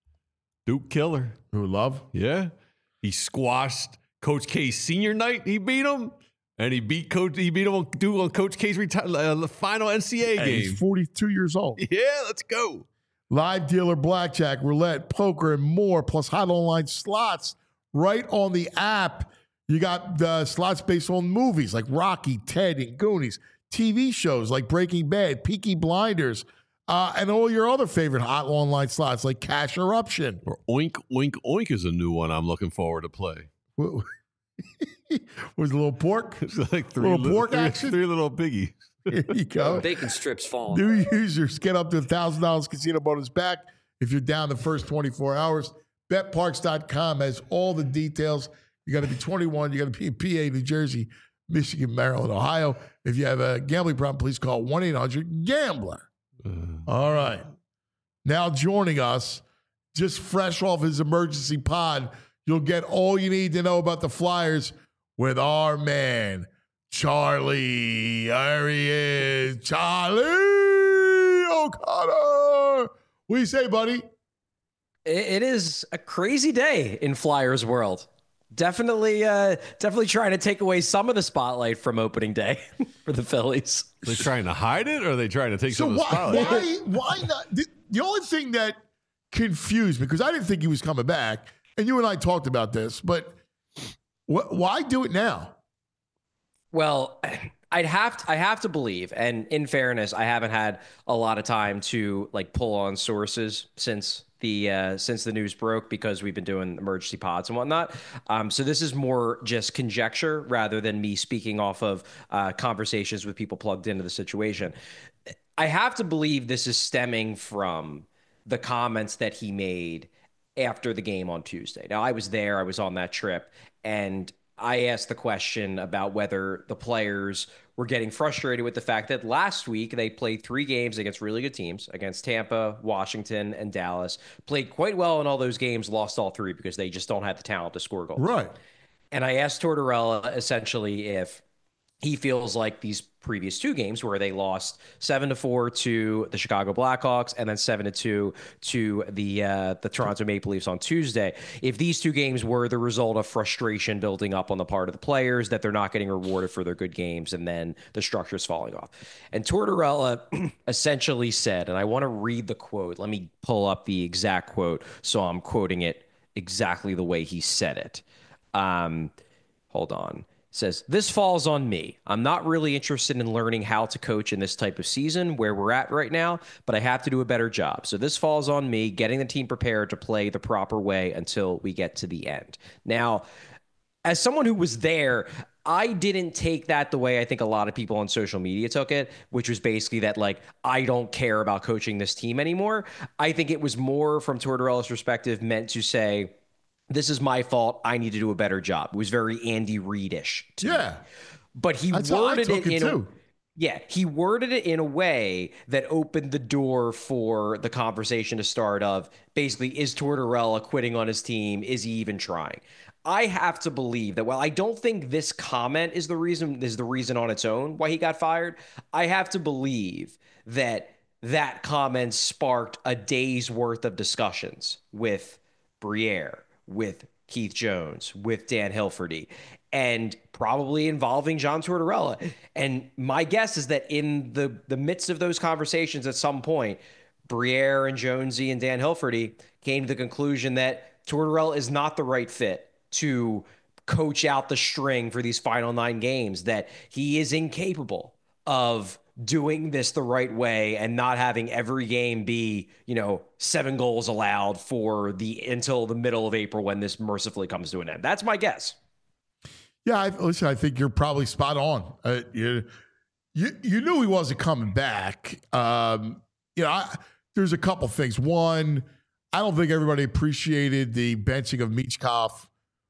Duke Killer. Who love? Yeah. He squashed Coach K's senior night. He beat him. And he beat Coach. He beat him on, Duke on Coach K's reti- uh, the final N C A A Hey, game. he's forty-two years old. Yeah, let's go. Live dealer, blackjack, roulette, poker, and more, plus hot online slots right on the app. You got the slots based on movies like Rocky, Ted, and Goonies, T V shows like Breaking Bad, Peaky Blinders, uh, and all your other favorite hot online slots like Cash Eruption. Or Oink, Oink, Oink is a new one I'm looking forward to play. Was a little pork? It's like three Little pork three, action? three little piggies. There you go. Bacon strips falling. New users get up to one thousand dollars casino bonus back if you're down the first twenty-four hours. Bet Parx dot com has all the details. You got to be twenty-one. You got to be in P A, New Jersey, Michigan, Maryland, Ohio. If you have a gambling problem, please call one eight hundred gambler. Uh, All right. Now joining us, just fresh off his emergency pod, you'll get all you need to know about the Flyers with our man, Charlie. There he is. Charlie O'Connor. What do you say, buddy? It is a crazy day in Flyers world. Definitely, uh, definitely trying to take away some of the spotlight from opening day for the Phillies. Are they trying to hide it, or are they trying to take So some of the why, spotlight? why, why not? The, the only thing that confused me, because I didn't think he was coming back, and you and I talked about this, but wh- why do it now? Well, I'd have to, I have to believe, and in fairness, I haven't had a lot of time to like pull on sources since the uh, since the news broke, because we've been doing emergency pods and whatnot. Um, so this is more just conjecture rather than me speaking off of uh, conversations with people plugged into the situation. I have to believe this is stemming from the comments that he made after the game on Tuesday. Now, I was there, I was on that trip, and I asked the question about whether the players were getting frustrated with the fact that last week they played three games against really good teams, against Tampa, Washington, and Dallas, played quite well in all those games, lost all three because they just don't have the talent to score goals. Right. And I asked Tortorella essentially if he feels like these previous two games where they lost seven to four to the Chicago Blackhawks and then seven to two to the uh, the Toronto Maple Leafs on Tuesday, if these two games were the result of frustration building up on the part of the players, that they're not getting rewarded for their good games and then the structure's falling off. And Tortorella essentially said, and I want to read the quote. Let me pull up the exact quote so I'm quoting it exactly the way he said it. Um, hold on. says, this falls on me. I'm not really interested in learning how to coach in this type of season where we're at right now, but I have to do a better job. So this falls on me, getting the team prepared to play the proper way until we get to the end. Now, as someone who was there, I didn't take that the way I think a lot of people on social media took it, which was basically that, like, I don't care about coaching this team anymore. I think it was more, from Tortorella's perspective, meant to say, this is my fault. I need to do a better job. It was very Andy Reid-ish to Yeah. me. But he That's how I worded took it it in too. a, yeah, he worded it in a way that opened the door for the conversation to start of basically, is Tortorella quitting on his team? Is he even trying? I have to believe that while I don't think this comment is the reason is the reason on its own why he got fired, I have to believe that that comment sparked a day's worth of discussions with Briere, with Keith Jones, with Dan Hilferty, and probably involving John Tortorella. And my guess is that in the, the midst of those conversations at some point, Briere and Jonesy and Dan Hilferty came to the conclusion that Tortorella is not the right fit to coach out the string for these final nine games, that he is incapable of doing this the right way and not having every game be, you know, seven goals allowed for the until the middle of April when this mercifully comes to an end. That's my guess. Yeah, I, listen, I think you're probably spot on. Uh, you, you you knew he wasn't coming back. Um, you know, I, there's a couple things. One, I don't think everybody appreciated the benching of Michkov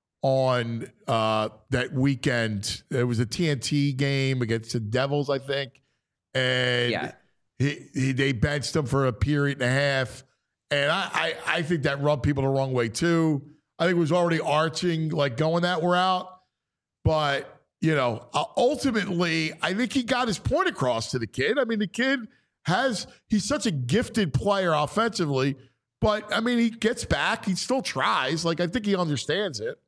on uh, that weekend. It was a T N T game against the Devils, I think. And Yeah. he, he, they benched him for a period and a half. And I, I, I think that rubbed people the wrong way, too. I think it was already arching, like going that route. But, you know, uh, ultimately, I think he got his point across to the kid. I mean, the kid has, he's such a gifted player offensively. But, I mean, he gets back. He still tries. Like, I think he understands it.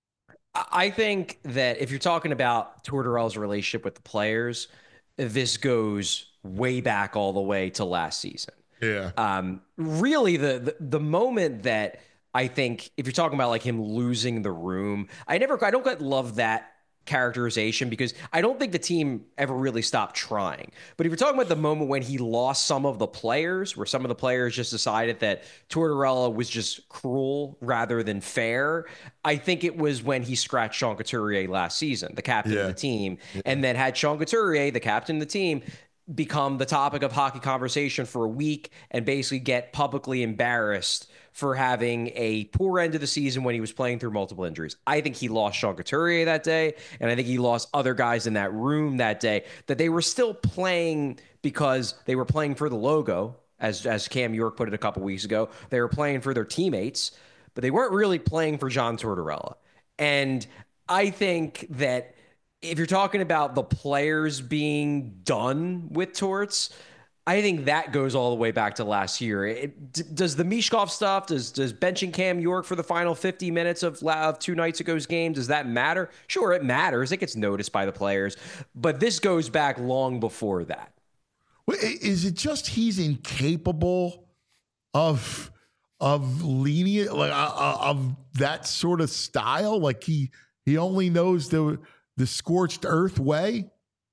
I think that if you're talking about Tortorella's relationship with the players, this goes way back all the way to last season. Yeah. Um, really, the, the the moment that I think, if you're talking about like him losing the room, I never, I don't quite love that characterization because I don't think the team ever really stopped trying. But if you're talking about the moment when he lost some of the players, where some of the players just decided that Tortorella was just cruel rather than fair, I think it was when he scratched Sean Couturier last season, the captain Yeah. of the team, and then had Sean Couturier, the captain of the team, become the topic of hockey conversation for a week and basically get publicly embarrassed for having a poor end of the season when he was playing through multiple injuries. I think he lost Sean Couturier that day, and I think he lost other guys in that room that day, that they were still playing because they were playing for the logo, as as Cam York put it a couple weeks ago. They were playing for their teammates, but they weren't really playing for John Tortorella. And I think that if you're talking about the players being done with Torts, I think that goes all the way back to last year. It, d- does the Michkov stuff, does does benching Cam York for the final fifty minutes of, of two nights ago's game, does that matter? Sure, it matters. It gets noticed by the players. But this goes back long before that. Wait, is it just he's incapable of of lenient, like uh, of that sort of style? Like he he only knows the the scorched earth way?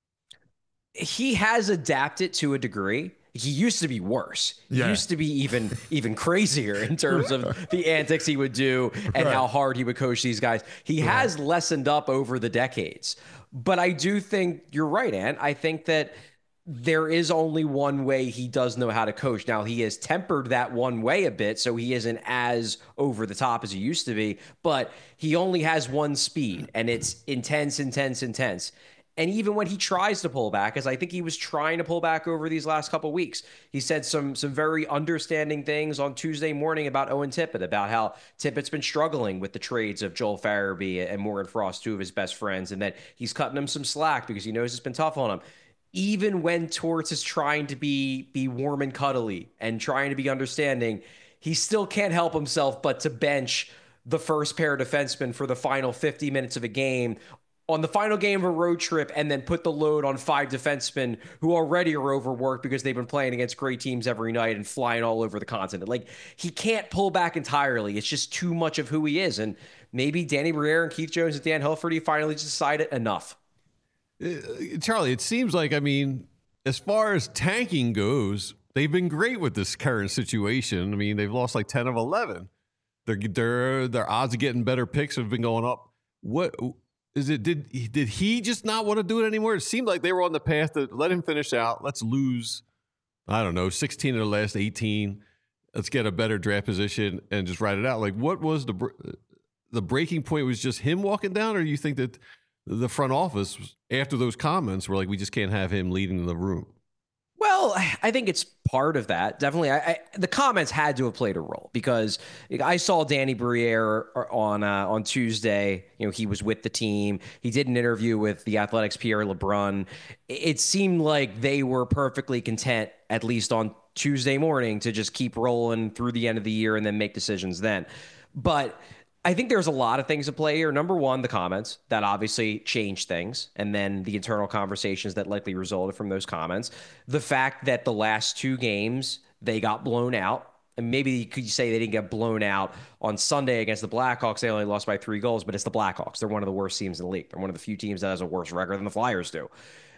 He has adapted to a degree. He used to be worse. He Yeah. used to be even even crazier in terms of the antics he would do and Right. how hard he would coach these guys. He has lessened up over the decades. But I do think you're right, Ant. I think that there is only one way he does know how to coach. Now, he has tempered that one way a bit, so he isn't as over the top as he used to be, but he only has one speed, and it's intense, intense, intense. And even when he tries to pull back, as I think he was trying to pull back over these last couple weeks, he said some some very understanding things on Tuesday morning about Owen Tippett, about how Tippett's been struggling with the trades of Joel Farabee and Morgan Frost, two of his best friends, and that he's cutting him some slack because he knows it's been tough on him. Even when Torts is trying to be be warm and cuddly and trying to be understanding, he still can't help himself but to bench the first pair of defensemen for the final fifty minutes of a game on the final game of a road trip, and then put the load on five defensemen who already are overworked because they've been playing against great teams every night and flying all over the continent. Like, he can't pull back entirely. It's just too much of who he is. And maybe Danny Briere and Keith Jones and Dan Hilferty finally just decided enough. Uh, Charlie, it seems like, I mean, as far as tanking goes, they've been great with this current situation. I mean, they've lost like ten of eleven. Their their their odds of getting better picks have been going up. What is it? Did did he just not want to do it anymore? It seemed like they were on the path to let him finish out. Let's lose, I don't know, sixteen of the last eighteen. Let's get a better draft position and just ride it out. Like, what was the the breaking point? Was just him walking down, or you think that the front office after those comments were like, we just can't have him leading the room? Well, I think it's part of that. Definitely. I, I, the comments had to have played a role because I saw Danny Briere on uh, on Tuesday. You know, he was with the team. He did an interview with the Athletics' Pierre LeBrun. It seemed like they were perfectly content, at least on Tuesday morning, to just keep rolling through the end of the year and then make decisions then. But I think there's a lot of things at play here. Number one, the comments that obviously changed things, and then the internal conversations that likely resulted from those comments. The fact that the last two games they got blown out, and maybe you could say they didn't get blown out on Sunday against the Blackhawks. They only lost by three goals, but it's the Blackhawks. They're one of the worst teams in the league. They're one of the few teams that has a worse record than the Flyers do.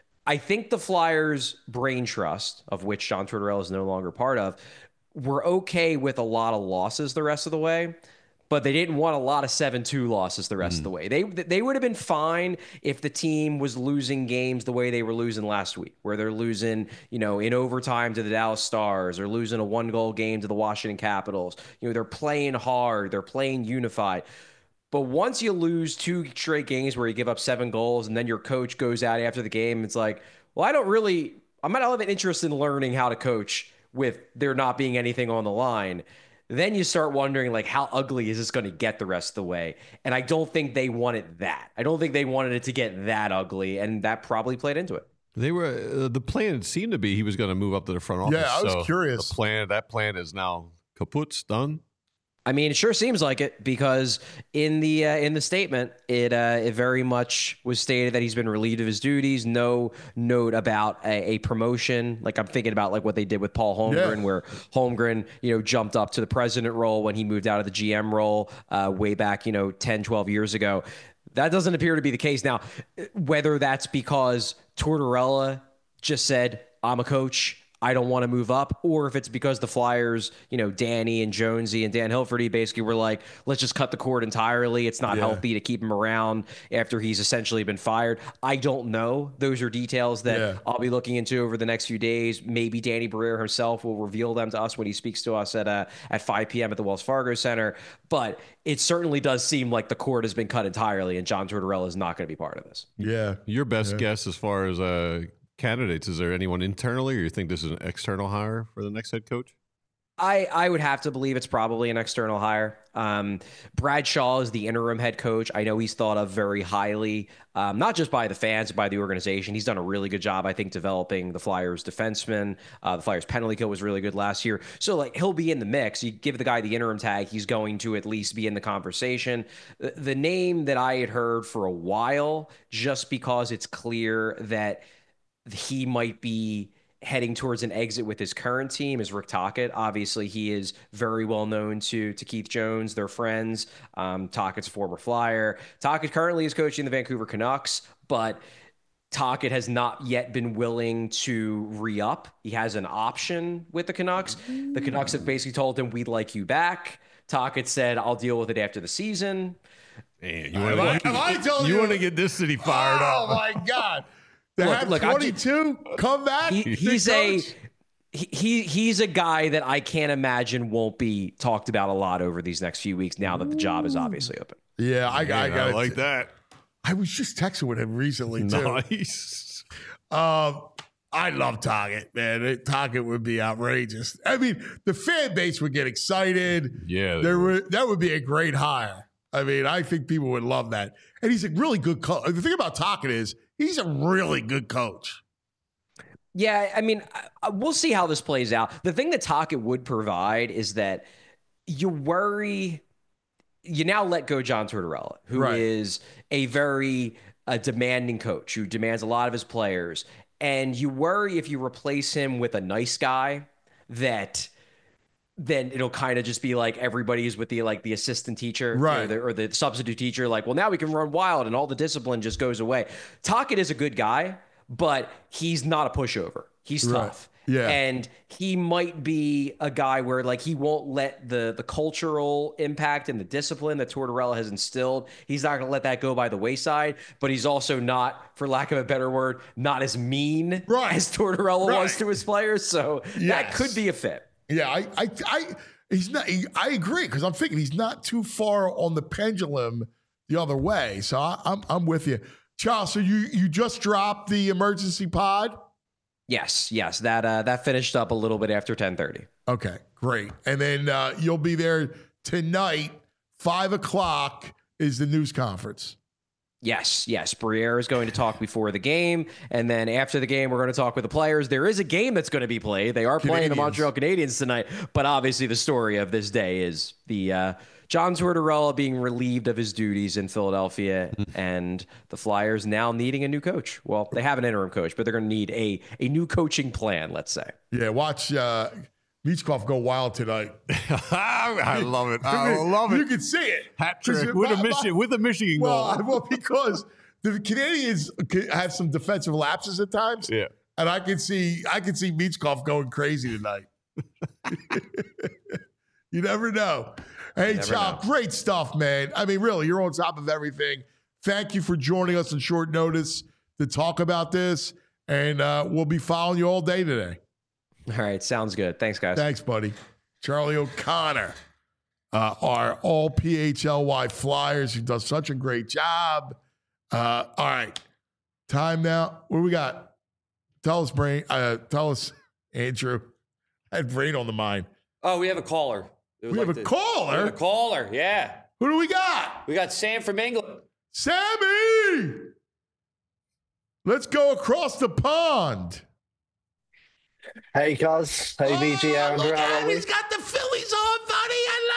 I think the Flyers' brain trust, of which John Tortorella is no longer part of, were okay with a lot of losses the rest of the way. But they didn't want a lot of seven two losses the rest mm. of the way. They they would have been fine if the team was losing games the way they were losing last week, where they're losing, you know, in overtime to the Dallas Stars or losing a one-goal game to the Washington Capitals. You know, they're playing hard. They're playing unified. But once you lose two straight games where you give up seven goals and then your coach goes out after the game, it's like, well, I don't really – I might not have an interest in learning how to coach with there not being anything on the line. Then you start wondering, like, how ugly is this going to get the rest of the way? And I don't think they wanted that. I don't think they wanted it to get that ugly, and that probably played into it. They were uh, the plan seemed to be he was going to move up to the front office. Yeah, I was so curious. The plan that plan is now kaput, done. I mean, it sure seems like it because in the uh, in the statement, it uh, it very much was stated that he's been relieved of his duties. No note about a, a promotion. Like I'm thinking about like what they did with Paul Holmgren, yeah. where Holmgren, you know, jumped up to the president role when he moved out of the G M role uh, way back, you know, ten, twelve years ago. That doesn't appear to be the case now. Whether that's because Tortorella just said, "I'm a coach, I don't want to move up," or if it's because the Flyers, you know, Danny and Jonesy and Dan Hilferty basically were like, let's just cut the cord entirely. It's not yeah. healthy to keep him around after he's essentially been fired. I don't know. Those are details that yeah. I'll be looking into over the next few days. Maybe Danny Briere himself will reveal them to us when he speaks to us at uh, at five p.m. at the Wells Fargo Center. But it certainly does seem like the cord has been cut entirely, and John Tortorella is not going to be part of this. Yeah. Your best yeah. guess as far as uh candidates, is there anyone internally, or you think this is an external hire for the next head coach? I, I would have to believe it's probably an external hire. Um, Brad Shaw is the interim head coach. I know he's thought of very highly, um, not just by the fans, but by the organization. He's done a really good job, I think, developing the Flyers defensemen. Uh, the Flyers penalty kill was really good last year. So, like, he'll be in the mix. You give the guy the interim tag, he's going to at least be in the conversation. The, the name that I had heard for a while, just because it's clear that he might be heading towards an exit with his current team, is Rick Tocchet. Obviously, he is very well known to to Keith Jones. They're friends. Um, Tockett's a former Flyer. Tocchet currently is coaching the Vancouver Canucks, but Tocchet has not yet been willing to re-up. He has an option with the Canucks. The Canucks have basically told him, we'd like you back. Tocchet said, I'll deal with it after the season. Man, you want to you, you get this city fired oh, up. Oh, my God. They look, have look, twenty-two come back. He, he's a he he's a guy that I can't imagine won't be talked about a lot over these next few weeks. Now that the job is obviously open. Yeah, I, Man, I got I it. like that. I was just texting with him recently too. Nice. Um, I love Tocchet, man. Tocchet would be outrageous. I mean, the fan base would get excited. Yeah, there would that would be a great hire. I mean, I think people would love that. And he's a really good coach. The thing about Tocchet is he's a really good coach. Yeah, I mean, we'll see how this plays out. The thing that Tocchet would provide is that you worry, you now let go John Tortorella, who right. is a very uh, demanding coach, who demands a lot of his players. And you worry if you replace him with a nice guy that then it'll kind of just be like everybody's with the like the assistant teacher, right, or the, or the substitute teacher. Like, well, now we can run wild, and all the discipline just goes away. Tocchet is a good guy, but he's not a pushover. He's Right. tough. Yeah. And he might be a guy where like he won't let the the cultural impact and the discipline that Tortorella has instilled, he's not going to let that go by the wayside, but he's also not, for lack of a better word, not as mean right. as Tortorella right. was to his players. So yes. that could be a fit. Yeah, I, I, I, he's not. He, I agree because I'm thinking he's not too far on the pendulum the other way. So I, I'm, I'm with you, Charles. So you, you just dropped the emergency pod. Yes, yes, that uh, that finished up a little bit after ten thirty. Okay, great. And then uh, you'll be there tonight. Five o'clock is the news conference. Yes, yes. Briere is going to talk before the game, and then after the game, we're going to talk with the players. There is a game that's going to be played. They are playing the Montreal Canadiens tonight, but obviously the story of this day is the uh, John Tortorella being relieved of his duties in Philadelphia, and the Flyers now needing a new coach. Well, they have an interim coach, but they're going to need a a new coaching plan, let's say. Yeah, watch uh, Michkov go wild tonight. I love it. I love it. You can see it. Hat trick with a Michigan with a Michigan well, goal. Well, because the Canadians have some defensive lapses at times. Yeah, and I can see I can see Michkov going crazy tonight. You never know. Hey, Chow, great stuff, man. I mean, really, you're on top of everything. Thank you for joining us on short notice to talk about this, and uh, we'll be following you all day today. All right, sounds good. Thanks, guys. Thanks, buddy. Charlie O'Connor, uh, our all P H L Y Flyers, who does such a great job. Uh, all right, time now. What do we got? Tell us, Brain. Uh, tell us, Andrew. I had Brain on the mind. Oh, we have a caller. We like have a to, caller? We have a caller, yeah. Who do we got? We got Sam from England. Sammy! Let's go across the pond. Hey, cuz. Hey, oh, V G. Aaron, look how at are him. we? He's got the Phillies on, buddy. I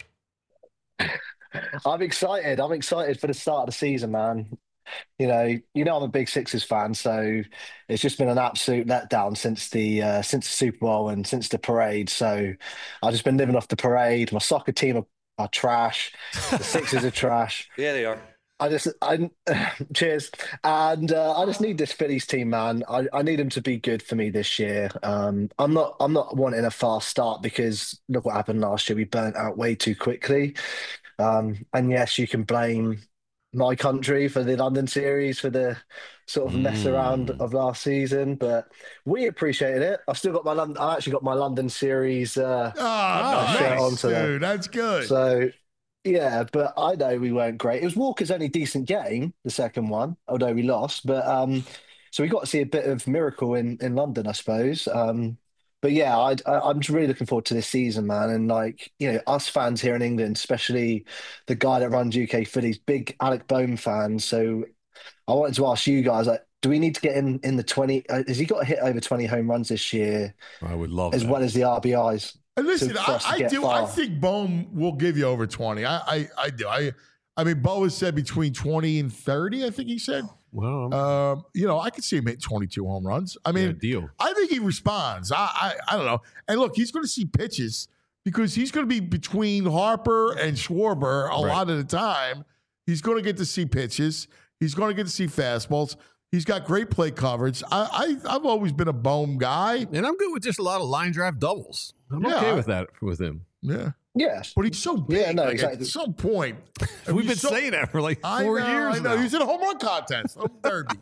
love it. I'm excited. I'm excited for the start of the season, man. You know, you know, I'm a big Sixers fan, so it's just been an absolute letdown since the uh, since the Super Bowl and since the parade. So I've just been living off the parade. My soccer team are, are trash. The Sixers are trash. Yeah, they are. I just, I cheers, and uh, I just need this Phillies team, man. I, I need them to be good for me this year. Um, I'm not, I'm not wanting a fast start because look what happened last year. We burnt out way too quickly. Um, and yes, you can blame my country for the London series for the sort of mess Mm. around of last season, but we appreciated it. I've still got my London. I actually got my London series. Uh, Oh, uh, shirt nice, on today. dude. That's good. So. Yeah, but I know we weren't great. It was Walker's only decent game, the second one, although we lost. But um, so we got to see a bit of miracle in, in London, I suppose. Um, but yeah, I, I, I'm just really looking forward to this season, man. And like, you know, us fans here in England, especially the guy that runs U K Phillies, big Alec Bohm fans. So I wanted to ask you guys, like, do we need to get in in the twenty? Uh, has he got to hit over twenty home runs this year? I would love as that. well as the R B Is. And listen, to- for I, us to I get do. far. I think Bohm will give you over twenty. I, I, I do. I, I mean, Bo has said between twenty and thirty. I think he said. Well, Um, you know, I could see him hit twenty-two home runs. I mean, yeah, deal. I think he responds. I, I, I don't know. And look, he's going to see pitches because he's going to be between Harper and Schwarber a Right. lot of the time. He's going to get to see pitches. He's going to get to see fastballs. He's got great play coverage. I, I, I've always been a Bohm guy. And I'm good with just a lot of line drive doubles. I'm Yeah, okay I- with that with him. Yeah. Yes. But he's so big. Yeah, no, like, exactly. At some point, We've been he's so- saying that for like I four know, years I know. now. He's in a home run contest. Home derby.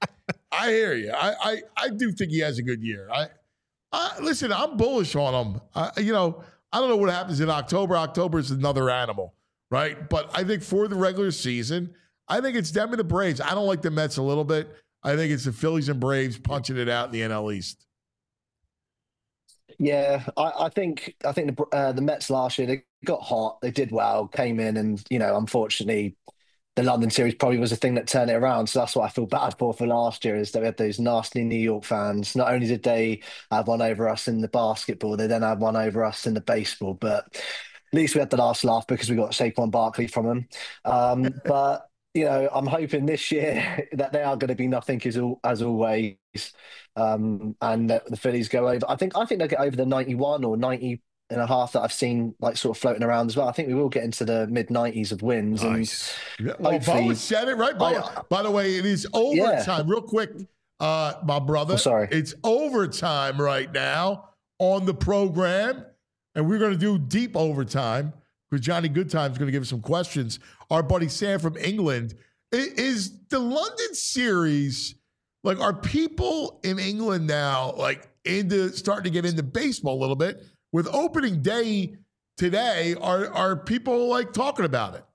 I hear you. I, I, I do think he has a good year. I, I listen. I'm bullish on him. I, you know, I don't know what happens in October. October is another animal, right? But I think for the regular season, I think it's them and the Braves. I don't like the Mets a little bit. I think it's the Phillies and Braves punching it out in the N L East. Yeah, I, I think I think the uh, the Mets last year they got hot, they did well, came in, and you know, unfortunately, the London series probably was the thing that turned it around. So that's what I feel bad for for last year is that we had those nasty New York fans. Not only did they have one over us in the basketball, they then had one over us in the baseball. But at least we had the last laugh because we got Saquon Barkley from them. Um, but you know, I'm hoping this year that they are going to be nothing as, al- as always, um, and that the Phillies go over. I think I think they'll get over the ninety-one or ninety and a half that I've seen like sort of floating around as well. I think we will get into the mid nineties of wins. Nice. And yeah. Well, Bowen said it, right? Bowen. I, By the way, it is overtime. Yeah. Real quick, uh, my brother. Oh, sorry. It's overtime right now on the program, and we're going to do deep overtime because Johnny Goodtime is going to give us some questions. Our buddy Sam from England. Is the London series, like, are people in England now, like, into starting to get into baseball a little bit? With opening day today, are are people, like, talking about it?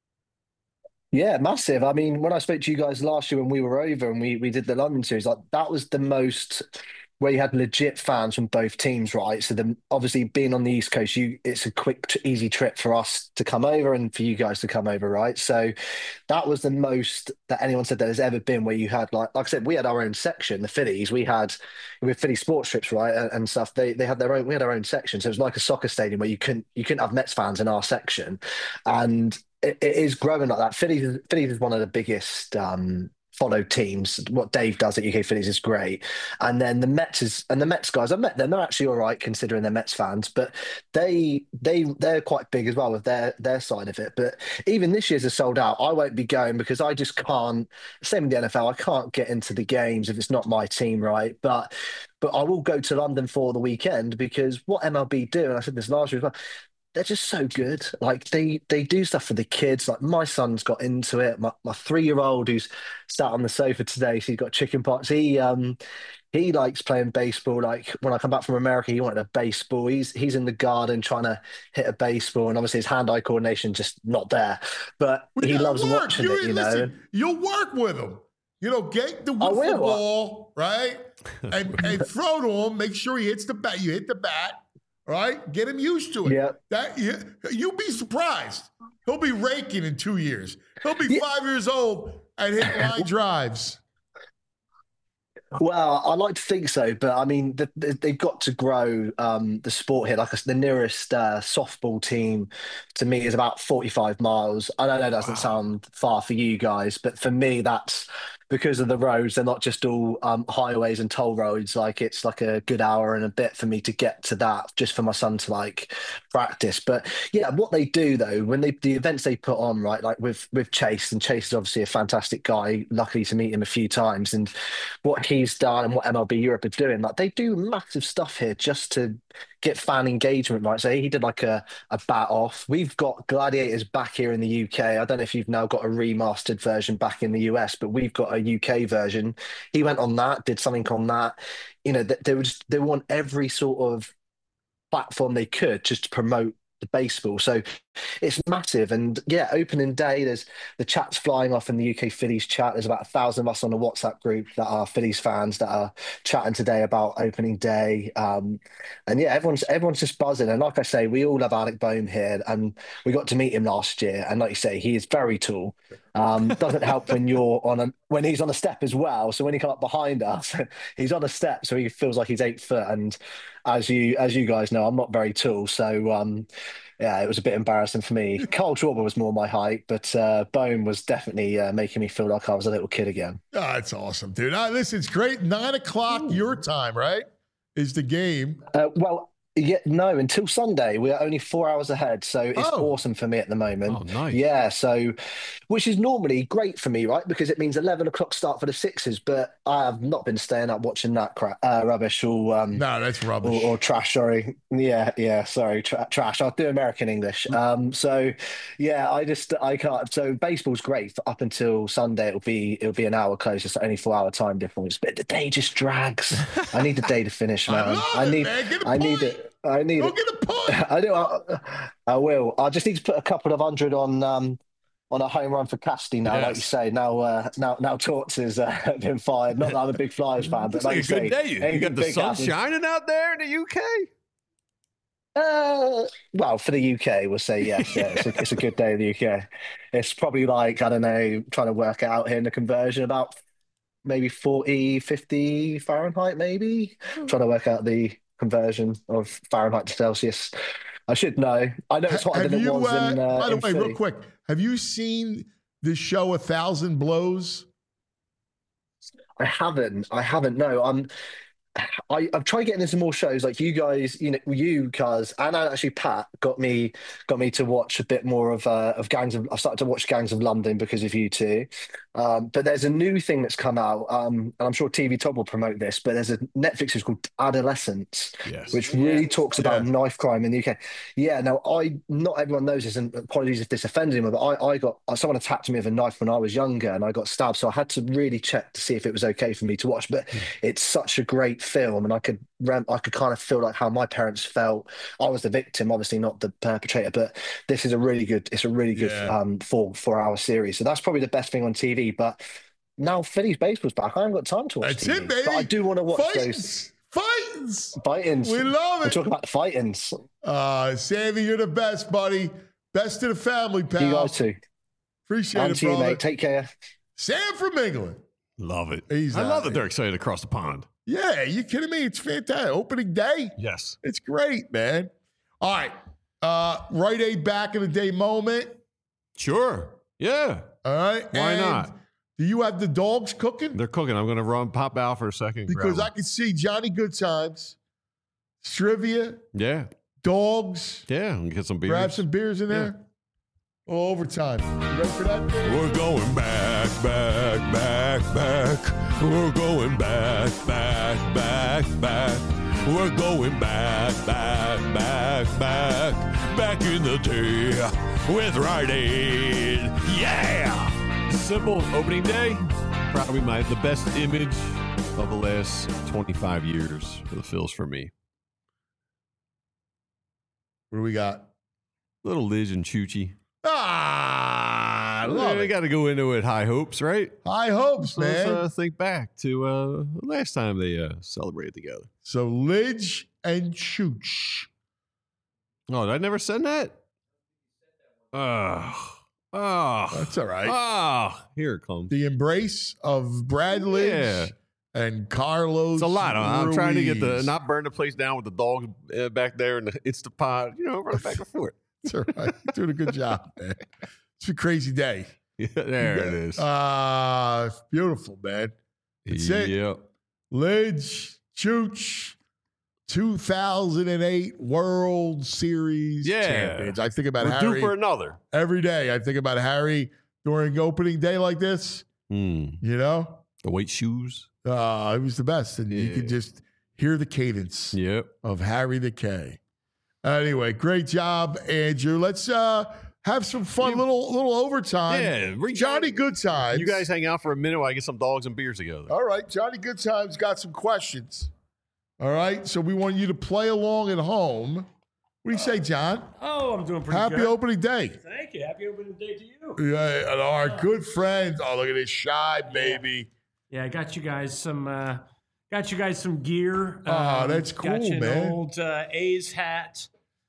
Yeah, massive. I mean, when I spoke to you guys last year when we were over and we, we did the London series, like, that was the most where you had legit fans from both teams, right? So the, obviously being on the East Coast, you it's a quick, easy trip for us to come over and for you guys to come over, right? So that was the most that anyone said that has ever been where you had, like like I said, we had our own section, the Phillies. We had with Philly sports trips, right, and, and stuff. They they had their own. We had our own section, so it was like a soccer stadium where you couldn't you couldn't have Mets fans in our section, and it, it is growing like that. Phillies Phillies is one of the biggest. Um, followed teams. What Dave does at U K Phillies is great. And then the Mets is and the Mets guys, I've met them, they're actually all right considering they're Mets fans, but they they they're quite big as well with their their side of it. But even this year's are sold out. I won't be going because I just can't, same with the N F L, I can't get into the games if it's not my team, right? But but I will go to London for the weekend because what M L B do, and I said this last year as well, they're just so good. Like they they do stuff for the kids. Like my son's got into it. My my three year old who's sat on the sofa today, so he's got chicken pox. He um he likes playing baseball. Like when I come back from America, he wanted a baseball. He's he's in the garden trying to hit a baseball, and obviously his hand-eye coordination just not there. But We he gotta loves work. watching You- it. You know. listen, you'll work with him. You know, get the I wiffle will. ball, right? And, and throw to him. Make sure he hits the bat. You hit the bat, right? Get him used to it. Yeah. That you, you'll be surprised. He'll be raking in two years. He'll be five years old and hit line drives. Well, I like to think so, but I mean, the, the, they've got to grow um, the sport here. Like I said, the nearest uh, softball team to me is about forty-five miles. I know that doesn't sound far for you guys, but for me, that's because of the roads. They're not just all um, highways and toll roads. Like it's like a good hour and a bit for me to get to that just for my son to like practice. But yeah, what they do though, when they the events they put on, right, like with with Chase, and Chase is obviously a fantastic guy. Luckily to meet him a few times, and what he's done and what M L B Europe are doing, like they do massive stuff here just to get fan engagement, right? So he did like a, a bat off. We've got Gladiators back here in the U K. I don't know if you've now got a remastered version back in the U S, but we've got a U K version. He went on that, did something on that. You know, they, they would just, they want every sort of platform they could just to promote the baseball. So it's massive. And yeah, opening day, there's the chat's flying off in the U K Phillies chat. There's about a thousand of us on the WhatsApp group that are Phillies fans that are chatting today about opening day. Um, and yeah, everyone's everyone's just buzzing. And like I say, we all love Alec Boehm here, and we got to meet him last year. And like you say, he is very tall. Um, doesn't help when you're on a when he's on a step as well. So when he comes up behind us, he's on a step, so he feels like he's eight foot. And as you as you guys know, I'm not very tall, so um, yeah, it was a bit embarrassing for me. Carl Schwarber was more my height, but uh, Bone was definitely uh, making me feel like I was a little kid again. Oh, that's awesome, dude. Uh, listen, it's great. Nine o'clock your time, right? Is the game? Uh, well. Yeah, no, until Sunday. We're only four hours ahead. So it's Oh. awesome for me at the moment. Oh, nice. Yeah, so which is normally great for me, right? Because it means eleven o'clock start for the Sixers, but I have not been staying up watching that crap, uh, rubbish or um No, that's rubbish. or, or trash, sorry. Yeah, yeah, sorry, tra- trash. I'll do American English. Um, so yeah, I just I can't. So baseball's great for up until Sunday. It'll be it'll be an hour closer, so only four hour time difference. But the day just drags. I need the day to finish, I man. love I it, need man. Get a I need point. it. I need Go it. get a point. I do. I, I will. I just need to put a couple of hundred on um on a home run for Casty now, like you Yes. say. Now, uh, now, now, Torts has uh, been fired. Not that I'm a big Flyers fan, but Looks like, like a you good say, day. You, you anything got the big sun happens. shining out there in the U K. Uh, well, for the U K, we'll say yes. Yeah, it's a, it's a good day in the U K. It's probably like, I don't know, trying to work it out here in the conversion, about maybe forty, fifty Fahrenheit, maybe. Trying to work out the conversion of Fahrenheit to Celsius. I should know. I know it's hotter Have than it you, was uh, in, uh, by the in way, Philly. real quick, have you seen the show A Thousand Blows? I haven't. I haven't. No, I'm. I, I've tried getting into more shows like you guys, you know, you guys, and actually Pat got me got me to watch a bit more of uh, of Gangs of. I started to watch Gangs of London because of you two. Um, but there's a new thing that's come out, um, and I'm sure T V Top will promote this. But there's a Netflix is called Adolescence, yes. which really yeah. talks about yeah. knife crime in the U K. Yeah, now I not everyone knows this, and apologies if this offended anyone, but I, I got someone attacked me with a knife when I was younger, and I got stabbed. So I had to really check to see if it was okay for me to watch. But mm. it's such a great film, and I could I could kind of feel like how my parents felt. I was the victim, obviously not the perpetrator, but this is a really good. It's a really good yeah. um, four four hour series. So that's probably the best thing on T V. But now Phillies baseball's back. I haven't got time to watch That's T V, it, baby. But I do want to watch Fightins. those. Fightins. Fightins. We love it. We're talking about the fightins. Uh, Sammy, you're the best, buddy. Best to the family, pal. You guys too. Appreciate and it, to you, brother. mate. Take care. Sam from England. Love it. He's I love it. that they're excited across the pond. Yeah, you kidding me? It's fantastic. Opening day? Yes. It's great, man. All right. Uh, Rite Aid back in the day moment. Sure. Yeah. All right. Why and not? Do you have the dogs cooking? They're cooking. I'm going to run, pop out for a second. Because I can see Johnny Goodtimes, Strivia, yeah, dogs. Yeah, and get some beers. Grab some beers in there. Yeah. Oh, overtime. You ready for that? We're going back, back, back, back. We're going back, back, back, back. We're going back, back, back, back. Back in the day with Rite Aid. Yeah! Simple opening day. Probably my the best image of the last twenty-five years for the Phils for me. What do we got? Little Liz and Choochie. Ah, I love We it. got to go into it high hopes, right? High hopes, So let's man. uh, think back to uh, the last time they uh, celebrated together. So Lidge and Chooch. Oh, did I never said that? Oh, oh, That's all right. Oh, here it comes. The embrace of Brad Lidge Yeah. and Carlos. It's a lot. I'm I'm trying to get the Ruiz. not burn the place down with the dog uh, back there and the Instapot. You know, run it back and forth. That's all right. You're doing a good job, man. It's a crazy day. Yeah, there it is. Ah, uh, beautiful, man. That's it. Yep. Lidge, Chooch, two thousand eight World Series Yeah. champions. I think about We're Harry due for another. every day. I think about Harry during opening day like this. Mm. You know, The white shoes. uh, it was the best, and you Yeah. could just hear the cadence Yep. of Harry the K. Anyway, great job, Andrew. Let's uh, have some fun, You- little little overtime. Yeah. Bring Johnny Goodtimes. You guys hang out for a minute while I get some dogs and beers together. All right, Johnny Goodtimes got some questions. All right, so we want you to play along at home. What do you say, John? Oh, I'm doing pretty Happy good. opening day. Thank you. Happy opening day to you. Yeah, and our good friends. Oh, look at this shy baby. Yeah, I got you guys some. Uh, got you guys some gear. Oh, Um, that's Got cool, you an man. old uh, A's hat.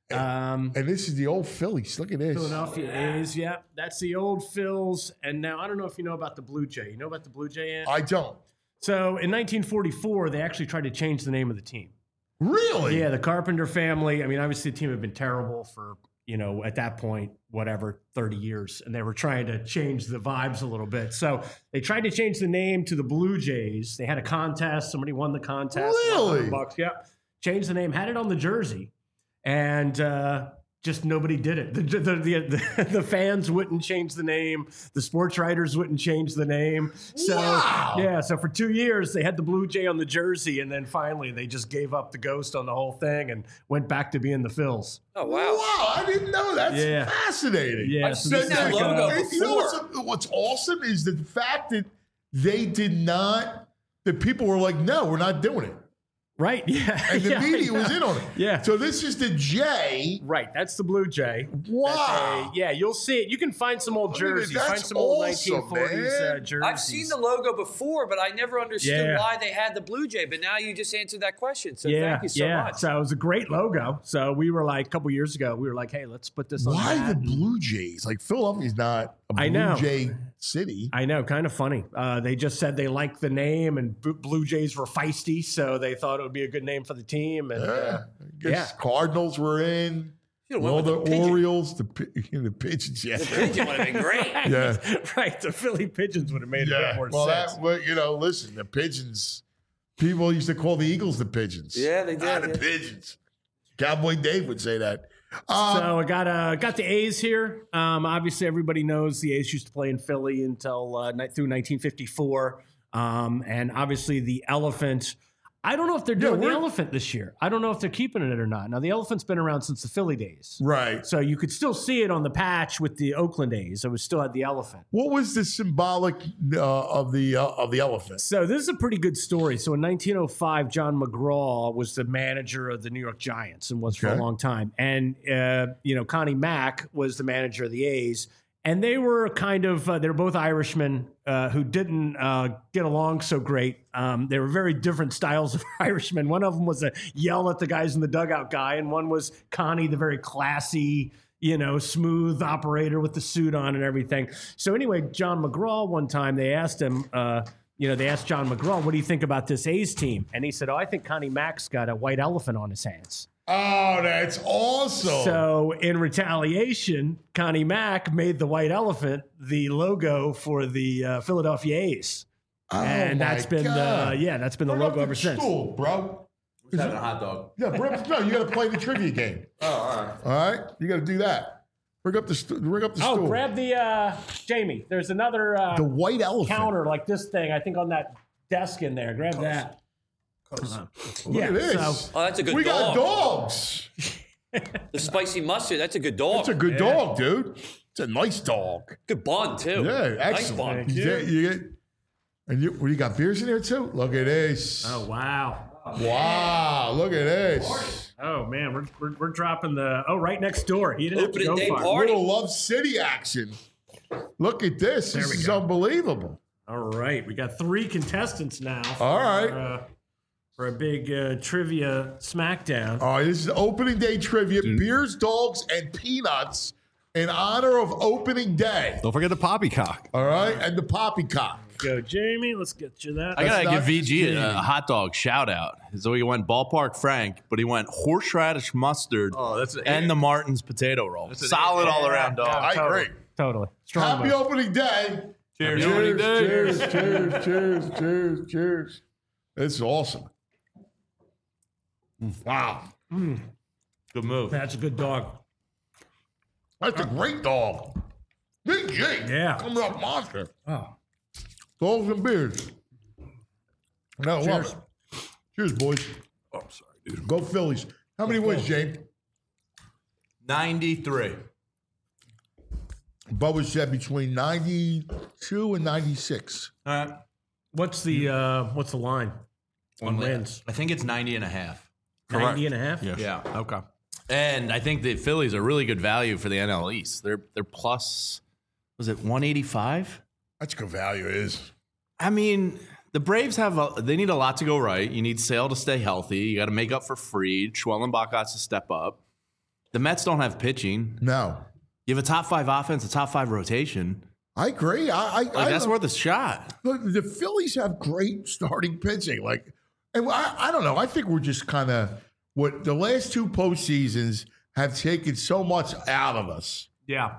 Um, And this is the old Phillies. Look at this. Philadelphia A's. Yeah, that's the old Phils. And now I don't know if you know about the Blue Jay. You know about the Blue Jay? Ant? I don't. So in nineteen forty-four, they actually tried to change the name of the team. Really? Yeah, the Carpenter family. I mean, obviously the team had been terrible for, you know, at that point, whatever, thirty years. And they were trying to change the vibes a little bit. So they tried to change the name to the Blue Jays. They had a contest. Somebody won the contest. Really? Bucks. Yeah. Changed the name, had it on the jersey. And uh, just nobody did it. The, the, the, the fans wouldn't change the name. The sports writers wouldn't change the name. So, Wow. yeah, so for two years, they had the Blue Jay on the jersey. And then finally, they just gave up the ghost on the whole thing and went back to being the Phils. Oh, wow. Wow, I didn't know. That's Yeah. fascinating. Yeah, I've so seen this is that like logo a- You know what's, before. what's awesome is the fact that they did not, that people were like, no, we're not doing it. Right, yeah. And the Yeah, I media was know. in on it. Yeah. So this is the J. Right, that's the Blue Jay. Wow. That's a- yeah, you'll see it. You can find some old Look at it. jerseys. Find That's some old awesome, nineteen forties uh, man. jerseys. I've seen the logo before, but I never understood Yeah. why they had the Blue Jay. But now you just answered that question. So yeah, thank you so yeah. much. So it was a great logo. So we were like a couple years ago, we were like, hey, let's put this on. Why that. the Blue Jays? Like Philadelphia's not a Blue I know. Jay city. I know, kind of funny. Uh, they just said they liked the name, and B- Blue Jays were feisty, so they thought it would be a good name for the team. And Yeah. uh, I guess yeah. Cardinals were in. You know, All went the with the pigeon. Orioles, the pi- the pigeons. Yeah. The pigeon would have been great. Yeah. right, the Philly Pigeons would have made a Yeah. bit more Well, sense. that well, you know, listen, the pigeons. People used to call the Eagles the pigeons. Yeah, they did. Ah, the yeah. pigeons. Cowboy Dave would say that. Um, so I got uh, got the A's here. Um, obviously, everybody knows the A's used to play in Philly until uh, ni- through nineteen fifty-four. Um, and obviously, the Elephant. I don't know if they're Yeah, doing the we're- Elephant this year. I don't know if they're keeping it or not. Now, the Elephant's been around since the Philly days. Right. So you could still see it on the patch with the Oakland A's. It was still had the Elephant. What was the symbolic uh, of the uh, of the elephant? So this is a pretty good story. So in nineteen oh five, John McGraw was the manager of the New York Giants and was for Okay. a long time. And, uh, you know, Connie Mack was the manager of the A's. And they were kind of, uh, they were both Irishmen uh, who didn't uh, get along so great. Um, they were very different styles of Irishmen. One of them was a yell at the guys in the dugout guy, and one was Connie, the very classy, you know, smooth operator with the suit on and everything. So anyway, John McGraw, one time they asked him, uh, you know, they asked John McGraw, what do you think about this A's team? And he said, oh, I think Connie Mack's got a white elephant on his hands. Oh, that's awesome. So in retaliation, Connie Mack made the white elephant the logo for the uh, Philadelphia A's. Oh, and my that's been God. the, yeah, that's been the Bring up logo ever the since. stool, bro. Who's having a hot dog? Yeah, bring up, no, you got to play the trivia game. Oh, all right. All right, you got to do that. Bring up the st- bring up the Oh, stool. grab the, uh, Jamie, there's another uh, the white elephant. counter like this thing, I think on that desk in there. Grab that. Uh, Look yeah, at this. so- Oh, that's a good we dog. got dogs. The spicy mustard, that's a good dog. That's a good Yeah. dog, dude. It's a nice dog. Good bun, too. Yeah, Nice excellent. bun. You get, you get, and you, well, you got beers in there too. Look at this. Oh, wow. Wow, look at this. Oh, man, we're, we're, we're dropping the, oh, right next door. He didn't Opening have to day go far. party. Little Love City action. Look at this. There This we is go. unbelievable. All right, we got three contestants now. For, All right. uh, for a big uh, trivia smackdown. All right, this is opening day trivia. Beers, dogs, and peanuts in honor of opening day. Don't forget the poppycock. All right, and the poppycock. Go, Jamie. Let's get you that. I gotta That's give not V G a, Jamie. a hot dog shout out. So he went ballpark Frank, but he went horseradish mustard Oh, that's an and eight. the Martin's potato roll. That's an Solid eight. all around dog. I totally, agree. Totally. Strong Happy vote. opening day. Cheers. Cheers, Opening day. cheers, cheers, cheers, cheers, cheers. It's awesome. Wow. Good move. That's a good dog. That's a great dog. Big G. Yeah. Coming up monster. Oh. Dogs and beers. No, love Cheers. it. Cheers, boys. Oh, I'm sorry, dude. Go Phillies. How many wins, James? ninety-three. Bubba said between ninety-two and ninety-six. All right. What's the uh, what's the line on Only- wins? I think it's ninety and a half. ninety and a half? Yes. Yeah. Okay. And I think the Phillies are really good value for the N L East. They're they're plus, was it one eighty-five? That's good value, it is. I mean, the Braves have a, they need a lot to go right. You need Sale to stay healthy. You got to make up for Fried. Schwellenbach has to step up. The Mets don't have pitching. No. You have a top five offense, a top five rotation. I agree. I, I, Like, I that's worth a shot. Look, the Phillies have great starting pitching. Like, and I, I don't know. I think we're just kind of what the last two postseasons have taken so much out of us. Yeah.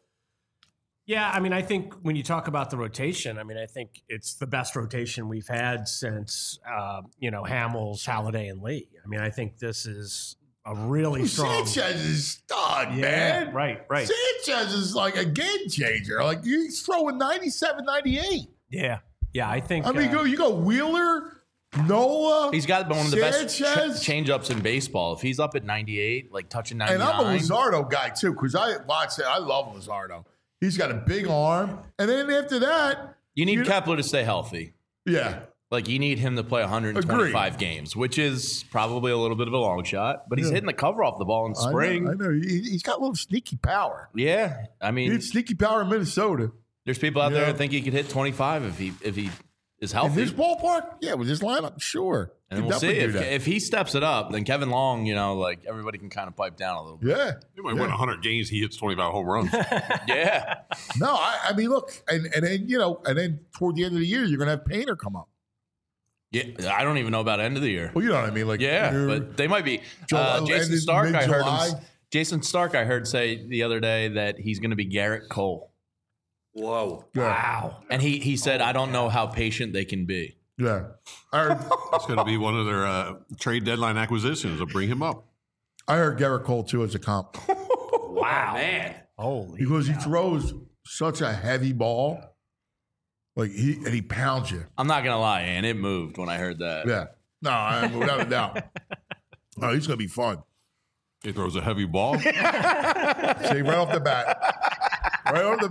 Yeah, I mean, I think when you talk about the rotation, I mean, I think it's the best rotation we've had since, uh, you know, Hamels, Halliday, and Lee. I mean, I think this is a really strong. Sanchez is stud, Yeah, man. right, right. Sanchez is like a game changer. Like he's throwing ninety-seven, ninety-eight. Yeah, yeah, I think. I mean, uh, go you go Wheeler, Nola. He's got one of the best Sanchez. ch- change-ups in baseball. If he's up at ninety-eight, like touching And ninety-nine. I'm a Luzardo guy too, because I watch it. I love Luzardo. He's got a big arm. And then after that, you need you- Kepler to stay healthy. yeah. Like, you need him to play one hundred twenty-five games, which is probably a little bit of a long shot, but he's Yeah. hitting the cover off the ball in I know, spring. I know. He, he's got a little sneaky power. Yeah. I mean, He had sneaky power in Minnesota. there's people out there Yeah. that think he could hit twenty-five if he if he is In healthy. this ballpark? Yeah, with this lineup, sure. And He'd we'll see definitely if, do that. if he steps it up, then Kevin Long, you know, like everybody can kind of pipe down a little bit. Yeah. He might win one hundred games. He hits twenty-five home runs. Yeah. No, I, I mean, look, and, and then, you know, and then toward the end of the year, you're going to have Painter come up. Yeah. I don't even know about end of the year. Well, you know what I mean? Like, Yeah, you're- but they might be. July- Uh, and Jason in Stark, I heard mid-July. him. Jason Stark, I heard say the other day that he's going to be Garrett Cole. Whoa. Yeah. wow. And he he said, I don't know how patient they can be. Yeah. I heard, It's going to be one of their uh, trade deadline acquisitions. They'll bring him up. I heard Garrett Cole, too, as a comp. Wow, man. Holy. Because he throws such a heavy ball. Like, he and he pounds you. I'm not going to lie, and it moved when I heard that. Yeah. No, I, without a doubt. Oh, he's going to be fun. He throws a heavy ball. See, right off the bat. Right off the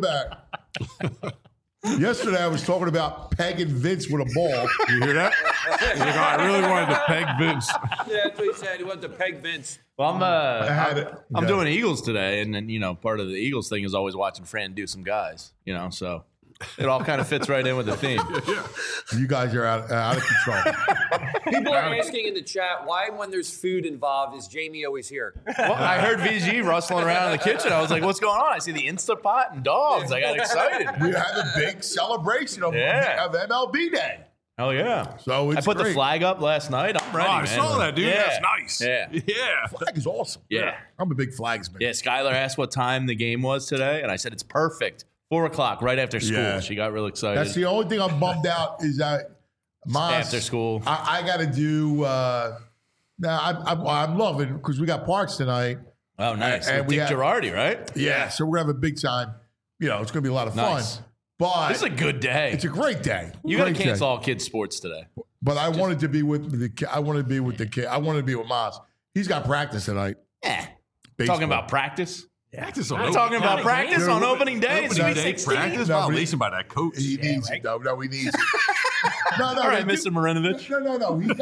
bat. Yesterday, I was talking about pegging Vince with a ball. You hear that? He's like, oh, I really wanted to peg Vince. Yeah, that's what he said. He wanted to peg Vince. Well, I'm, uh, I had I'm, it. I'm Yeah. doing Eagles today, and then, you know, part of the Eagles thing is always watching Fran do some guys, you know, so it all kind of fits right in with the theme. You guys are out, out of control. People are asking in the chat, why when there's food involved is Jamie always here? Well, I heard V G rustling around in the kitchen. I was like, what's going on? I see the Instapot and dogs. I got excited. We have a big celebration of, Yeah. of M L B Day. Hell yeah. So it's I put great. the flag up last night. I'm ready, Oh, I man. saw that, dude. Yeah. That's nice. Yeah. Yeah. Flag is awesome. Yeah. I'm a big flags man. Yeah, Skylar asked what time the game was today, and I said it's perfect. Four o'clock, right after school. Yeah. She got real excited. That's the only thing I'm bummed out is that my After school. I, I got to do. Uh, now I'm, I'm, I'm loving because we got Parks tonight. Oh, nice. And With we Dick have- Girardi, right? Yeah, so we're gonna have a big time. You know, it's gonna be a lot of Nice. fun. But This is a good day. it's a great day. You got to Great cancel day. all kids' sports today. But I wanted to be with the. ki- I wanted to be with the kid. I wanted to be with Maz. He's got practice tonight. Yeah. Baseball. Talking about practice? Practice on We're opening talking about day. practice Dude, on opening day. It's Opening Sweet day sixteen. practice No, but he- violation by that coach. He needs it. No, no, he needs it. No, no, All right, they do- Mister Marinovich. No, no, no. He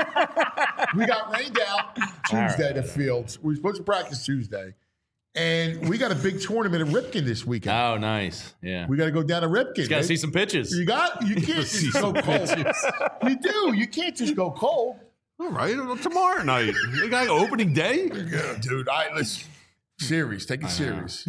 got, we got rained out Tuesday right. to Fields. We were supposed to practice Tuesday. And we got a big tournament at Ripken this weekend. Oh, nice. Yeah. We got to go down to Ripken. Got to man. see some pitches. You got, you can't See just go some cold. pitches. You do. You can't just go cold. All right, well, tomorrow night. They got opening day. Yeah, dude, I listen. Serious. Take it serious.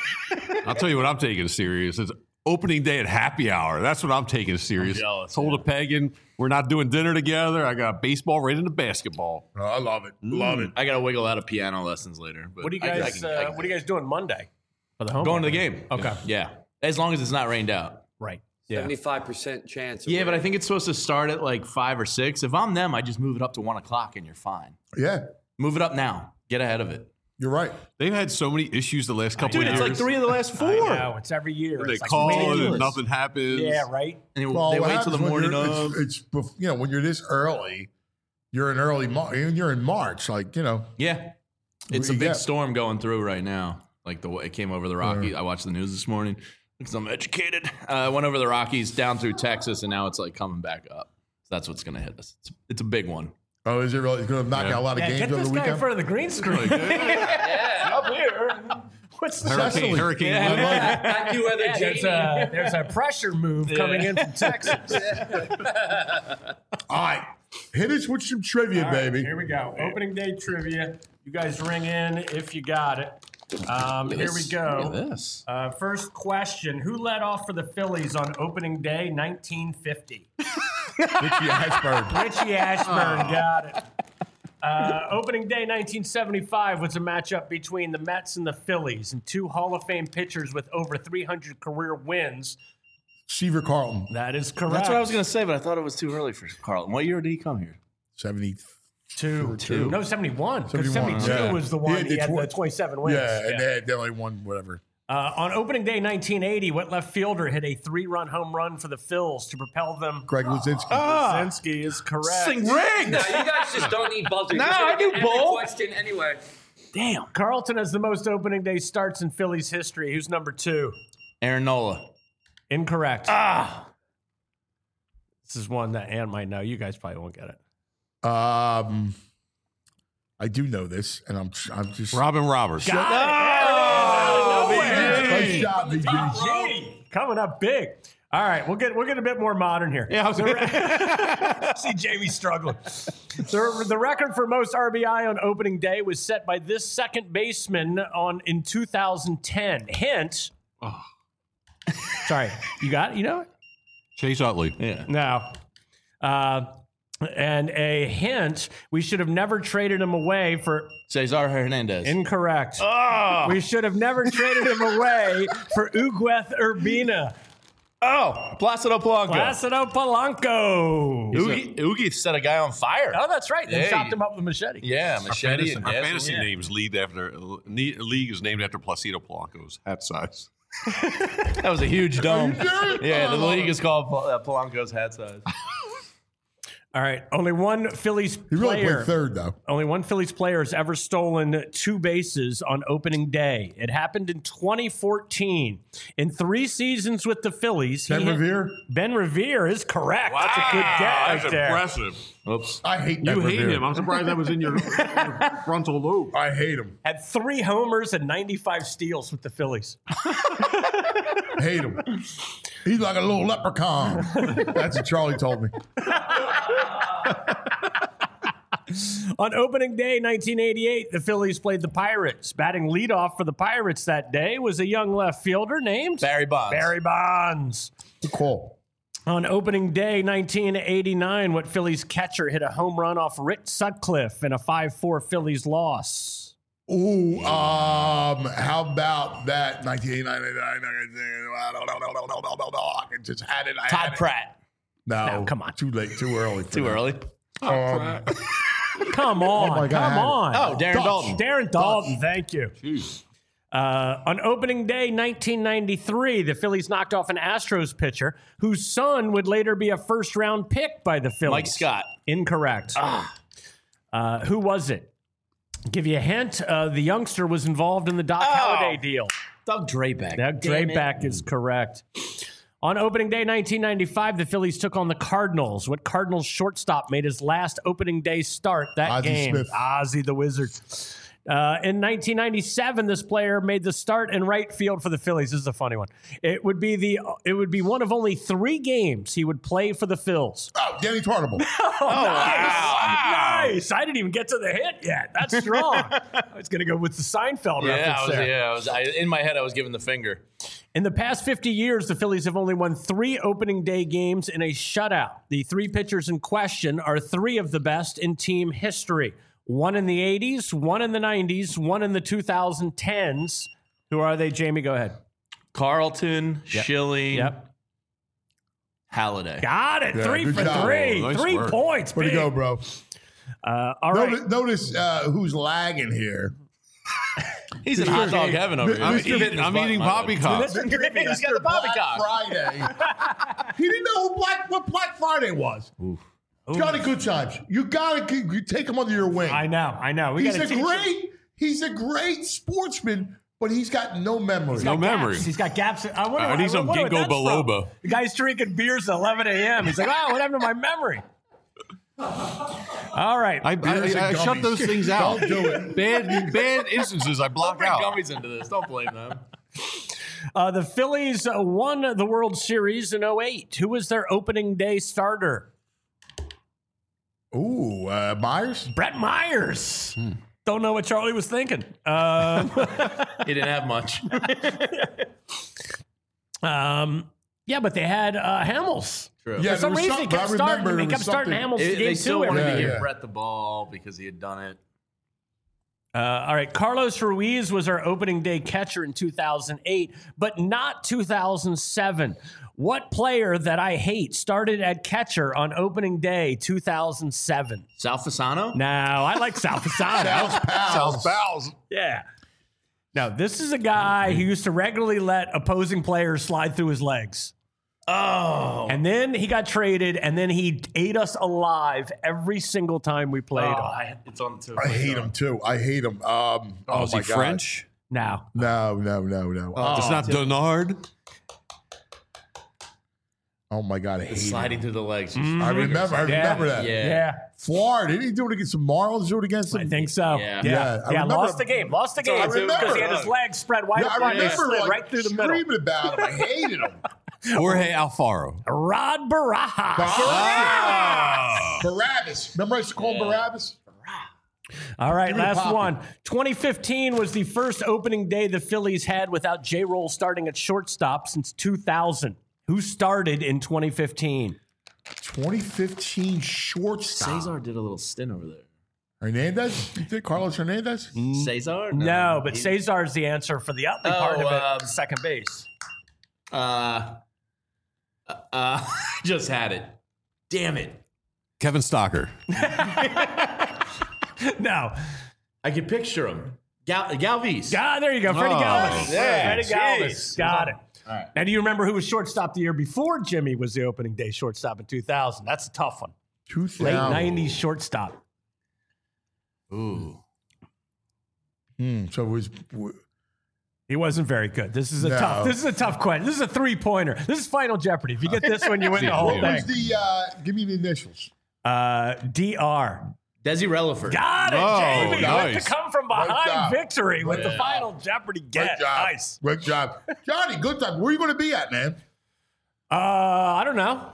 I'll tell you what I'm taking serious. It's opening day at happy hour. That's what I'm taking serious. I'm jealous, Told yeah. a pagan we're not doing dinner together. I got baseball right into basketball. Oh, I love it. Love it. I got to wiggle out of piano lessons later. But What do you I- I guys? can- I uh, can- what are you guys doing Monday? For the home Going to the opener? game. Okay. Yeah. As long as it's not rained out. Right. Yeah. seventy-five percent chance. of Yeah, but I rain. think it's supposed to start at like five or six. If I'm them, I just move it up to one o'clock and you're fine. Yeah, Move it up now. Get ahead of it. you're right. They've had so many issues the last couple Dude, of it's years. like three of the last I four. know, it's every year. They It's like call and ridiculous. nothing happens. Yeah, right. And Well, they what wait till the happens when morning you're- of. It's, it's bef- you know when you're this early, you're in early March. You're in March, like you know. Yeah. It's a you big get? storm going through right now. Like the way it came over the Rockies. I watched the news this morning because I'm educated. Uh, went over the Rockies down through Texas, and now it's like coming back up. So that's what's going to hit us. It's, it's a big one. Oh, is it really? It's going to knock Yeah. out a lot of Yeah, games get over this the guy in weekend. front of the green screen. yeah. Up here. What's the Hurricane, Cecily. Hurricane. Yeah. Lou. Thank you, Weather Yeah, there's, Jamie. a, there's a pressure move coming in from Texas. All right, hit us with some trivia, All right, baby. here we go. Opening day trivia. You guys ring in if you got it. Um, here we go. Look at this. Uh, first question: who led off for the Phillies on opening day, nineteen fifty? Richie Ashburn. Richie Ashburn got it. Uh, opening day nineteen seventy-five was a matchup between the Mets and the Phillies, and two Hall of Fame pitchers with over three hundred career wins. Seaver Carlton, That is correct. That's what I was going to say, but I thought it was too early for Carlton. What year did he come here? seventy. Two. Two. No, seventy-one. Because seventy-one, seventy-two yeah. was the He one had he the had tw- the twenty-seven wins. Yeah, and they, had, they only won whatever. Uh, on opening day nineteen eighty, what left fielder hit a three-run home run for the Phils to propel them? Greg Luzinski. Luzinski is correct. Sing rigged. No, you guys just don't need buzzers. No, You're gonna I do get every both. question anyway. Damn. Carlton has the most opening day starts in Phillies history. Who's number two? Aaron Nola. Incorrect. Ah. This is one that Ann might know. You guys probably won't get it. Um, I do know this, and I'm I'm just Robin Roberts. Got Oh, it. Nice job, B G. Gee, coming up big. All right, we'll get we'll get a bit more modern here. Yeah, I was The re- see Jamie struggling. The, the record for most R B I on opening day was set by this second baseman on in two thousand ten. Hint. Oh. Sorry, you got it? You know it? Chase Utley. Yeah. No. Uh, and a hint: we should have never traded him away for. Cesar Hernandez. Incorrect. Oh. We should have never traded him away for Ugueth Urbina. Oh, Placido Polanco. Placido Polanco. Oogie, Oogie set a guy on fire. Oh, that's right. They Yeah, chopped he- him up with a machete. Yeah, Our machete. fantasy, and our gas- fantasy yeah. name's league after ne- league is named after Placido Polanco's hat size. That was a huge dome. Yeah, the league is called uh, Polanco's hat size. All right. Only one Phillies He really player. played third, though. Only one Phillies player has ever stolen two bases on opening day. It happened in twenty fourteen. In three seasons with the Phillies, Ben he hit- Revere? Ben Revere is correct. That's a good guess. That's right there. impressive. Oops. I hate You Ben hate Revere. him. I'm surprised that was in your, your frontal lobe. I hate him. Had three homers and ninety-five steals with the Phillies. Hate him. He's like a little leprechaun. That's what Charlie told me. On opening day, nineteen eighty-eight, the Phillies played the Pirates. Batting leadoff for the Pirates that day was a young left fielder named Barry Bonds. Barry Bonds. Cool. On opening day, nineteen eighty-nine, what Phillies catcher hit a home run off Rick Sutcliffe in a five four Phillies loss? Ooh, um, how about that? nineteen eighty-nine. I just had it. I Todd had it. Pratt. No, No, come on. Too late. Too early. for Too that. early. Um, Come on. Oh my God, I come had it. on. Oh, Darren Dutch. Dalton. Darren Dalton, thank you. Uh, on opening day, nineteen ninety-three, the Phillies knocked off an Astros pitcher whose son would later be a first-round pick by the Phillies. Mike Scott. Incorrect. Uh, who was it? Give you a hint. Uh, the youngster was involved in the Doc Oh. Halladay deal. Doug Drabeck. Doug Damn it. Drabeck is correct. On opening day, nineteen ninety-five, the Phillies took on the Cardinals. What Cardinals shortstop made his last opening day start that Ozzie game? Smith. Ozzie the Wizard. Uh, in nineteen ninety-seven, this player made the start in right field for the Phillies. This is a funny one. It would be the it would be one of only three games he would play for the Phils. oh, Danny Tartable. Oh, nice. Nice. I didn't even get to the hit yet. That's strong. I was going to go with the Seinfeld Yeah, reference I was, there. yeah, I was. I, in my head, I was giving the finger. In the past fifty years, the Phillies have only won three opening day games in a shutout. The three pitchers in question are three of the best in team history. One in the eighties, one in the nineties, one in the twenty tens. Who are they, Jamie? Go ahead. Carlton, Yep. Schilling, Yep. Halliday. Got it. Yeah, three good for job. three. Nice three work. points. Way to big. go, bro. Uh, all right. Notice, notice uh, who's lagging here. He's in hot dog heaven over here. I'm Mister eating, I'm eating poppycock. Listen, He's got the poppycock. Friday. He didn't know who Black, what Black Friday was. Johnny Good Times. You gotta keep- you take him under your wing. I know. I know. We he's gotta a teach him. great. He's a great sportsman, but he's got no memory. No Gaps. memory. He's got gaps. I wonder. I need some wonder what ginkgo that's from. biloba. The guy's drinking beers at eleven a.m. He's like, "Wow, what happened to my memory?" All right. I, I, Beers I, and I shut gummies. those things out. Don't do it. Bad, bad instances I block Bring out. gummies into this. Don't blame them. Uh, the Phillies uh, won the World Series in oh eight. Who was their opening day starter? Ooh, uh, Myers. Brett Myers. Hmm. Don't know what Charlie was thinking. Um, He didn't have much. um, yeah, but they had uh, Hamels. True. Yeah, For some there was reason, he something- kept I starting. remember He there kept was starting something- Hamels They, game they two. still wanted Yeah, to give yeah. Brett the ball because he had done it. Uh, all right, Carlos Ruiz was our opening day catcher in two thousand eight, but not two thousand seven. What player that I hate started at catcher on opening day two thousand seven? Sal Fasano? No, I like Sal Fasano. Sal's pals. Pals. Yeah. Now, this is a guy who used to regularly let opposing players slide through his legs. Oh. And then he got traded, and then he ate us alive every single time we played Oh, him. I, it's on the tip. I hate him too. I hate him. Um, oh, is my he God. French? Now, No, no, no, no. Oh, it's not Denard. Oh my God, I hate him. Sliding through the legs. I remember. I remember that. Yeah. yeah, Florida. Didn't he do it against the Marlins? Do it against them? I think so. Yeah. Yeah, Yeah, yeah, I remember- lost the game. Lost the So I game remember. because he had his legs spread wide Yeah, I apart. and They remember slid like right through the middle. screaming about him. I hated him. Jorge Alfaro. Rod Barajas. Ah! Barabbas. Remember I used to call him Barabbas? All right, Give me the last poppy. one. twenty fifteen was the first opening day the Phillies had without J-Roll starting at shortstop since two thousand. Who started in twenty fifteen? twenty fifteen shortstop. Cesar did a little stint over there. Hernandez? You think Carlos Hernandez? Cesar? No, but He- Cesar's the answer for the Utley Oh, part of it, um, second base. Uh, Uh, uh, just had it. Damn it. Kevin Stocker. No. I can picture him. Gal- Galvis. God, there you go. Freddie Oh, Galvis. yeah. Freddie Galvis. Jeez. Got it. All right. Now, do you remember who was shortstop the year before Jimmy was the opening day shortstop in two thousand? That's a tough one. two thousand. Late nineties shortstop. Ooh. Hmm, so it was. He wasn't very good. This is a No. tough. This is a tough question. This is a three pointer. This is Final Jeopardy. If you get this one, you win the whole What was thing. the? Uh, give me the initials. Uh, D R. Desi Relaford. Got it, Oh, Jamie. nice. With the come from Great behind job. victory with the Yeah. Final Jeopardy Great get. job. Nice. Great job, Johnny. Good time. Where are you going to be at, man? Uh, I don't know.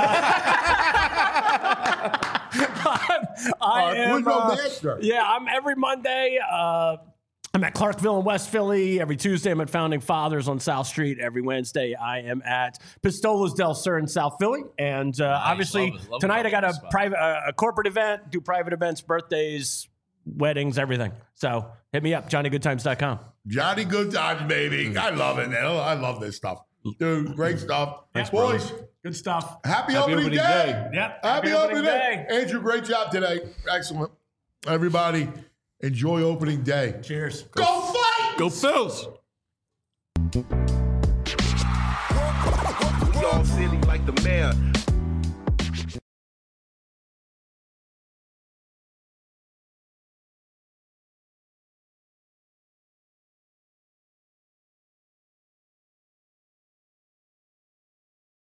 Uh, I Uh, am. who's your uh, master? yeah, I'm every Monday. Uh, I'm at Clarkville in West Philly. Every Tuesday, I'm at Founding Fathers on South Street. Every Wednesday, I am at Pistolas del Sur in South Philly. And uh, obviously, Love it. Love tonight I got a spot. private, uh, a corporate event. Do private events, birthdays, weddings, everything. So hit me up, johnny good times dot com. Johnny Good Times, baby. I love it, man. I love this stuff. Dude, great stuff. Boys, Good stuff. happy, Happy opening, opening day. day. Yep. Happy, opening day. Andrew, great job today. Excellent. Everybody, enjoy opening day. Cheers. Go fight! Go Phils. We all silly like the mayor.